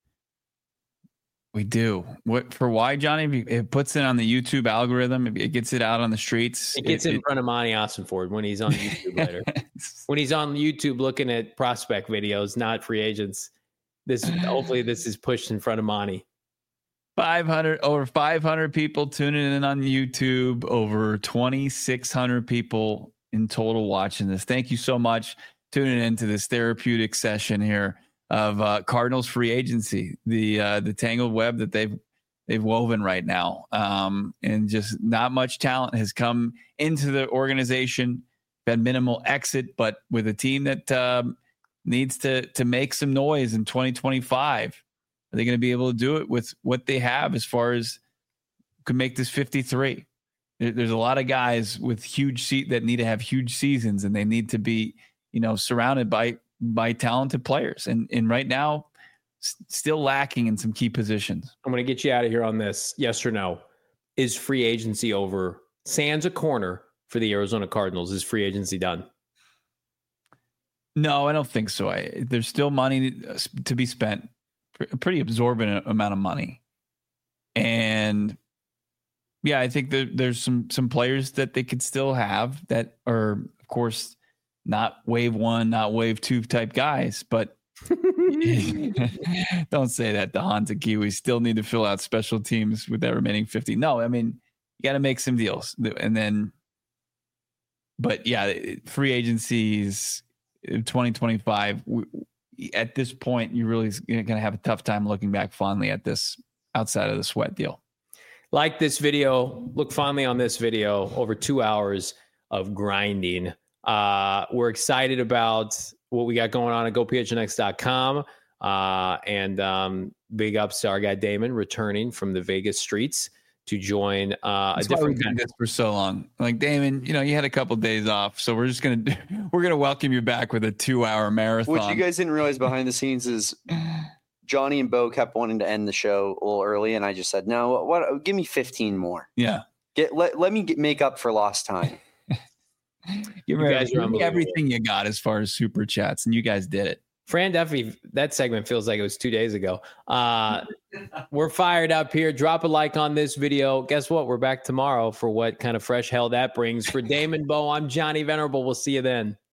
We do. What for? Why, Johnny? It puts it on the YouTube algorithm. It gets it out on the streets. It gets it, in it, front of Monty Austinford when he's on YouTube later. When he's on YouTube looking at prospect videos, not free agents. This hopefully this is pushed in front of Monty. five hundred over five hundred people tuning in on YouTube. Over twenty-six hundred people in total watching this. Thank you so much tuning into this therapeutic session here of uh, Cardinals free agency, the uh, the tangled web that they've they've woven right now, um, and just not much talent has come into the organization. Had minimal exit, but with a team that um, needs to to make some noise in twenty twenty-five, are they going to be able to do it with what they have as far as could make this fifty-three? There, there's a lot of guys with huge seat that need to have huge seasons, and they need to be, you know, surrounded by. by talented players. And, and right now, s- still lacking in some key positions. I'm going to get you out of here on this. Yes or no? Is free agency over? Sans a corner for the Arizona Cardinals. Is free agency done? No, I don't think so. I, there's still money to be spent, a pretty absorbent amount of money. And yeah, I think that there's some, some players that they could still have that are, of course, not wave one, not wave two type guys, but don't say that. The Haunted Kiwis still need to fill out special teams with that remaining fifty. No, I mean, you got to make some deals. And then, but yeah, free agencies twenty twenty-five, at this point, you're really going to have a tough time looking back fondly at this outside of the Sweat deal. Like this video. Look fondly on this video. Over two hours of grinding. Uh, we're excited about what we got going on at go p h n x dot com. Uh, and um, big ups to our guy Damon returning from the Vegas streets to join uh, That's a different why we did this for so long. Like Damon, you know, you had a couple days off, so we're just gonna do, we're gonna welcome you back with a two-hour marathon. What you guys didn't realize behind the scenes is Johnny and Bo kept wanting to end the show a little early, and I just said, "No, what? Give me fifteen more. Yeah, Get let let me get, make up for lost time." give me, every, give me everything you got as far as super chats, and you guys did it. Fran Duffy, that segment feels like it was two days ago. Uh, we're fired up here. Drop a like on this video. Guess what? We're back tomorrow for what kind of fresh hell that brings. For Damon Bo, I'm Johnny Venerable. We'll see you then.